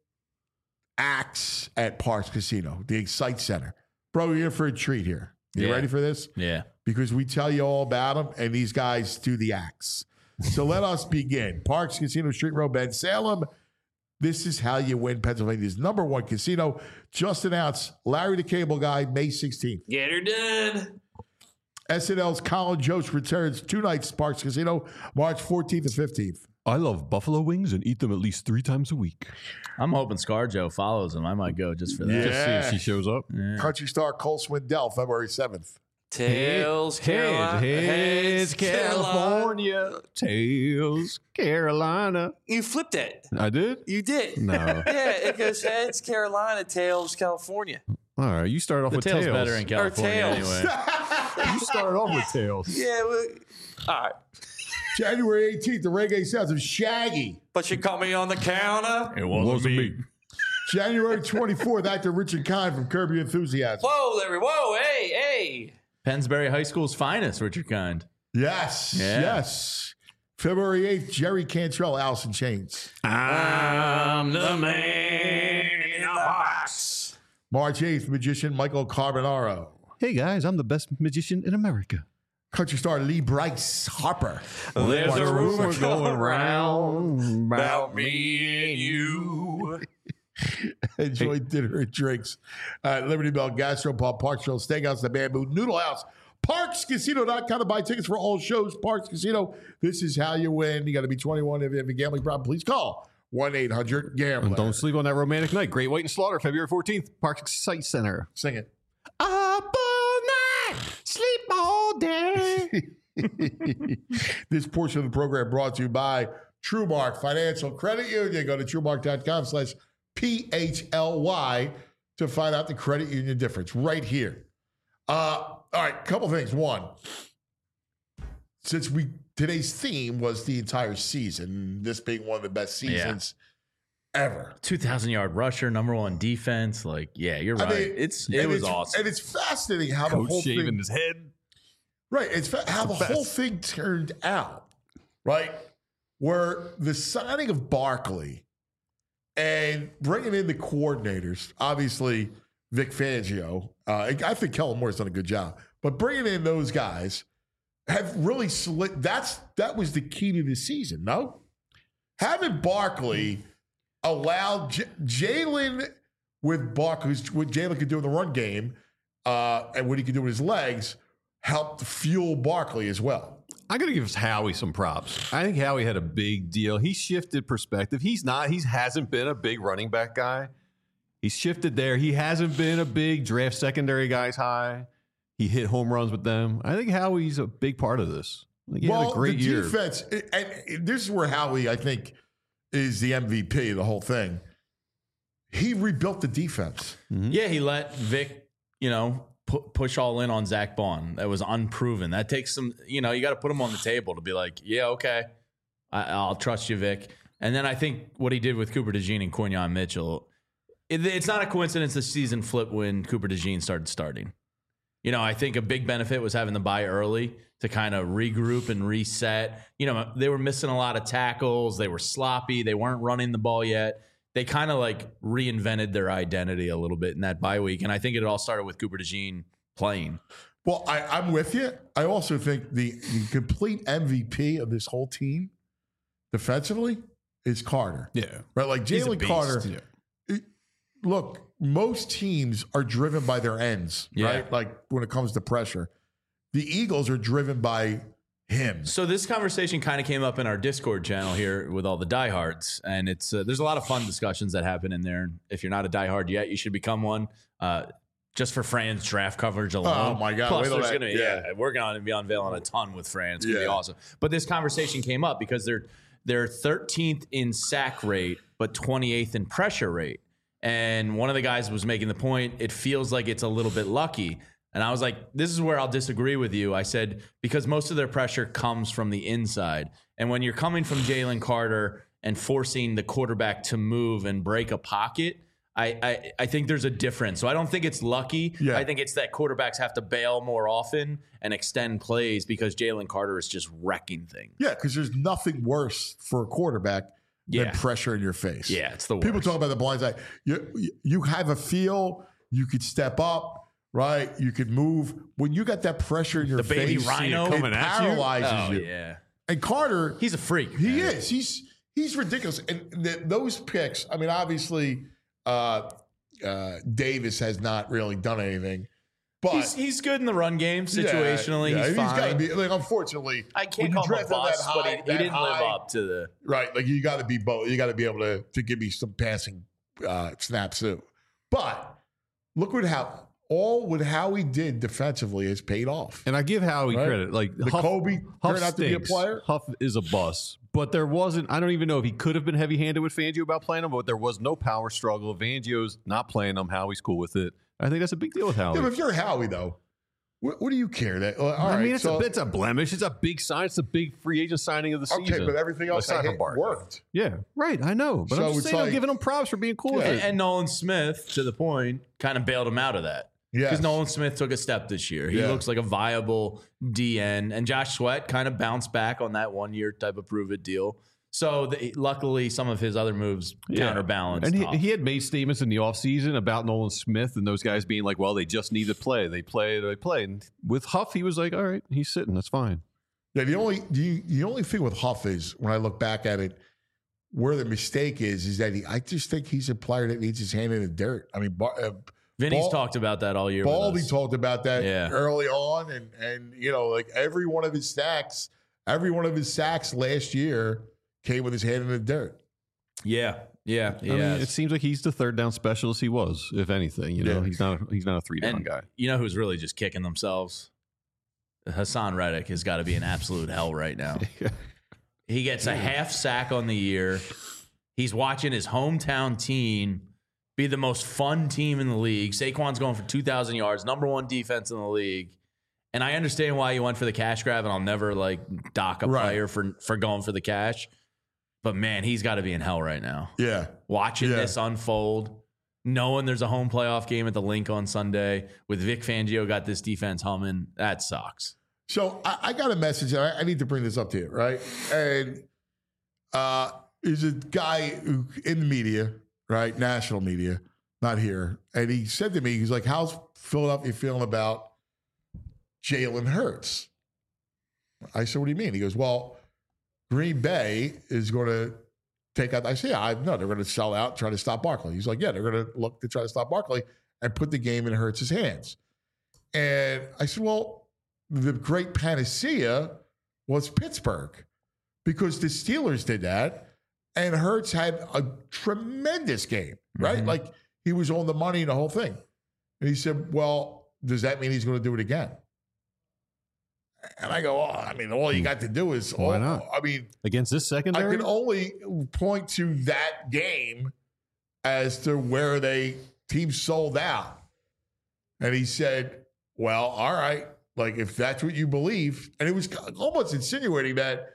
acts at Parks Casino, the Excite Center. Bro, you're in for a treat here. You Yeah. ready for this? Yeah. Because we tell you all about them, and these guys do the acts. So let us begin. Parks Casino, Street Road, Ben Salem. This is how you win Pennsylvania's number one casino. Just announced Larry the Cable Guy, May sixteenth. Get her done. S N L's Colin Jost returns two nights, Parks Casino, March fourteenth and fifteenth. I love buffalo wings and eat them at least three times a week. I'm hoping ScarJo follows him. I might go just for that. Yeah. Just see if she shows up. Yeah. Country star Cole Swindell, February seventh. Tails, Carolina. Heads, California. Tails, Carolina. You flipped it. I did? You did. No. Yeah, it goes heads, Carolina, tails, California. All right, you start off The with tail's tails. better in California tails. anyway. You started off with tails. Yeah, well, all right. January eighteenth, the reggae sounds of Shaggy. But you caught me on the counter. It wasn't me. January twenty-fourth, actor Richard Kind from Curb Your Enthusiasm. Whoa, Larry. Whoa, hey, hey. Pennsbury High School's finest, Richard Kind. Yes, Yeah. yes. February eighth, Jerry Cantrell, Alice in Chains. I'm the man in the box. March eighth, magician Michael Carbonaro. Hey guys, I'm the best magician in America. Country star Lee Bryce Harper. There's a rumor Rumor going round about me and you. Enjoy dinner and drinks at Liberty Bell Gastropub, Park Trail Steakhouse, The Bamboo Noodle House, parks casino dot com to buy tickets for all shows. Parks Casino, this is how you win. You got to be twenty-one. If you have a gambling problem, please call one eight hundred gambler. And don't sleep on that romantic night. Great White and Slaughter, February fourteenth, Park Site Center. Sing it. Up all night, sleep all day. This portion of the program brought to you by TrueMark Financial Credit Union. Go to truemark dot com slash P H L Y to find out the credit union difference right here. Uh, all right, couple things. One, since we today's theme was the entire season, this being one of the best seasons ever. two thousand yard rusher, number one defense. Like, yeah, you're right. I mean, it's It and was it's, awesome. And it's fascinating how the Coach whole shaving thing, his head. right, it's fa- how the, the whole best. thing turned out, right? Where the signing of Barkley and bringing in the coordinators, obviously Vic Fangio, uh, I think Kellen Moore's done a good job, but bringing in those guys have really slit. That's that was the key to the season. No, having Barkley allowed J- Jalen with Barkley, what Jalen could do in the run game, uh, and what he could do with his legs, helped fuel Barkley as well. I got to give Howie some props. I think Howie had a big deal. He shifted perspective. He's not, he hasn't been a big running back guy. He's shifted there. He hasn't been a big draft secondary guys high. He hit home runs with them. I think Howie's a big part of this. I think he well, had a great the year. defense, and this is where Howie, I think, is the M V P of the whole thing. He rebuilt the defense. Yeah, he let Vic, you know, pu- push all in on Zach Bond. That was unproven. That takes some, you know, you got to put him on the table to be like, yeah, okay, I, I'll trust you, Vic. And then I think what he did with Cooper DeJean and Quinyon Mitchell, it, it's not a coincidence the season flipped when Cooper DeJean started starting. You know, I think a big benefit was having the bye early to kind of regroup and reset. You know, they were missing a lot of tackles. They were sloppy. They weren't running the ball yet. They kind of like reinvented their identity a little bit in that bye week. And I think it all started with Cooper DeJean playing. Well, I, I'm with you. I also think the, the complete M V P of this whole team defensively is Carter. Yeah. Right? Like He's a Jalen beast. Carter. Yeah. it- look, most teams are driven by their ends, Yeah. right? Like when it comes to pressure. The Eagles are driven by him. So this conversation kind of came up in our Discord channel here with all the diehards, and it's uh, there's a lot of fun discussions that happen in there. If you're not a diehard yet, you should become one. Uh, just for Fran's draft coverage alone. Oh, my God. Plus, Wait till there's that- gonna be, yeah. yeah, we're going to be unveiling a ton with Fran. It's gonna be Yeah. awesome. But this conversation came up because they're they're thirteenth in sack rate, but twenty-eighth in pressure rate. And one of the guys was making the point, it feels like it's a little bit lucky. And I was like, this is where I'll disagree with you. I said, because most of their pressure comes from the inside. And when you're coming from Jalen Carter and forcing the quarterback to move and break a pocket, I, I, I think there's a difference. So I don't think it's lucky. Yeah. I think it's that quarterbacks have to bail more often and extend plays because Jalen Carter is just wrecking things. Yeah, because there's nothing worse for a quarterback Yeah. than pressure in your face. Yeah, it's the worst. People talk about the blind side. You, you have a feel, you could step up, right? You could move. When you got that pressure in your The baby face, rhino it coming at you? paralyzes Oh, you. yeah. And Carter, He's a freak. he man. is. He's he's ridiculous. And th- those picks, I mean, obviously, uh, uh, Davis has not really done anything. But he's, he's good in the run game situationally. Yeah, yeah, he's, he's fine. got to be. Like, unfortunately, I when can't you call him a draft him that bust, but high- he, he that didn't live high- up to the. Right, like you got to be both. You got to be able to to give me some passing uh, snaps too. But look at how all with how he did defensively has paid off. And I give Howie Right. credit. Like The Huff, Kobe Huff turned out to be a stinks. player. Huff is a bust. But there wasn't, I don't even know if he could have been heavy handed with Fangio about playing him, but there was no power struggle. Fangio's not playing him. Howie's cool with it. I think that's a big deal with Howie. Yeah, but if you're Howie though, what, what do you care? That uh, all I right, mean, it's, so, a, it's a blemish. It's a big sign. It's a big free agent signing of the okay, season. but everything else Aside I from hit Barkley. worked. Yeah, right. I know. But So I'm just it's saying, I'm like- giving him props for being cool with Yeah. it. And Nolan Smith, to the point, kind of bailed him out of that. Yes. Because Nolan Smith took a step this year. He Yeah. looks like a viable D N. And Josh Sweat kind of bounced back on that one year type of prove it deal. So the, luckily, some of his other moves Yeah. counterbalanced. And he, Huff. he had made statements in the offseason about Nolan Smith and those guys being like, well, they just need to play. They play, they play. And with Huff, he was like, all right, he's sitting. That's fine. Yeah, the only the, the only thing with Huff is when I look back at it, where the mistake is, is that he. I just think he's a player that needs his hand in the dirt. I mean, Bar, uh, Vinny's Ball- talked about that all year. with Baldy us. talked about that Yeah. early on, and and you know, like every one of his sacks, every one of his sacks last year came with his hand in the dirt. Yeah, yeah, I yeah. mean, it seems like he's the third down specialist he was, if anything. You know, Yeah. he's not he's not a three down and guy. you know who's really just kicking themselves? Hassan Reddick has got to be in absolute hell right now. He gets a half sack on the year. He's watching his hometown team be the most fun team in the league. Saquon's going for two thousand yards, number one defense in the league. And I understand why you went for the cash grab, and I'll never like dock a Right. player for, for going for the cash. But man, he's got to be in hell right now. Yeah, Watching Yeah. this unfold, knowing there's a home playoff game at the Link on Sunday with Vic Fangio got this defense humming, that sucks. So I, I got a message. I, I need to bring this up to you, right? And uh, there's a guy who, in the media, right, national media, not here, and he said to me, he's like, "How's Philadelphia feeling about Jalen Hurts?" I said, "What do you mean?" He goes, "Well, Green Bay is going to take out." I said, "Yeah, I know they're going to sell out, try to stop Barkley." He's like, "Yeah, they're going to look to try to stop Barkley and put the game in Hurts' hands." And I said, "Well, the great panacea was Pittsburgh because the Steelers did that, and Hurts had a tremendous game, right? Mhm. Like he was on the money and the whole thing." And he said, "Well, does that mean he's going to do it again?" And I go, "Oh, I mean, all you got to do is, Why all, not? I mean, Against this I secondary? can only point to that game as to where they team sold out." And he said, "Well, all right, like if that's what you believe," and it was almost insinuating that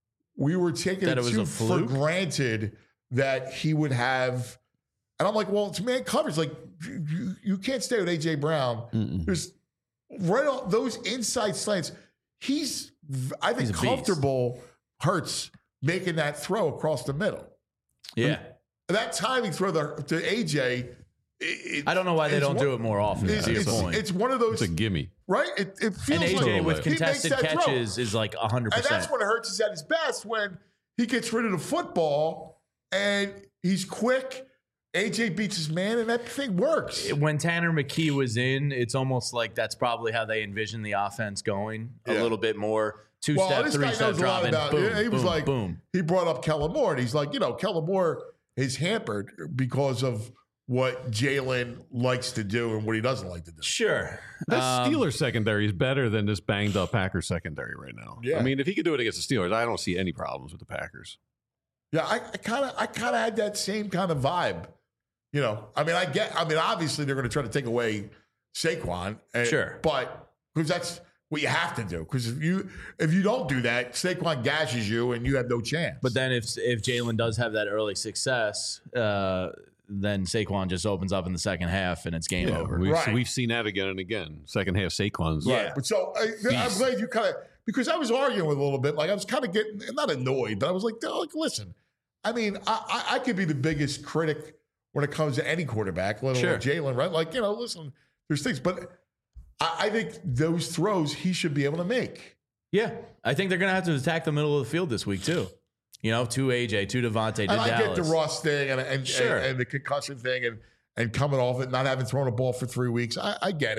we were taking That it, it was too a for fluke? granted that he would have. And I'm like, well, it's man coverage. Like you, you, you can't stay with A J Brown. Mm-mm. There's right on those inside slants. He's, I think, He's a beast. comfortable. Hurts making that throw across the middle. Yeah. That timing throw the, to A J. It, I don't know why they it's don't one- do it more often. It's, to your it's, point. it's one of those, It's a gimme. right? It, it feels and A J like with he makes contested that throw. catches is like one hundred And percent. that's when Hurts is at his best, when he gets rid of the football and he's quick. A J beats his man, and that thing works. When Tanner McKee was in, it's almost like that's probably how they envision the offense going a Yeah. little bit more. Two Well, step, this three guy step knows a lot drop, and about. boom, he was boom, like, boom. he brought up Kellen Moore, and he's like, you know, Kellen Moore is hampered because of what Jalen likes to do and what he doesn't like to do. Sure. The Um, Steelers secondary is better than this banged up Packers secondary right now. Yeah. I mean, if he could do it against the Steelers, I don't see any problems with the Packers. Yeah, I kind of, I kind of had that same kind of vibe. You know, I mean, I get. I mean, obviously they're going to try to take away Saquon, and, Sure. but because that's what you have to do. Because if you if you don't do that, Saquon gashes you, and you have no chance. But then if if Jalen does have that early success, uh, then Saquon just opens up in the second half and it's game Yeah, over. we've, Right. we've seen that again and again. Second half Saquon's. Right. But so I, I'm glad you kind of, because I was arguing with a little bit, like I was kind of getting, not annoyed, but I was like, like listen, I mean, I, I, I could be the biggest critic when it comes to any quarterback, let alone Sure. Jalen, right? Like, you know, listen, there's things, but I, I think those throws he should be able to make. Yeah, I think they're going to have to attack the middle of the field this week too. You know, to A J, to Devontae, to And I get Dallas. the Ross thing and, and, Sure. and, and the concussion thing and, and coming off it, not having thrown a ball for three weeks. I, I get it.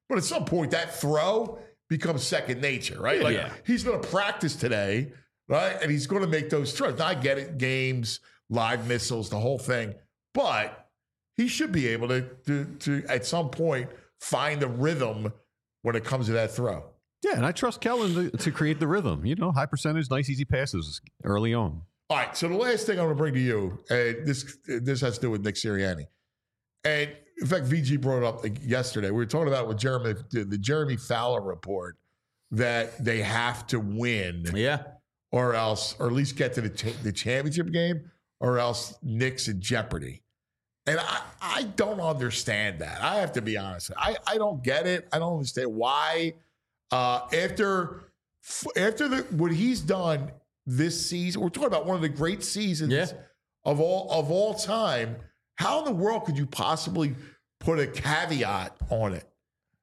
But at some point, that throw becomes second nature, right? Like Yeah. he's going to practice today, right? And he's going to make those throws. Now, I get it, games, live missiles, the whole thing. But he should be able to, to, to at some point, find the rhythm when it comes to that throw. Yeah, and I trust Kellen to, to create the rhythm. You know, high percentage, nice, easy passes early on. All right, so the last thing I'm going to bring to you, and this this has to do with Nick Sirianni. And in fact, V G brought it up yesterday. We were talking about with Jeremy, the Jeremy Fowler report, that they have to win, Yeah. or else, or at least get to the cha- the championship game, or else Nick's in jeopardy. And I, I don't understand that. I have to be honest. I, I don't get it. I don't understand why. Uh, after after the what he's done this season, we're talking about one of the great seasons Yeah. of all of all time. How in the world could you possibly put a caveat on it?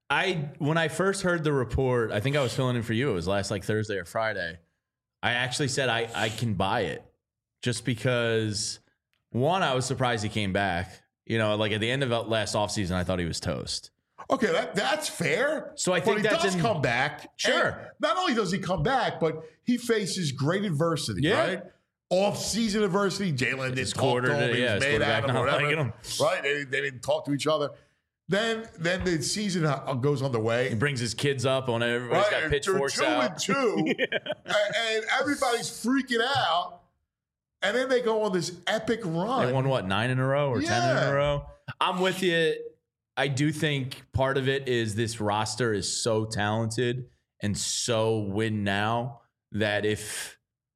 I when I first heard the report, I think I was filling in for you. It was last like Thursday or Friday. I actually said I, I can buy it just because, one, I was surprised he came back. You know, like at the end of last offseason, I thought he was toast. Okay, that, that's fair. So I think but he that's does in- come back. Sure. And not only does he come back, but he faces great adversity, Yeah. right? Off-season adversity. Jalen His didn't talk to quarter- him. He yeah, was his mad at quarterback him, not whatever. liking him. Right? They, they didn't talk to each other. Then, then the season goes underway. He brings his kids up on everybody's Right, got and pitchforks they're two out. and two, and, and everybody's freaking out. And then they go on this epic run. They won what, nine in a row or ten in Yeah. a row? I'm with you. I do think part of it is this roster is so talented and so win now that if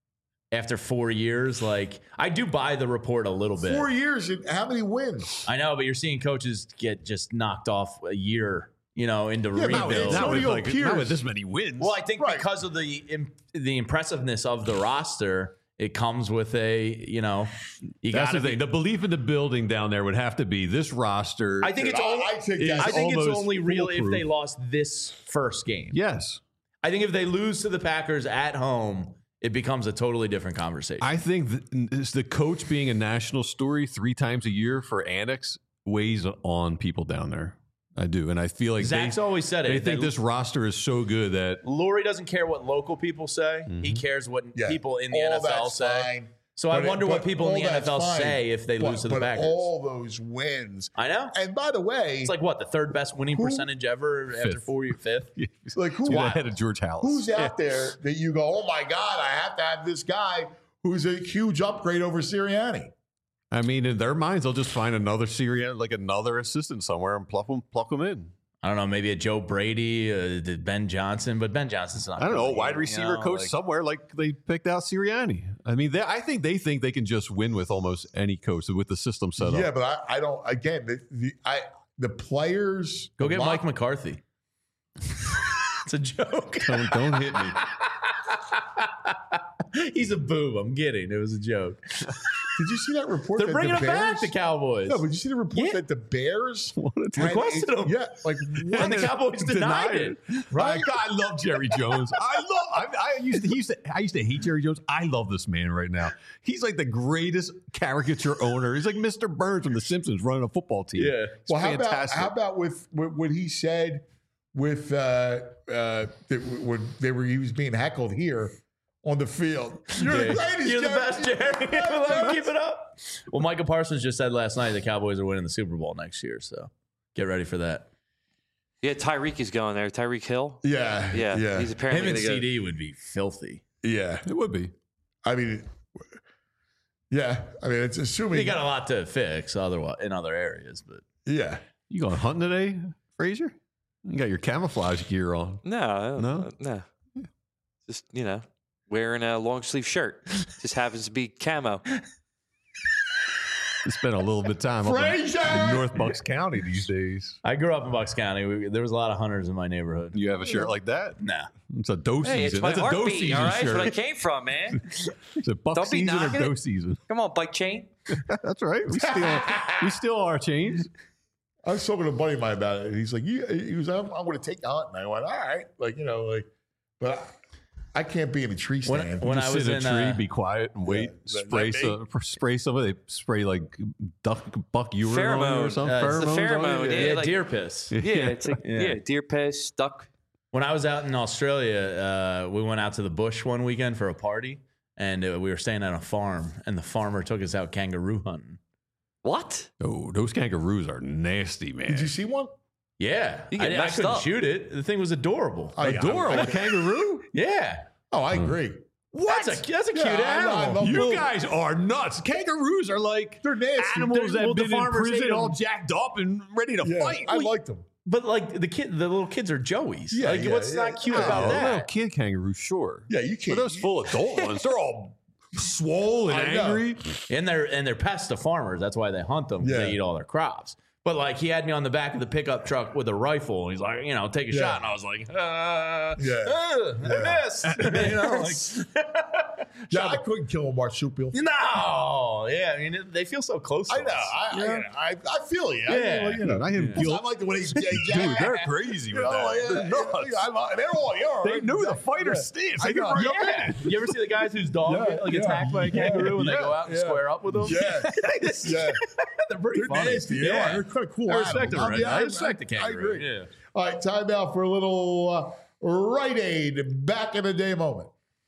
after four years, like I do buy the report a little bit. Four years, and how many wins? I know, but you're seeing coaches get just knocked off a year, you know, into Yeah, not with- rebuild. not with- like, Pierce. not with this many wins. Well, I think Right. because of the imp- the impressiveness of the roster, it comes with a, you know, you That's got the to thing. The belief in the building down there would have to be this roster. I think it's I- only. I think is that's I think it's almost only real if foolproof. they lost this first game. Yes. I think if they lose to the Packers at home, it becomes a totally different conversation. I think th- is the coach being a national story three times a year for Annex weighs on people down there. I do. And I feel like Zach's they, always said it. they If think they- this roster is so good that Lori doesn't care what local people say. He cares what Yeah. people in the All N F L that's say. fine. So I But it- wonder what but people in all the N F L that's fine. say if they But- lose to the but Packers. all those wins. I know. And by the way, It's like what, the third best winning Who- percentage ever after Fifth. four years, fifth? like who, Dude, ahead of George Hallis. who's out there that you go, oh my God, I have to have this guy who's a huge upgrade over Sirianni? I mean, in their minds, they'll just find another Syria, like another assistant somewhere and pluck them, pluck them in. I don't know, maybe a Joe Brady, uh, the Ben Johnson, but Ben Johnson's not. I don't know, really, wide you receiver know, coach like- somewhere like they picked out Sirianni. I mean, they, I think they think they can just win with almost any coach with the system set up. Yeah, but I, I don't. Again, the, the I the players Go the get lo- Mike McCarthy. It's a joke. Don't, don't hit me. He's a boob. I'm kidding. It was a joke. Did you see that report? They're that bringing the him back, Bears- the Cowboys. No, but you see the report Yeah. that the Bears Wanted to- had Requested a- him. Yeah, like what? And the Cowboys denied it. Right? God, I love Jerry Jones. I love. I, I used to. He used to. I used to hate Jerry Jones. I love this man right now. He's like the greatest caricature owner. He's like Mister Burns from The Simpsons running a football team. Yeah. It's Well, how about fantastic. how about with, with what he said with uh, uh, that when they were he was being heckled here on the field? You're the greatest. You're the Jerry. best, Jerry. Let him keep it up. Well, Micah Parsons just said last night the Cowboys are winning the Super Bowl next year, so get ready for that. Yeah, Tyreek is going there. Tyreek Hill. Yeah, Yeah, yeah, he's Him apparently and gonna go- C D would be filthy. yeah. It would be. I mean, yeah. I mean, it's assuming. He got a lot to fix otherwise in other areas, but yeah. You going hunting today, Frazier? You got your camouflage gear on. No, No? no, no. Just you know, wearing a long sleeve shirt. Just happens to be camo. You spend a little bit of time up in, Frazier! in North Bucks County these days. I grew up in Bucks County. We, there was a lot of hunters in my neighborhood. You have a shirt like that? Nah. It's a doe Hey, it's season. my That's a doe heartbeat. season All right, it's where I shirt. came from, man. It's a buck Don't be season or knocking doe it. season. Come on, bike chain. That's right. We steal, we steal our chains. I was talking to a buddy of mine about it. And he's like, "You," he was, "I'm, I'm going to take you hunting." I went, "All right," like you know, like, but I can't be in a tree When, stand. when I Just was sit in in a tree, uh, be quiet, and wait. Yeah. Spray That- some, spray some of. They spray like duck, buck urine on you or Pheromone. something. Uh, it's the Pheromones on you? pheromone, Yeah. yeah. yeah, like- deer piss. Yeah, it's like Yeah. yeah. deer piss, duck. When I was out in Australia, uh, we went out to the bush one weekend for a party, and uh, we were staying at a farm, and the farmer took us out kangaroo hunting. What? Oh, those kangaroos are nasty, man. Did you see one? Yeah, You get I, I messed couldn't up. shoot it. The thing was adorable. Oh, yeah, Adorable I- kangaroo. Yeah, Oh, I agree. what? That's a that's a cute Yeah, I- I animal. love You Well- guys are nuts. Kangaroos are like They're nasty. animals They're- that well, have the been in farmers prison, ate 'em. all jacked up and ready to Yeah, fight. I Wait, liked them. But like the kid, the little kids are joeys. Yeah, like yeah, what's yeah. not cute Oh, about a that? little kid kangaroo, sure. Yeah, you But can't. those full adult ones, they're all swole and I know. angry. And they're and they're pests to farmers. That's why they hunt them. 'Cause Yeah. They eat all their crops. But like he had me on the back of the pickup truck with a rifle. And he's like, you know, take a Yeah. shot. And I was like, uh, Yeah. uh, I missed. you know, like, Yeah, I couldn't kill a marsupial. no, yeah. I mean, it- they feel so close. To I know. us. I, Yeah. I, I, I feel you. I, Yeah. you know, I have I guilt. like the way they, they Dude, they're crazy You with know, that. like, They're yeah, nuts. yeah, I like- they're all, yeah, They knew the fighter's Yeah. stance. I They could know. jump Yeah. in. You ever see the guys whose dog Yeah, get like yeah. attacked by a kangaroo and they Yeah, go out and yeah. square up with them? Yeah. Yeah. They're pretty They're funny. nasty. They are. They're kind of cool. I respect animals. them. I Right? mean, I respect the I kangaroo. agree. Yeah. All right, time out for a little uh, Rite Aid back in the day moment.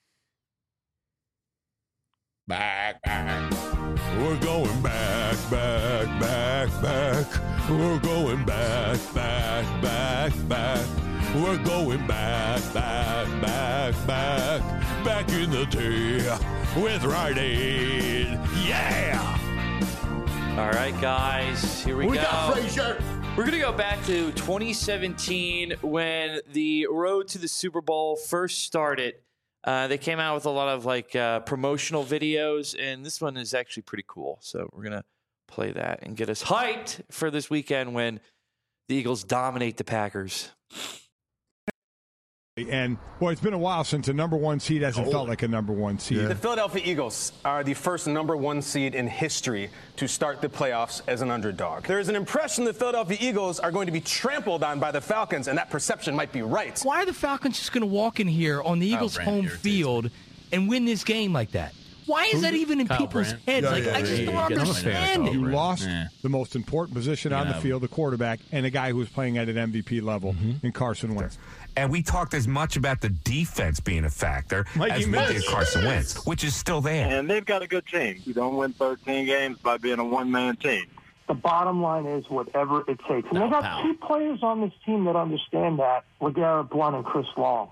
Back, back. We're going back, back, back, back. We're going back, back, back, back. We're going back, back, back, back. Back in the day with Rite Aid. Yeah! All right, guys, here we, We go. got Frazier. We're going to go back to twenty seventeen when the road to the Super Bowl first started. Uh, they came out with a lot of like uh, promotional videos, and this one is actually pretty cool. So we're going to play that and get us hyped for this weekend when the Eagles dominate the Packers. And, boy, it's been a while since a number one seed hasn't felt like a number one seed. The Philadelphia Eagles are the first number one seed in history to start the playoffs as an underdog. There is an impression the Philadelphia Eagles are going to be trampled on by the Falcons, and that perception might be right. Why are the Falcons just going to walk in here on the Eagles' Brandt home irritates field and win this game like that? Why is that even in Kyle people's Brandt. heads? Yeah, like, yeah, I just yeah, don't yeah. I'm a fan of understand Kyle it. You Brandt. lost Yeah. the most important position on the Yeah. field, the quarterback, and a guy who was playing at an M V P level in Carson Wentz. And we talked as much about the defense being a factor Mikey as we Mitch. did Carson Wentz, which is still there. And they've got a good team. You don't win thirteen games by being a one-man team. The bottom line is whatever it takes. And No, they got pal. two players on this team that understand that, LeGarrette Blount and Chris Long.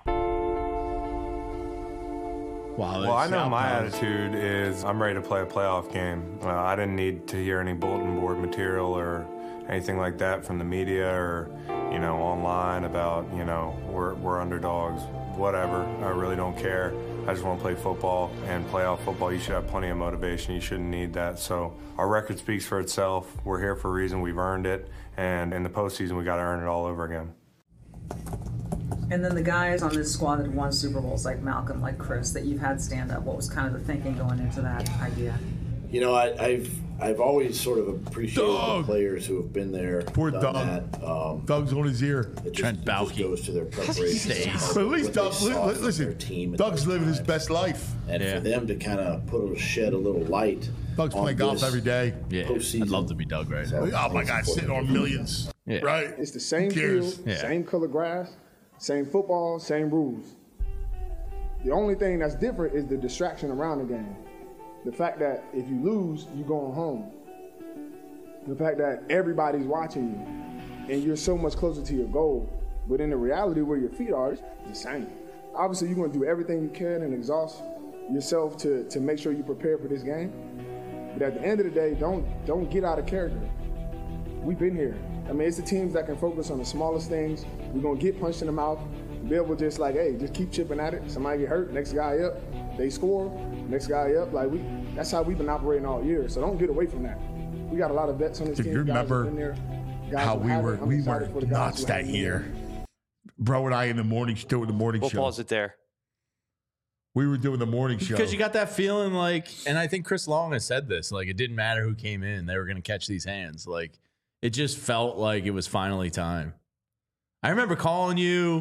Wow, Well, I know that's- my that- attitude is I'm ready to play a playoff game. Uh, I didn't need to hear any bulletin board material or anything like that from the media or, you know, online about, you know, we're, we're underdogs, whatever. I really don't care. I just want to play football, and playoff football, you should have plenty of motivation. You shouldn't need that. So our record speaks for itself. We're here for a reason. We've earned it. And in the postseason, we got to earn it all over again. And then the guys on this squad that won Super Bowls, like Malcolm, like Chris, that you've had stand up, what was kind of the thinking going into that idea? You know, I, I've I've always sort of appreciated Doug. the players who have been there, Poor done Doug. that. Um, Doug's on his ear. it just, Trent it just Baalke. goes to their preparation. and how- But at least what they Doug, saw li- from their listen, team at Doug's those living his times. best life. And Yeah. for them to kind of put a shed a little light. Doug's on playing golf this every day. Yeah, postseason. I'd love to be Doug right now. Oh my God, sitting on millions. Yeah. Right? It's the same Who cares? field, Yeah. same color grass, same football, same rules. The only thing that's different is the distraction around the game. The fact that if you lose, you're going home. The fact that everybody's watching you and you're so much closer to your goal. But in the reality where your feet are, it's the same. Obviously, you're going to do everything you can and exhaust yourself to, to make sure you prepare for this game. But at the end of the day, don't don't get out of character. We've been here. I mean, it's the teams that can focus on the smallest things. We're going to get punched in the mouth. Be able to just like, hey, just keep chipping at it. Somebody get hurt, next guy up. They score, next guy up. Like we, that's how we've been operating all year. So don't get away from that. We got a lot of vets on this Do team. you Guys remember who've been there, guys how who we haven't. were I'm we excited were for the guys nuts who that haven't year. Bro and I in the morning doing the morning We'll show. pause it there. We were doing the morning show. Because you got that feeling like, and I think Chris Long has said this, like it didn't matter who came in, they were going to catch these hands. Like it just felt like it was finally time. I remember calling you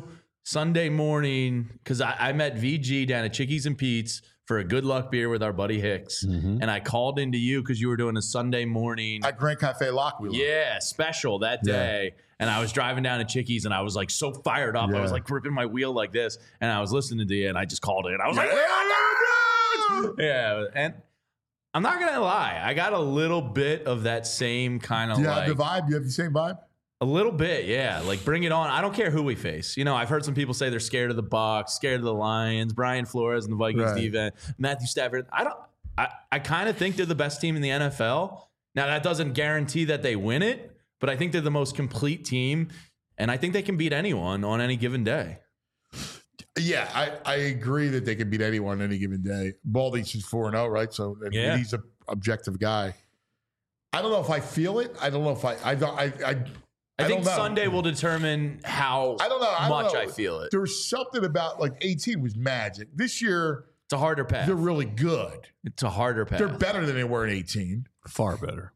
Sunday morning, because I, I met V G down at Chickies and Pete's for a good luck beer with our buddy Hicks. Mm-hmm. And I called into you because you were doing a Sunday morning. At Grand Cafe Lockwheeler. Yeah, special that day. Yeah. And I was driving down to Chickies and I was like so fired up. Yeah. I was like gripping my wheel like this. And I was listening to you and I just called it. I was yeah. like, yeah. And I'm not going to lie. I got a little bit of that same kind of yeah, like. the vibe? You have the same vibe? A little bit, yeah. Like, bring it on. I don't care who we face. You know, I've heard some people say they're scared of the Bucs, scared of the Lions, Brian Flores and the Vikings Right. defense, Matthew Stafford. I don't. I, I kind of think they're the best team in the N F L. Now, that doesn't guarantee that they win it, but I think they're the most complete team, and I think they can beat anyone on any given day. Yeah, I, I agree that they can beat anyone on any given day. Baldy's just four and oh, right? So I mean, Yeah. he's an objective guy. I don't know if I feel it. I don't know if I I don't I I, I, I think don't know. Sunday will determine how I don't know I don't much know. I feel it. There's something about like eighteen was magic. This year It's a harder path. they're really good. It's a harder path. They're better than they were in eighteen. Far better.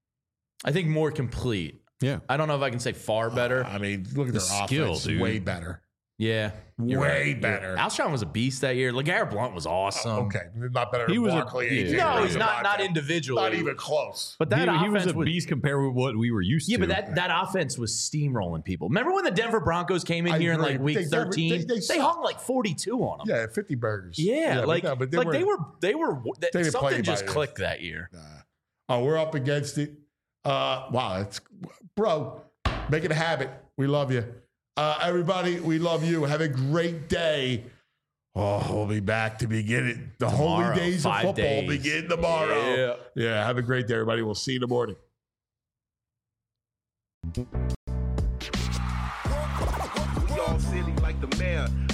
I think more complete. Yeah. I don't know if I can say far better. I mean, look at The their skill, offense. dude. Way better. Yeah. you're Way right. better. Alshon was a beast that year. LeGarrette Blunt was awesome. Okay, not better He than was a- Barkley. yeah. eighteen. No, Or he's even not not Monte. individually. Not even close. But that he, he was offense a was, beast compared with what we were used yeah, to. but that, that offense was steamrolling people. Remember when the Denver Broncos came in I here in agree. like week They- they were- thirteen? they- They, they sucked. hung like forty-two on them. Yeah, fifty burgers. Yeah, but like, no, but like they were they were They didn't play something just anybody. clicked that year. Oh, we're up against it. Uh, wow, it's bro. Make it a habit. We love you, uh, everybody. We love you. Have a great day. Oh, we'll be back to begin it. The Tomorrow, holy days of five football days. begin tomorrow. Yeah. yeah. Have a great day, everybody. We'll see you in the morning. We all silly like the mayor.